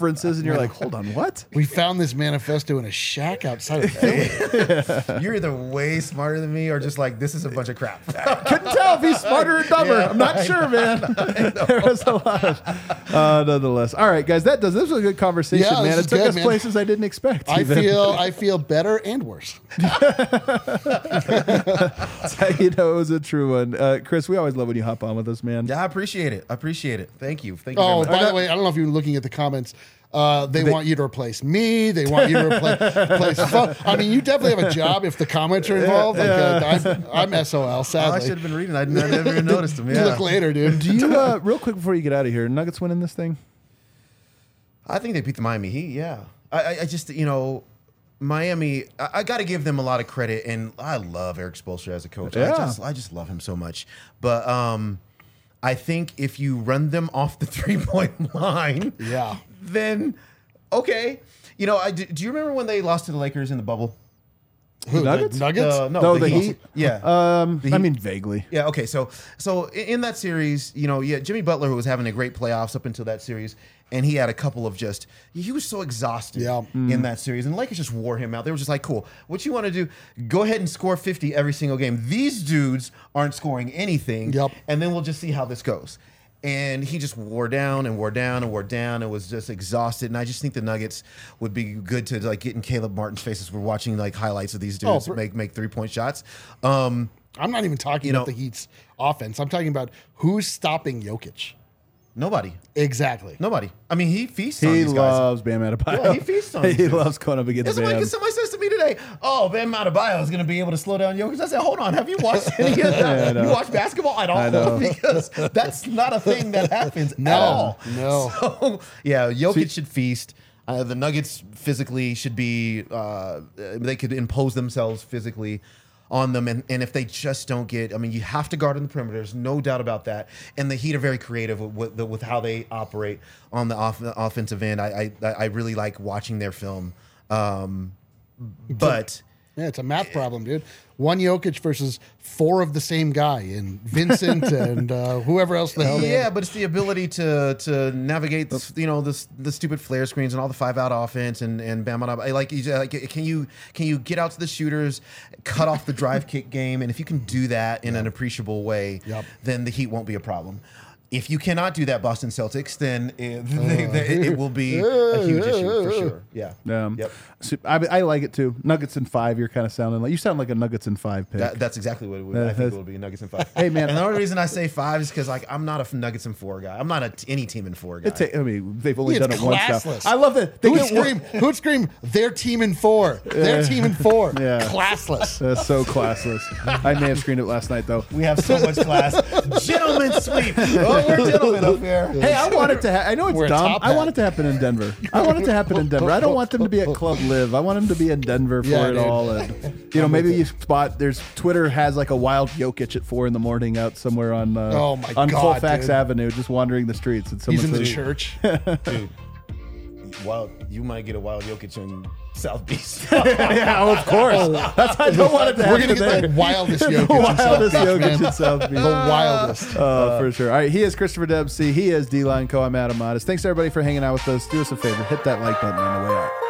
Speaker 1: you're like, hold on, what?
Speaker 2: We found this manifesto in a shack outside of Philly.
Speaker 3: You're either way smarter than me or just like, this is a bunch of crap.
Speaker 1: Couldn't tell if he's smarter or dumber.
Speaker 3: Yeah,
Speaker 1: I'm not
Speaker 3: I
Speaker 1: sure, man. There was a lot of, uh, nonetheless. All right, guys, that does. This was a good conversation,
Speaker 2: Yeah,
Speaker 1: man.
Speaker 2: this
Speaker 1: It
Speaker 2: is
Speaker 1: took
Speaker 2: good,
Speaker 1: us
Speaker 2: man.
Speaker 1: places I didn't expect.
Speaker 2: I
Speaker 1: even.
Speaker 2: feel I feel better and worse.
Speaker 1: That's how you know it was a true one. Uh, Chris, we always love when you hop on with us, man.
Speaker 3: Yeah, I appreciate it. I appreciate it. Thank you. Thank you
Speaker 2: Oh,
Speaker 3: very much.
Speaker 2: by the way, I don't know if you're looking at the comments. Uh, they, want you to replace me. They want you to replace. replace fun. I mean, you definitely have a job if the comments are involved. Like, uh, I'm, I'm S O L.
Speaker 3: Oh, I
Speaker 2: Sadly,
Speaker 3: should have been reading. I never even noticed them.
Speaker 2: you
Speaker 3: Yeah.
Speaker 2: look later, dude.
Speaker 1: Do you, uh, real quick before you get out of here, Nuggets winning this thing?
Speaker 3: I think they beat the Miami Heat. Yeah, I, I, I just you know, Miami. I, I got to give them a lot of credit, and I love Eric Spoelstra as a coach.
Speaker 1: Yeah.
Speaker 3: I just I just love him so much. But um, I think if you run them off the three point line,
Speaker 2: Yeah.
Speaker 3: then okay. You know, I do, do you remember when they lost to the Lakers in the bubble?
Speaker 2: Who,
Speaker 1: Nuggets?
Speaker 2: The Nuggets?
Speaker 3: Uh, no,
Speaker 1: No,
Speaker 3: the,
Speaker 1: the
Speaker 3: Heat.
Speaker 1: Heat?
Speaker 3: Yeah.
Speaker 1: Um,
Speaker 3: The
Speaker 1: I
Speaker 3: Heat.
Speaker 1: mean, vaguely.
Speaker 3: Yeah. Okay. So, so i- in that series, you know, yeah, Jimmy Butler, who was having a great playoffs up until that series, and he had a couple of just, he was so exhausted
Speaker 2: Yeah.
Speaker 3: in that series, and the Lakers just wore him out. They were just like, cool, what you want to do? Go ahead and score fifty every single game. These dudes aren't scoring anything,
Speaker 2: Yep.
Speaker 3: and then we'll just see how this goes. And he just wore down and wore down and wore down and was just exhausted. And I just think the Nuggets would be good to like get in Caleb Martin's face as we're watching like highlights of these dudes
Speaker 2: Oh, for-
Speaker 3: make make three point shots. Um,
Speaker 2: I'm not even talking
Speaker 3: You
Speaker 2: about
Speaker 3: know-
Speaker 2: the Heat's offense. I'm talking about who's stopping Jokic.
Speaker 3: nobody.
Speaker 2: Exactly.
Speaker 3: Nobody. I mean, he feasts on
Speaker 1: He
Speaker 3: these guys.
Speaker 1: loves Bam Adebayo.
Speaker 3: Yeah, he feasts on
Speaker 1: He
Speaker 3: these dudes.
Speaker 1: loves going up against
Speaker 3: It's like
Speaker 1: Bam.
Speaker 3: somebody says to me today, "Oh, Bam Adebayo is going to be able to slow down Jokic." I said, "Hold on, have you watched any of that?
Speaker 1: know.
Speaker 3: You watch basketball at
Speaker 1: I know.
Speaker 3: all? Because that's not a thing that happens
Speaker 2: No,
Speaker 3: at all."
Speaker 2: no.
Speaker 3: So, yeah, Jokic
Speaker 1: See-
Speaker 3: should feast. Uh, the Nuggets physically should be. Uh, they could impose themselves physically on them, and, and if they just don't get, I mean, you have to guard on the perimeters, no doubt about that. And the Heat are very creative with, with, with how they operate on the off, offensive end. I, I I really like watching their film, um, but
Speaker 2: Yeah, it's a math problem, dude. One Jokic versus four of the same guy, and Vincent and uh, whoever else the hell. they
Speaker 3: yeah,
Speaker 2: have.
Speaker 3: but it's the ability to to navigate this, you know, this the stupid flare screens and all the five out offense and and bam bam. bam. Like, you, like, can you can you get out to the shooters, cut off the drive kick game, and if you can do that in an appreciable way,
Speaker 2: Yep.
Speaker 3: then the Heat won't be a problem. If you cannot do that, Boston Celtics, then it, they, they, it will be a huge issue for sure. Yeah.
Speaker 1: Um,
Speaker 3: Yep.
Speaker 1: so I, I like it too. Nuggets in five. You're kind of sounding like you sound like a Nuggets in five pick.
Speaker 3: That, that's exactly what it would,
Speaker 1: Uh,
Speaker 3: I think
Speaker 1: that's-
Speaker 3: it would be. Nuggets in five.
Speaker 1: Hey, man.
Speaker 3: and the only reason I say five is because like I'm not a Nuggets in four guy. I'm not a t- any team in four guy.
Speaker 1: It's a- I mean, they've only
Speaker 2: It's
Speaker 1: done it once now.
Speaker 2: classless.
Speaker 1: I love that. They
Speaker 2: Who would
Speaker 1: get one-
Speaker 2: scream? Who would scream? Their team in four. Their team in four.
Speaker 1: Yeah.
Speaker 2: Classless.
Speaker 1: That's so classless. I may have screened it last night though.
Speaker 3: We have so much class. Gentlemen sweep. Oh, we're gentlemen up here.
Speaker 1: Hey, I want it to. Ha- I know it's
Speaker 2: We're a
Speaker 1: dumb.
Speaker 2: top
Speaker 1: I
Speaker 2: hat.
Speaker 1: want it to happen in Denver. I want it to happen in Denver. I don't want them to be at Club Live. I want them to be in Denver for
Speaker 2: Yeah,
Speaker 1: it
Speaker 2: dude.
Speaker 1: all. And you know, maybe you spot. There's Twitter has like a wild Jokic at four in the morning out somewhere on uh,
Speaker 2: Oh, my
Speaker 1: on
Speaker 2: God,
Speaker 1: Colfax
Speaker 2: dude.
Speaker 1: Avenue, just wandering the streets. And
Speaker 2: He's
Speaker 1: someone
Speaker 2: in the
Speaker 1: says,
Speaker 2: church.
Speaker 3: Dude, wild, you might get a wild Jokic in South Beach.
Speaker 1: "Yeah, oh, of course. That's I don't want it to
Speaker 2: We're
Speaker 1: happen
Speaker 2: gonna get
Speaker 1: there.
Speaker 2: the wildest Jokic
Speaker 1: The
Speaker 2: in South
Speaker 1: wildest
Speaker 2: Beach,
Speaker 1: Jokic
Speaker 2: man.
Speaker 1: in South Beach.
Speaker 2: The wildest.
Speaker 1: Uh, for sure. All right, he is Christopher Dempsey. He is D-Line Co. I'm Adam Modest. Thanks everybody for hanging out with us. Do us a favor, hit that like button on the way out.